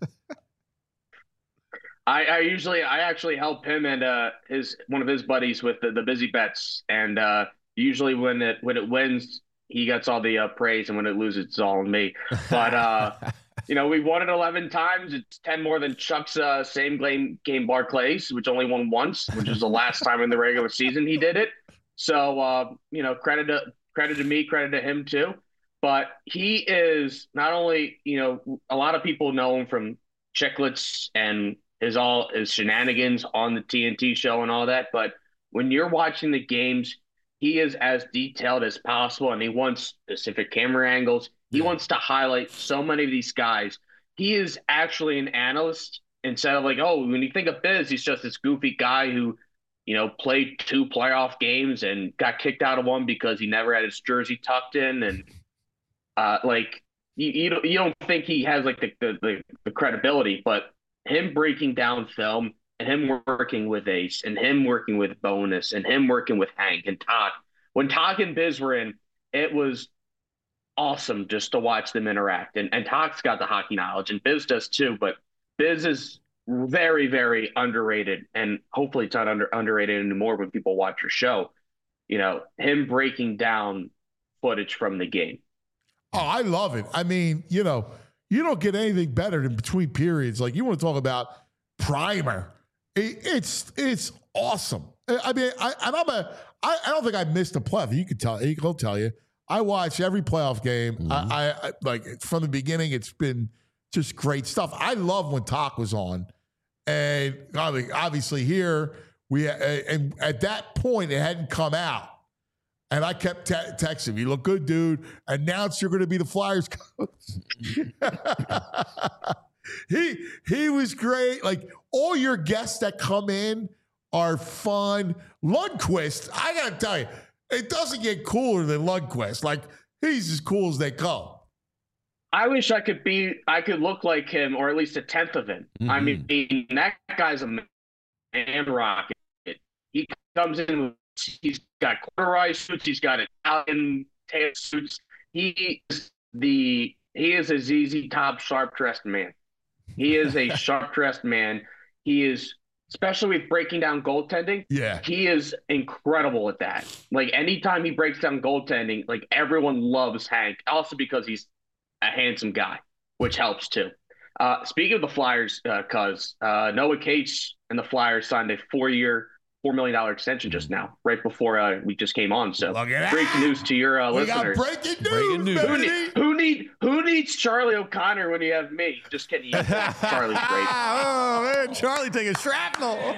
I, I usually, I actually help him and uh, his one of his buddies with the, the busy bets, and uh, usually when it when it wins, he gets all the uh, praise, and when it loses, it's all on me. But uh, you know, we won it eleven times. It's ten more than Chuck's uh, same game game Barclays, which only won once, which was the last time in the regular season he did it. So uh, you know, credit to credit to me, credit to him too. But he is not only, you know, a lot of people know him from Chicklets and his all his shenanigans on the T N T show and all that. But when you're watching the games, he is as detailed as possible, and he wants specific camera angles. He Yeah. wants to highlight so many of these guys. He is actually an analyst instead of like, oh, when you think of Biz, he's just this goofy guy who, you know, played two playoff games and got kicked out of one because he never had his jersey tucked in, and uh, like you you don't, you don't think he has like the, the the the credibility, but him breaking down film and him working with Ace and him working with Bonus and him working with Hank and Todd. When Todd and Biz were in, it was awesome just to watch them interact. And and Todd's got the hockey knowledge, and Biz does too, but Biz is very, very underrated, and hopefully it's not under underrated anymore when people watch your show. You know, him breaking down footage from the game. Oh, I love it. I mean, you know, you don't get anything better than between periods. Like you want to talk about primer. It, it's it's awesome. I mean, I, and I'm a. I, I don't think I missed a playoff. You can tell. He'll tell you. I watch every playoff game. Mm-hmm. I, I, I like from the beginning. It's been just great stuff. I love when Talk was on, and I mean, obviously here we and at that point it hadn't come out. And I kept te- texting him, you look good, dude. Announce you're going to be the Flyers coach. he he was great. Like, all your guests that come in are fun. Lundqvist, I got to tell you, it doesn't get cooler than Lundqvist. Like, he's as cool as they come. I wish I could be, I could look like him, or at least a tenth of him. I Mhm. mean, that guy's a man rocket. He comes in, he's got corduroy suits, he's got Italian tail suits. He is the, he is a Z Z Top sharp dressed man. He is a sharp dressed man. He is, especially with breaking down goaltending. Yeah. He is incredible at that. Like, anytime he breaks down goaltending, like, everyone loves Hank. Also because he's a handsome guy, which helps too. Uh, speaking of the Flyers, uh, cuz uh, Noah Cates and the Flyers signed a four-year, four million dollar extension just now, right before uh, we just came on. So Look at great that. news to your uh, We listeners. got breaking news, Breaking news. Who, baby. need, who need who needs Charlie O'Connor when you have me? Just kidding. You have Charlie's great. Oh man, Charlie taking shrapnel.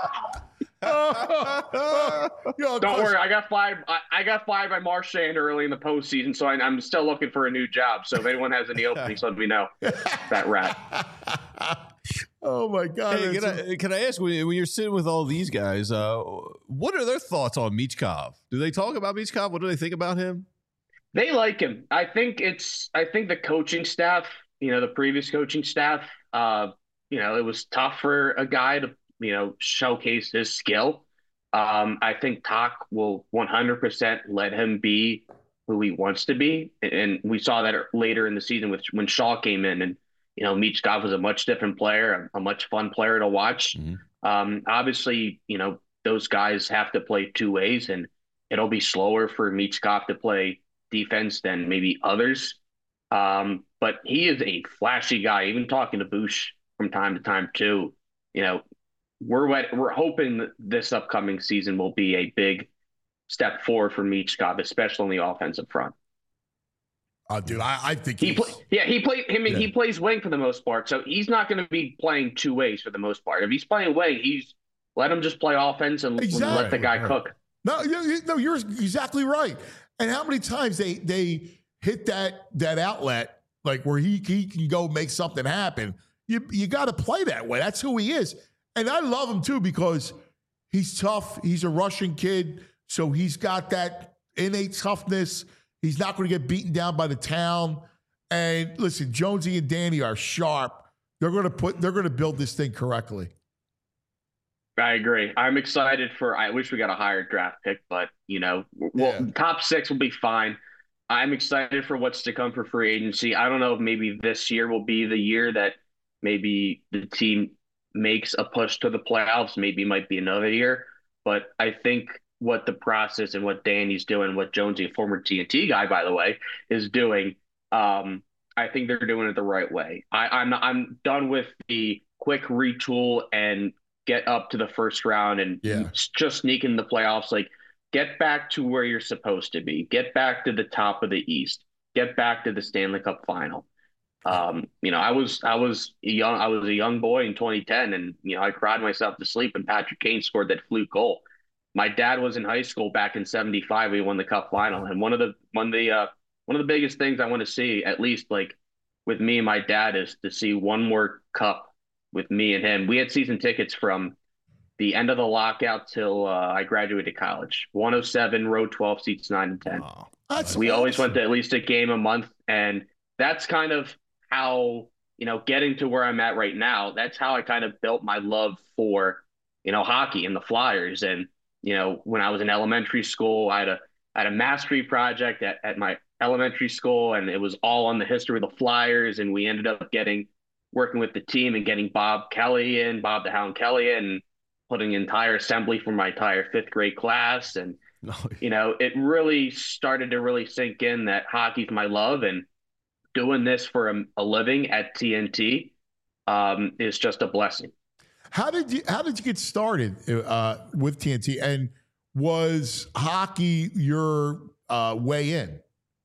Yo, Don't Chris, worry, I got fired. I, I got fired by Marchand early in the postseason, so I, I'm still looking for a new job. So if anyone has any openings, let me know. That rat. Oh my God! Hey, can, that's- I, can I ask, when, when you're sitting with all these guys, uh, what are their thoughts on Michkov? Do they talk about Michkov? What do they think about him? They like him. I think it's. I think the coaching staff, you know, the previous coaching staff, uh, you know, it was tough for a guy to, you know, showcase his skill. Um, I think Talk will one hundred percent let him be who he wants to be, and we saw that later in the season with when Shaw came in, and you know, Michkov was a much different player, a, a much fun player to watch. Mm-hmm. Um, obviously, you know, those guys have to play two ways, and it'll be slower for Michkov to play defense than maybe others. Um, but he is a flashy guy. Even talking to Bush from time to time too, you know, we're we're hoping that this upcoming season will be a big step forward for Michkov, especially on the offensive front. Oh, dude, I, I think he he's... play, yeah he plays. I mean, yeah. he plays wing for the most part, so he's not going to be playing two ways for the most part. If he's playing wing, he's let him just play offense and exactly. let the guy right. cook. No, no, you're exactly right. And how many times they they hit that that outlet, like where he he can go make something happen. You you got to play that way. That's who he is. And I love him too because he's tough. He's a Russian kid, so he's got that innate toughness. He's not going to get beaten down by the town. And listen, Jonesy and Danny are sharp. They're going to put. They're going to build this thing correctly. I agree. I'm excited for. I wish we got a higher draft pick, but you know, well, yeah. top six will be fine. I'm excited for what's to come for free agency. I don't know if maybe this year will be the year that maybe the team makes a push to the playoffs. Maybe it might be another year, but I think what the process and what Danny's doing, what Jonesy, a former T N T guy, by the way, is doing, um, I think they're doing it the right way. I, I'm I'm done with the quick retool and get up to the first round and yeah. just sneak in the playoffs. Like, get back to where you're supposed to be. Get back to the top of the East. Get back to the Stanley Cup final. Um, you know, I was I was a young I was a young boy in twenty ten, and you know, I cried myself to sleep when Patrick Kane scored that fluke goal. My dad was in high school back in seventy-five. We won the Cup final, and one of the one of the uh, one of the biggest things I want to see, at least like with me and my dad, is to see one more Cup with me and him. We had season tickets from the end of the lockout till uh, I graduated college. one oh seven, row twelve, seats nine and ten. Wow. That's we awesome. always went to at least a game a month, and that's kind of how, you know, getting to where I'm at right now, that's how I kind of built my love for, you know, hockey and the Flyers. And you know, when I was in elementary school, I had a I had a mastery project at, at my elementary school, and it was all on the history of the Flyers. And we ended up getting working with the team and getting Bob Kelly in, Bob the Hound Kelly in, and putting an entire assembly for my entire fifth grade class. And you know, it really started to really sink in that hockey's my love, and doing this for a, a living at T N T um, is just a blessing. How did you How did you get started uh, with T N T, and was hockey your uh, way in?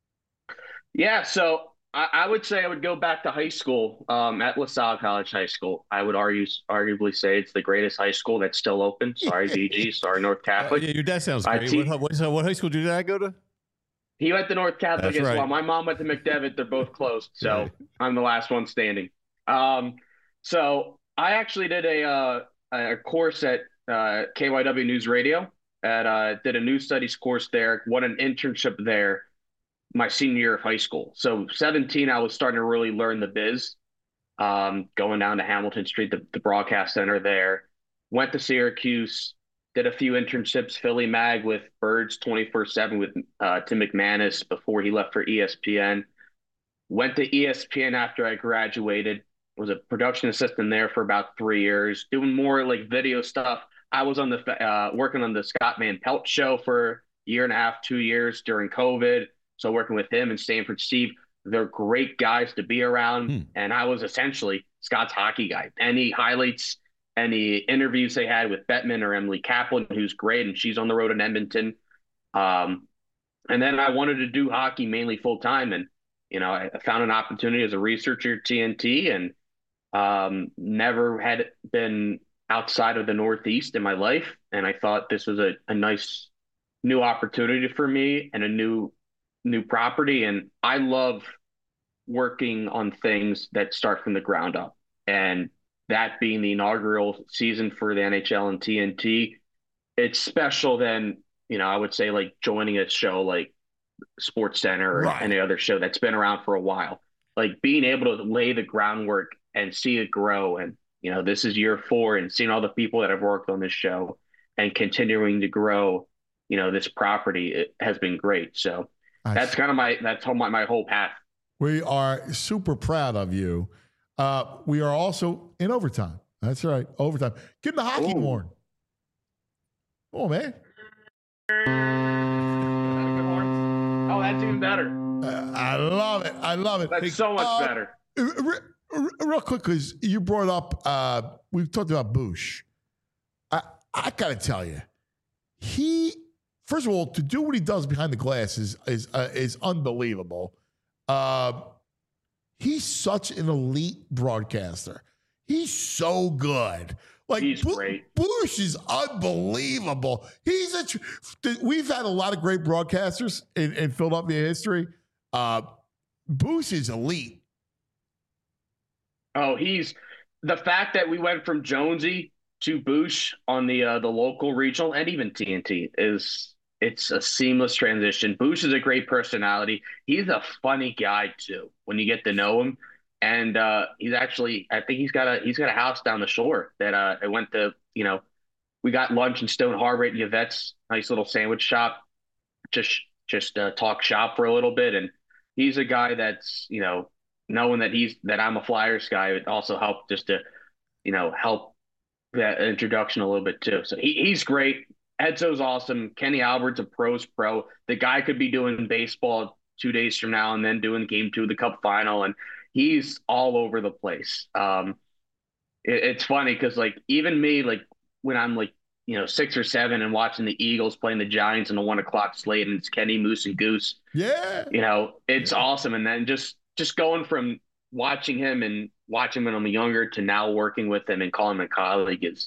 Yeah, so I, I would say I would go back to high school um, at LaSalle College High School. I would argue, arguably say it's the greatest high school that's still open. Sorry, V G. Sorry, North Catholic. Uh, yeah, your dad sounds great. Te- what, what, what high school did your dad go to? He went to North Catholic That's as right. well. My mom went to McDevitt. They're both closed, so Right. I'm the last one standing. Um, so I actually did a uh, a course at uh, K Y W News Radio. At uh, did a news studies course there. Won an internship there my senior year of high school. So seventeen, I was starting to really learn the biz. Um, going down to Hamilton Street, the, the broadcast center there. Went to Syracuse. Did a few internships, Philly Mag with Birds twenty-four seven with uh, Tim McManus before he left for E S P N. Went to E S P N after I graduated. Was a production assistant there for about three years, doing more like video stuff. I was on the uh, working on the Scott Van Pelt show for a year and a half, two years during COVID. So working with him and Stanford Steve, they're great guys to be around. Hmm. And I was essentially Scott's hockey guy. Any highlights, any interviews they had with Bettman or Emily Kaplan, who's great, and she's on the road in Edmonton. Um, and then I wanted to do hockey mainly full time, and you know, I found an opportunity as a researcher at T N T, and um, never had been outside of the Northeast in my life. And I thought this was a, a nice new opportunity for me and a new new property. And I love working on things that start from the ground up. And that being the inaugural season for the N H L and T N T, it's special than, you know, I would say like joining a show like Sports Center or Right. any other show that's been around for a while. Like being able to lay the groundwork and see it grow. And, you know, this is year four, and seeing all the people that have worked on this show and continuing to grow, you know, this property, it has been great. So I that's kind of my, that's how my, my whole path. We are super proud of you. Uh, we are also in overtime. That's right, overtime. Give him the hockey Ooh. horn. Come on, man. Oh, that's even better. Uh, I love it. I love it. That's so much Uh, better. re- re- Real quick, because you brought up, uh, we've talked about Bush. I, I got to tell you, he, first of all, to do what he does behind the glass is is uh, is unbelievable. Uh, he's such an elite broadcaster. He's so good. Like He's Bu- great. Bush is unbelievable. He's a. Tr- We've had a lot of great broadcasters in, in Philadelphia history. Uh, Bush is elite. Oh, he's the fact that we went from Jonesy to Boosh on the uh, the local, regional, and even T N T is it's a seamless transition. Boosh is a great personality. He's a funny guy too when you get to know him, and uh, he's actually I think he's got a he's got a house down the shore that uh, I went to. You know, we got lunch in Stone Harbor at Yvette's nice little sandwich shop. Just just uh, talk shop for a little bit, and he's a guy that's you know. Knowing that he's that I'm a Flyers guy, it also helped just to, you know, help that introduction a little bit too. So he, he's great. Edzo's awesome. Kenny Albert's a pro's pro. The guy could be doing baseball two days from now and then doing game two of the Cup final, and he's all over the place. Um, it, it's funny because like even me, like when I'm like you know six or seven and watching the Eagles playing the Giants in the one o'clock slate, and it's Kenny, Moose, and Goose. Yeah, You know, it's awesome. And then just just going from watching him and watching him when I'm younger to now working with him and calling him a colleague is,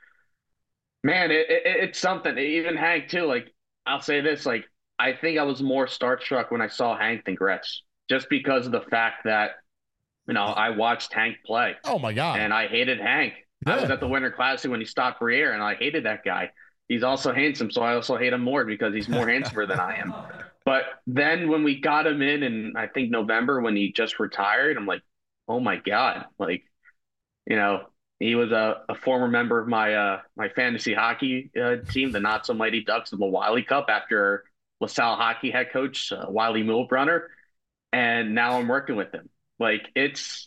man, it, it, it's something. Even Hank too. Like I'll say this, like I think I was more starstruck when I saw Hank than Gretz, just because of the fact that you know I watched Hank play. Oh my God. And I hated Hank. I was Yeah. at the Winter Classic when he stopped Briere, and I hated that guy. He's also handsome, so I also hate him more because he's more handsomer than I am. But then when we got him in, in I think November when he just retired, I'm like, oh my God. Like, you know, he was a, a former member of my uh, my fantasy hockey uh, team, the Not So Mighty Ducks of the Wiley Cup, after LaSalle hockey head coach, uh, Wiley Milbrunner. And now I'm working with him. Like, it's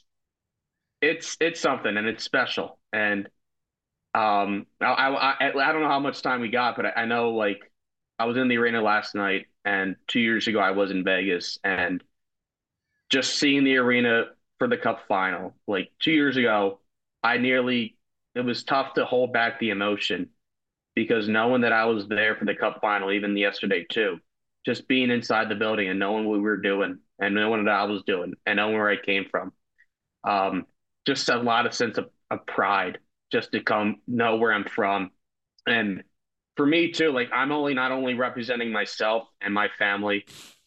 it's it's something, and it's special. And um, I, I, I I don't know how much time we got, but I, I know, like, I was in the arena last night, and two years ago I was in Vegas, and just seeing the arena for the Cup final, like two years ago, I nearly, it was tough to hold back the emotion because knowing that I was there for the Cup final, even yesterday too, just being inside the building and knowing what we were doing and knowing what I was doing and knowing where I came from, um, just a lot of sense of, of pride just to come know where I'm from. And for me too, like I'm only not only representing myself and my family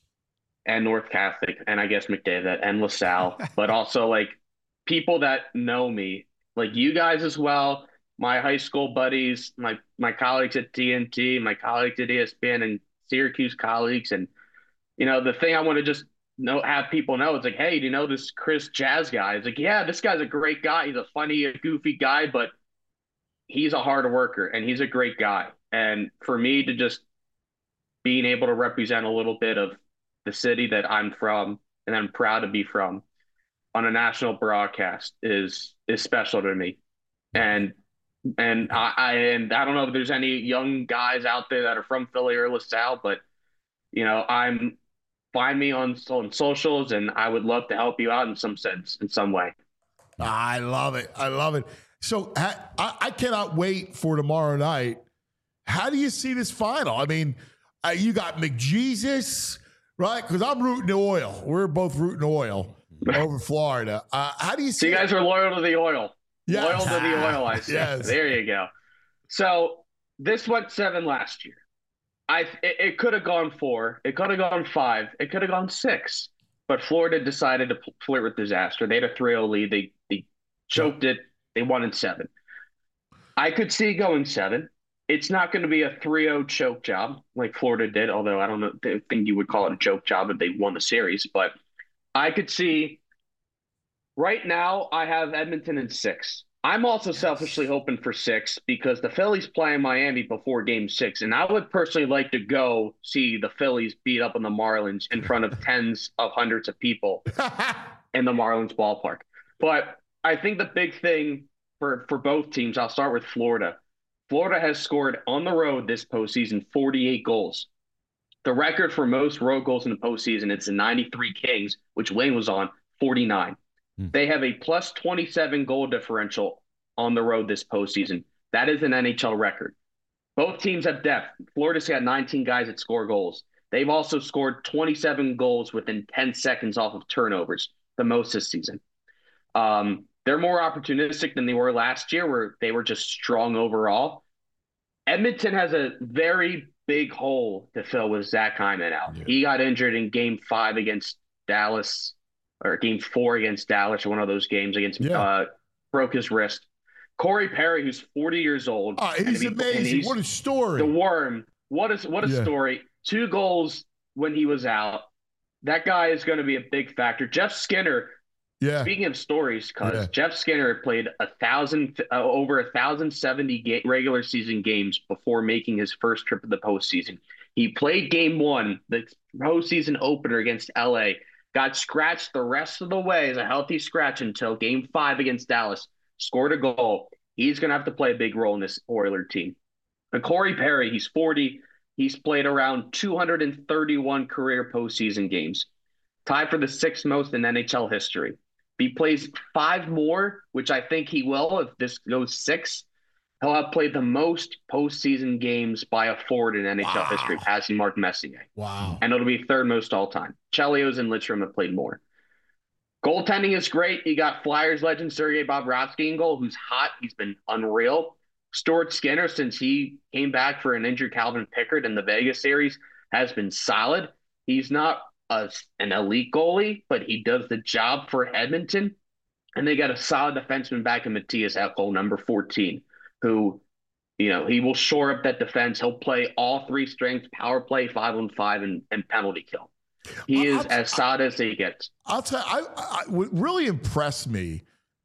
and North Catholic and I guess McDavid and LaSalle, but also like people that know me, like you guys as well, my high school buddies, my my colleagues at T N T, my colleagues at E S P N and Syracuse colleagues. And, you know, the thing I want to just know, have people know, it's like, hey, do you know this Chris Jazz guy? It's like, yeah, this guy's a great guy. He's a funny, a goofy guy, but he's a hard worker and he's a great guy. And for me to just being able to represent a little bit of the city that I'm from and I'm proud to be from on a national broadcast is is special to me. And and I, I and I don't know if there's any young guys out there that are from Philly or LaSalle, but you know, I'm find me on on socials and I would love to help you out in some sense, in some way. I love it. I love it. So I, I cannot wait for tomorrow night. How do you see this final? I mean, uh, you got McJesus, right? Because I'm rooting oil. We're both rooting oil over Florida. Uh, how do you see So you guys it? are loyal to the oil. Yes. Loyal to the oil, I see. Yes. There you go. So this went seven last year. I it, it could have gone four. It could have gone five. It could have gone six. But Florida decided to flirt with disaster. They had a three oh lead. They they choked it They won in seven. I could see going seven. It's not going to be a three oh choke job like Florida did, although I don't know, I think you would call it a choke job if they won the series. But I could see right now I have Edmonton in six. I'm also selfishly hoping for six because the Phillies play in Miami before game six. And I would personally like to go see the Phillies beat up on the Marlins in front of tens of hundreds of people in the Marlins ballpark. But I think the big thing for, for both teams, I'll start with Florida. Florida has scored on the road this postseason forty-eight goals. The record for most road goals in the postseason, it's the ninety-three Kings, which Wayne was on, forty-nine. They have a plus twenty-seven goal differential on the road this postseason. That is an N H L record. Both teams have depth. Florida's got nineteen guys that score goals. They've also scored twenty-seven goals within ten seconds off of turnovers, the most this season. Um, they're more opportunistic than they were last year, where they were just strong overall. Edmonton has a very big hole to fill with Zach Hyman out. Yeah. He got injured in game five against Dallas, or game four against Dallas, or one of those games against, yeah. uh, broke his wrist. Corey Perry, who's forty years old. Oh, he's he, amazing. He's, what a story. The worm. What is what a yeah. story. Two goals when he was out. That guy is going to be a big factor. Jeff Skinner, yeah. speaking of stories, because yeah. Jeff Skinner played a thousand, uh, over a thousand seventy ga- regular season games before making his first trip to the postseason. He played game one, the postseason opener against L A, got scratched the rest of the way as a healthy scratch until game five against Dallas, scored a goal. He's going to have to play a big role in this Oiler team. And Corey Perry, he's forty. He's played around two hundred thirty-one career postseason games, tied for the sixth most in N H L history. If he plays five more, which I think he will if this goes six, he'll have played the most postseason games by a forward in N H L wow. history, passing Mark Messier. Wow. And it'll be third most all time. Chelios and Lidstrom have played more. Goaltending is great. You got Flyers legend Sergei Bobrovsky in goal, who's hot. He's been unreal. Stuart Skinner, since he came back for an injured Calvin Pickard in the Vegas series, has been solid. He's not a, an elite goalie, but he does the job for Edmonton. And they got a solid defenseman back in Matthias Ekholm, number fourteen, who, you know, he will shore up that defense. He'll play all three strengths, power play, five on five, and, and penalty kill. He I'll, is I'll, as solid as he gets. I'll tell you, I, I, what really impressed me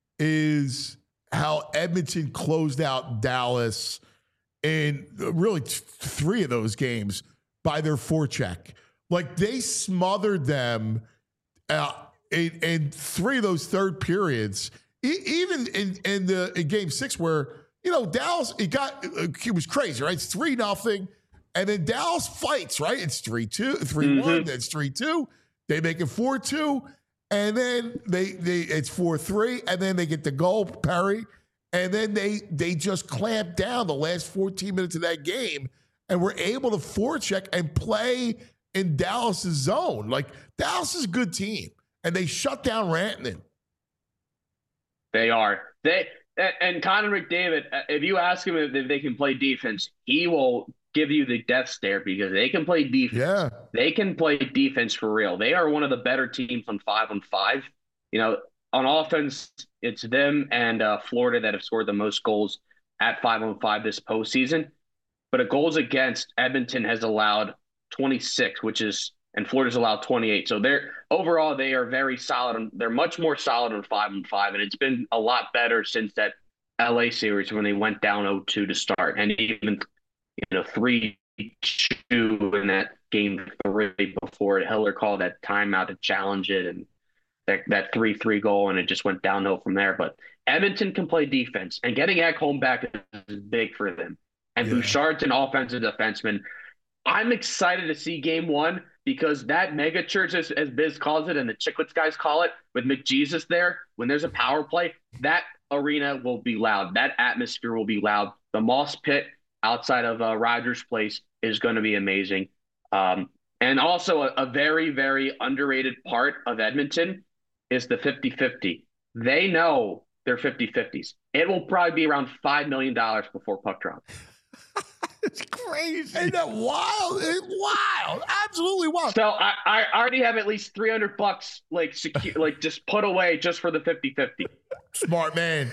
is how Edmonton closed out Dallas in really t- three of those games by their forecheck. Like they smothered them uh, in, in three of those third periods. E- even in, in the in game six, where you know Dallas, it got it was crazy, right? It's three nothing, and then Dallas fights, right? It's three two, three mm-hmm. one, then it's three two. They make it four two. And then they they it's four three, and then they get the goal, Perry, and then they they just clamp down the last fourteen minutes of that game, and were able to forecheck and play in Dallas's zone. Like Dallas is a good team, and they shut down Rantanen. They are they and Connor McDavid. If you ask him if they can play defense, he will give you the death stare because they can play defense. Yeah. They can play defense for real. They are one of the better teams on five on five. You know, on offense, it's them and uh, Florida that have scored the most goals at five on five this postseason. But a goals against, Edmonton has allowed twenty-six, which is, and Florida's allowed twenty-eight. So they're overall, they are very solid. And they're much more solid on five on five. And it's been a lot better since that L A series when they went down oh two to start. And even you know, three two in that game three before Hiller called that timeout to challenge it, and that that three three goal, and it just went downhill from there. But Edmonton can play defense, and getting Ekholm back is big for them. And yeah. Bouchard's an offensive defenseman. I'm excited to see game one because that mega church, as, as Biz calls it, and the Chicklets guys call it, with McJesus there, when there's a power play, that arena will be loud. That atmosphere will be loud. The Moss Pit outside of uh, Rogers Place is going to be amazing. Um, and also a, a very, very underrated part of Edmonton is the fifty-fifty. They know they're fifty-fifties. It will probably be around five million dollars before puck drop. It's crazy. Ain't that wild? It's wild. Absolutely wild. So I, I already have at least three hundred bucks like secure, like just put away just for the fifty-fifty. Smart man.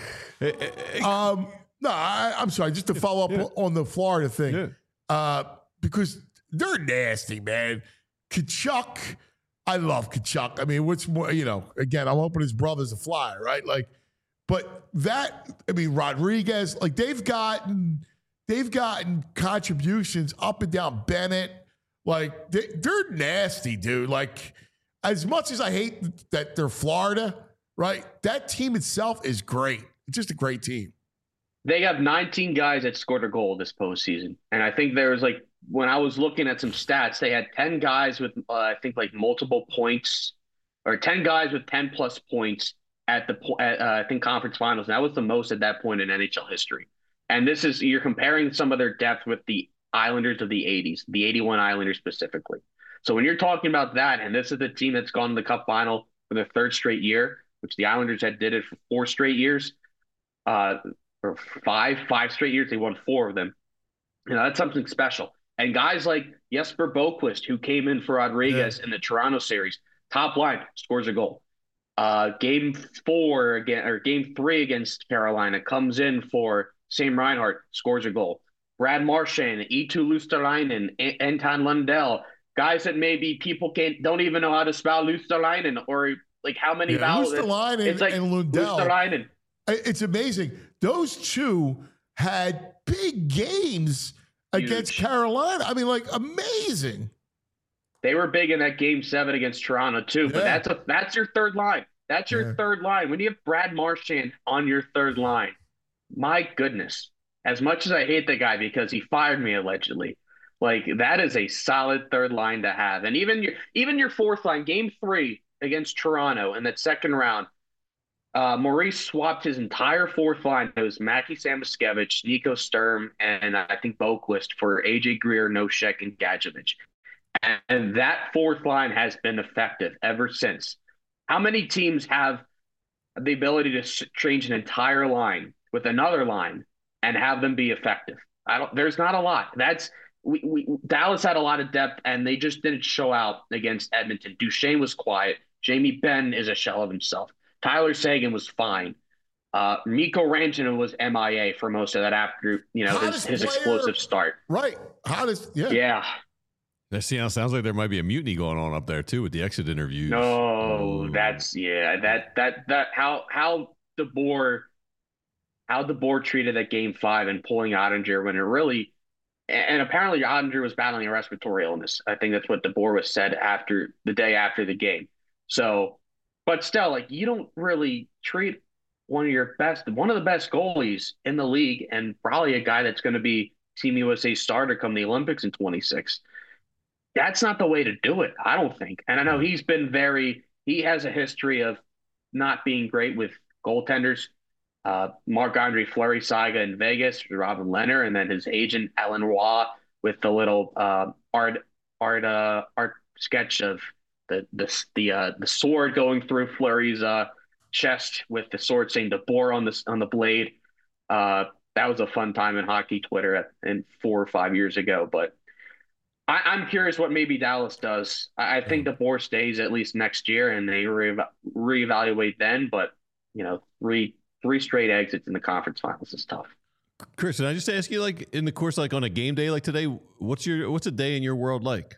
um, no, I, I'm sorry. Just to follow up Yeah. on the Florida thing, Yeah. uh, because they're nasty, man. Kachuk, I love Kachuk. I mean, what's more, you know, again, I'm hoping his brother's a flyer, right? Like, but that, I mean, Rodriguez, like they've gotten, they've gotten contributions up and down Bennett. Like they, they're nasty, dude. Like as much as I hate that they're Florida, right? That team itself is great. It's just a great team. They have nineteen guys that scored a goal this postseason. And I think there was like, when I was looking at some stats, they had ten guys with, uh, I think like multiple points or ten guys with ten plus points at the, po- at, uh, I think conference finals. And that was the most at that point in N H L history. And this is, you're comparing some of their depth with the Islanders of the eighties, the eighty-one Islanders specifically. So when you're talking about that, and this is the team that's gone to the Cup final for their third straight year, which the Islanders had did it for four straight years, uh, or five, five straight years, they won four of them. You know, that's something special. And guys like Jesper Boquist, who came in for Rodriguez yeah. in the Toronto series, top line, scores a goal. Uh, game four again, or game three against Carolina, comes in for Sam Reinhart, scores a goal. Brad Marchand, Eetu Luostalainen, A- Anton Lundell, guys that maybe people can't don't even know how to spell Luostalainen or like how many yeah, vowels. Luostalainen it's like and Lundell. Luostalainen. It's amazing. Those two had big games Huge. against Carolina. I mean, like amazing. They were big in that game seven against Toronto too. But Yeah. that's a that's your third line. That's your Yeah. third line. When you have Brad Marchand on your third line, my goodness. As much as I hate the guy because he fired me allegedly, like that is a solid third line to have. And even your even your fourth line, game three against Toronto in that second round, uh, Maurice swapped his entire fourth line. It was Mackie Samoskevich, Nico Sturm, and I think Boquist for A J Greer, Noshek, and Gadjevich. And, and that fourth line has been effective ever since. How many teams have the ability to s- change an entire line with another line and have them be effective? I don't. There's not a lot. That's we, we Dallas had a lot of depth, and they just didn't show out against Edmonton. Duchesne was quiet. Jamie Benn is a shell of himself. Tyler Seguin was fine. Uh, Mikko Rantanen was M I A for most of that after you know his, Hottest his player- explosive start. Right. Hottest. Yeah. Yeah. That see, sounds like there might be a mutiny going on up there too with the exit interviews. No, Ooh. that's yeah. That that that how how the board how the board treated that game five and pulling Ottinger when it really and apparently Ottinger was battling a respiratory illness. I think that's what the board was said after the day after the game. So, but still, like you don't really treat one of your best, one of the best goalies in the league, and probably a guy that's going to be Team U S A starter come the Olympics in twenty-six. That's not the way to do it, I don't think. And I know he's been very, he has a history of not being great with goaltenders. Uh, Marc-Andre Fleury saga in Vegas, Robin Leonard, and then his agent, Alan Roy, with the little uh, art art uh, art sketch of the the the, uh, the sword going through Fleury's uh, chest with the sword saying the bore on the, on the blade. Uh, that was a fun time in hockey Twitter at, and four or five years ago, but I, I'm curious what maybe Dallas does. I, I think the board stays at least next year, and they re- reevaluate then. But you know, three three straight exits in the conference finals is tough. Chris, can I just ask you, like in the course, like on a game day like today, what's your what's a day in your world like?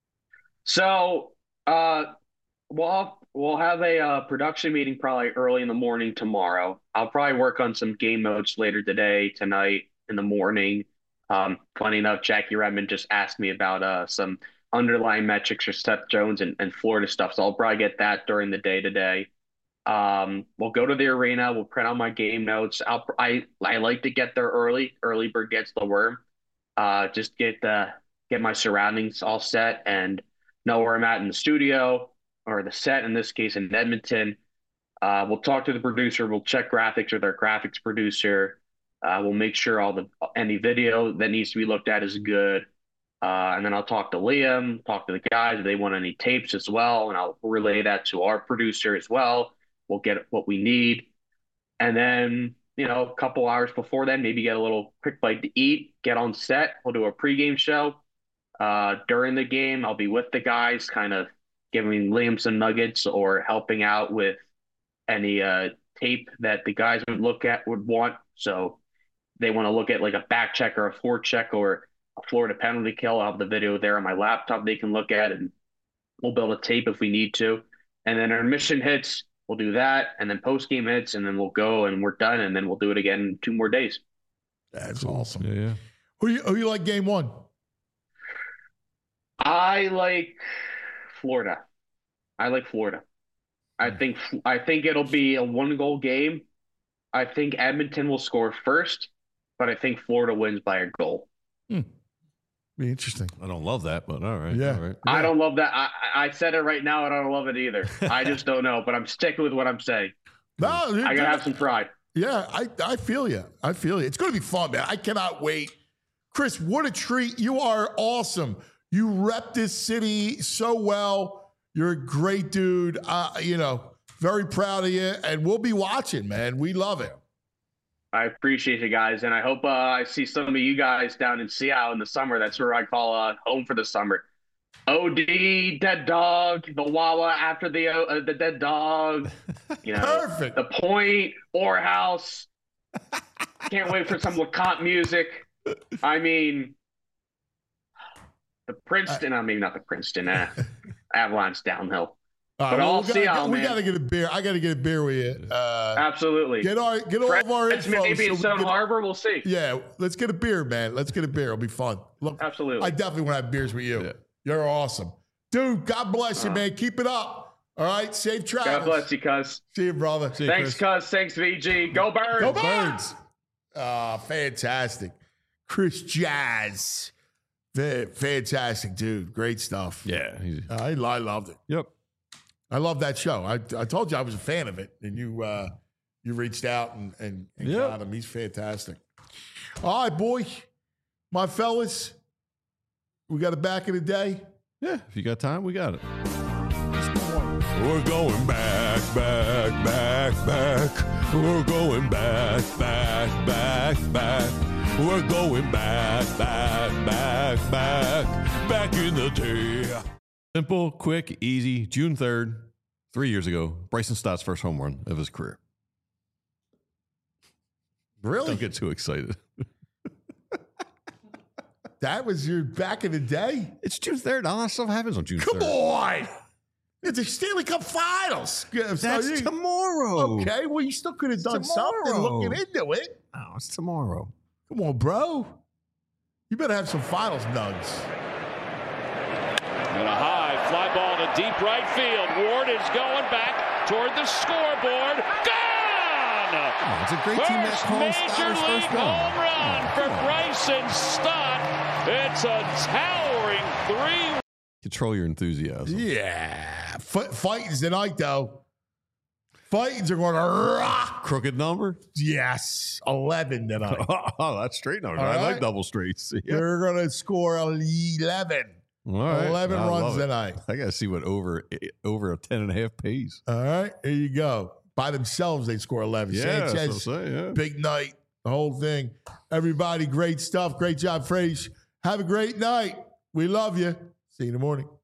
So, uh, we'll we'll have a uh, production meeting probably early in the morning tomorrow. I'll probably work on some game notes later today, tonight, in the morning. Um, funny enough, Jackie Redmond just asked me about uh, some underlying metrics for Seth Jones and, and Florida stuff. So I'll probably get that during the day today. Um, we'll go to the arena. We'll print out my game notes. I'll, I, I like to get there early. Early bird gets the worm. Uh, just get the, get my surroundings all set and know where I'm at in the studio or the set, in this case in Edmonton. Uh, we'll talk to the producer. We'll check graphics with our graphics producer. Uh, we'll make sure all the any video that needs to be looked at is good. Uh, and then I'll talk to Liam, talk to the guys if they want any tapes as well. And I'll relay that to our producer as well. We'll get what we need. And then you know, a couple hours before then, maybe get a little quick bite to eat, get on set. We'll do a pregame show. Uh, during the game, I'll be with the guys, kind of giving Liam some nuggets or helping out with any uh, tape that the guys would look at, would want. So they want to look at like a back check or a forward check or a Florida penalty kill. I'll have the video there on my laptop they can look at, and we'll build a tape if we need to. And then our mission hits, we'll do that. And then post game hits, and then we'll go and we're done. And then we'll do it again in two more days. That's awesome. Yeah, yeah. Who you, who you like game one? I like Florida. I like Florida. I think I think it'll be a one goal game. I think Edmonton will score first, but I think Florida wins by a goal. Hmm. Be interesting. I don't love that, but all right. Yeah. All right. I don't love that. I, I said it right now, and I don't love it either. I just don't know, but I'm sticking with what I'm saying. No, dude, I gotta have some pride. Yeah, I, I feel you. I feel you. It's going to be fun, man. I cannot wait. Chris, what a treat. You are awesome. You rep this city so well. You're a great dude. Uh, you know, very proud of you. And we'll be watching, man. We love it. I appreciate you guys, and I hope uh, I see some of you guys down in Seattle in the summer. That's where I call uh, home for the summer. O D, dead dog, the Wawa after the uh, the dead dog. You know, Perfect. The Point, Or House. Can't wait for some LeCompte music. I mean, the Princeton. I mean, not the Princeton. Uh, Avalanche downhill. All right, But well, I'll we see gotta, y'all, we man. got to get a beer. I got to get a beer with you. Uh, Absolutely. Get our get all of our Fred's info. maybe so in we Stone can- Harbor. We'll see. Yeah, let's get a beer, man. Let's get a beer. It'll be fun. Look, Absolutely. I definitely want to have beers with you. Yeah. You're awesome. Dude, God bless you, Uh, man. Keep it up. All right, safe travels. God bless you, cuz. See you, brother. See you, Thanks, Chris. cuz. Thanks, V G. Go Birds. Go Birds. Uh, fantastic. Chris Jazz. Fa- Fantastic, dude. Great stuff. Yeah. he's- I, I loved it. Yep. I love that show. I, I told you I was a fan of it, and you uh, you reached out and, and, and Yep. got him. He's fantastic. All right, boy. My fellas, we got it back in the day. Yeah. If you got time, we got it. We're going back, back, back, back. We're going back, back, back, back. We're going back, back, back, back. Back in the day. Simple, quick, easy. June third, three years ago, Bryson Stott's first home run of his career. Really? Don't get too excited. That was your back in the day? It's June third. All that stuff happens on June Come third. on. It's the Stanley Cup Finals. Yeah, so That's you- tomorrow. Okay, well, you still could have done something tomorrow. looking into it. Oh, it's tomorrow. Come on, bro. You better have some finals nugs. And a high fly ball to deep right field. Ward is going back toward the scoreboard. Gone! Oh, it's a great team that First calls major Stott's league first run. home run Oh, for come on. Bryson Stott. It's a towering three. Control your enthusiasm. Yeah. F- fighting's tonight, though. Fightings are going to rock. Crooked number? Yes. eleven tonight. Oh, that's straight number. All I like right. double straights. Yeah. They're going to score eleven. All right. eleven I runs love it. tonight. I got to see what over over a ten and a half pays. All right. Here you go. By themselves, they score eleven. Yeah, that's Sanchez, what I'm saying, yeah. big night, the whole thing. Everybody, great stuff. Great job, Frazier. Have a great night. We love you. See you in the morning.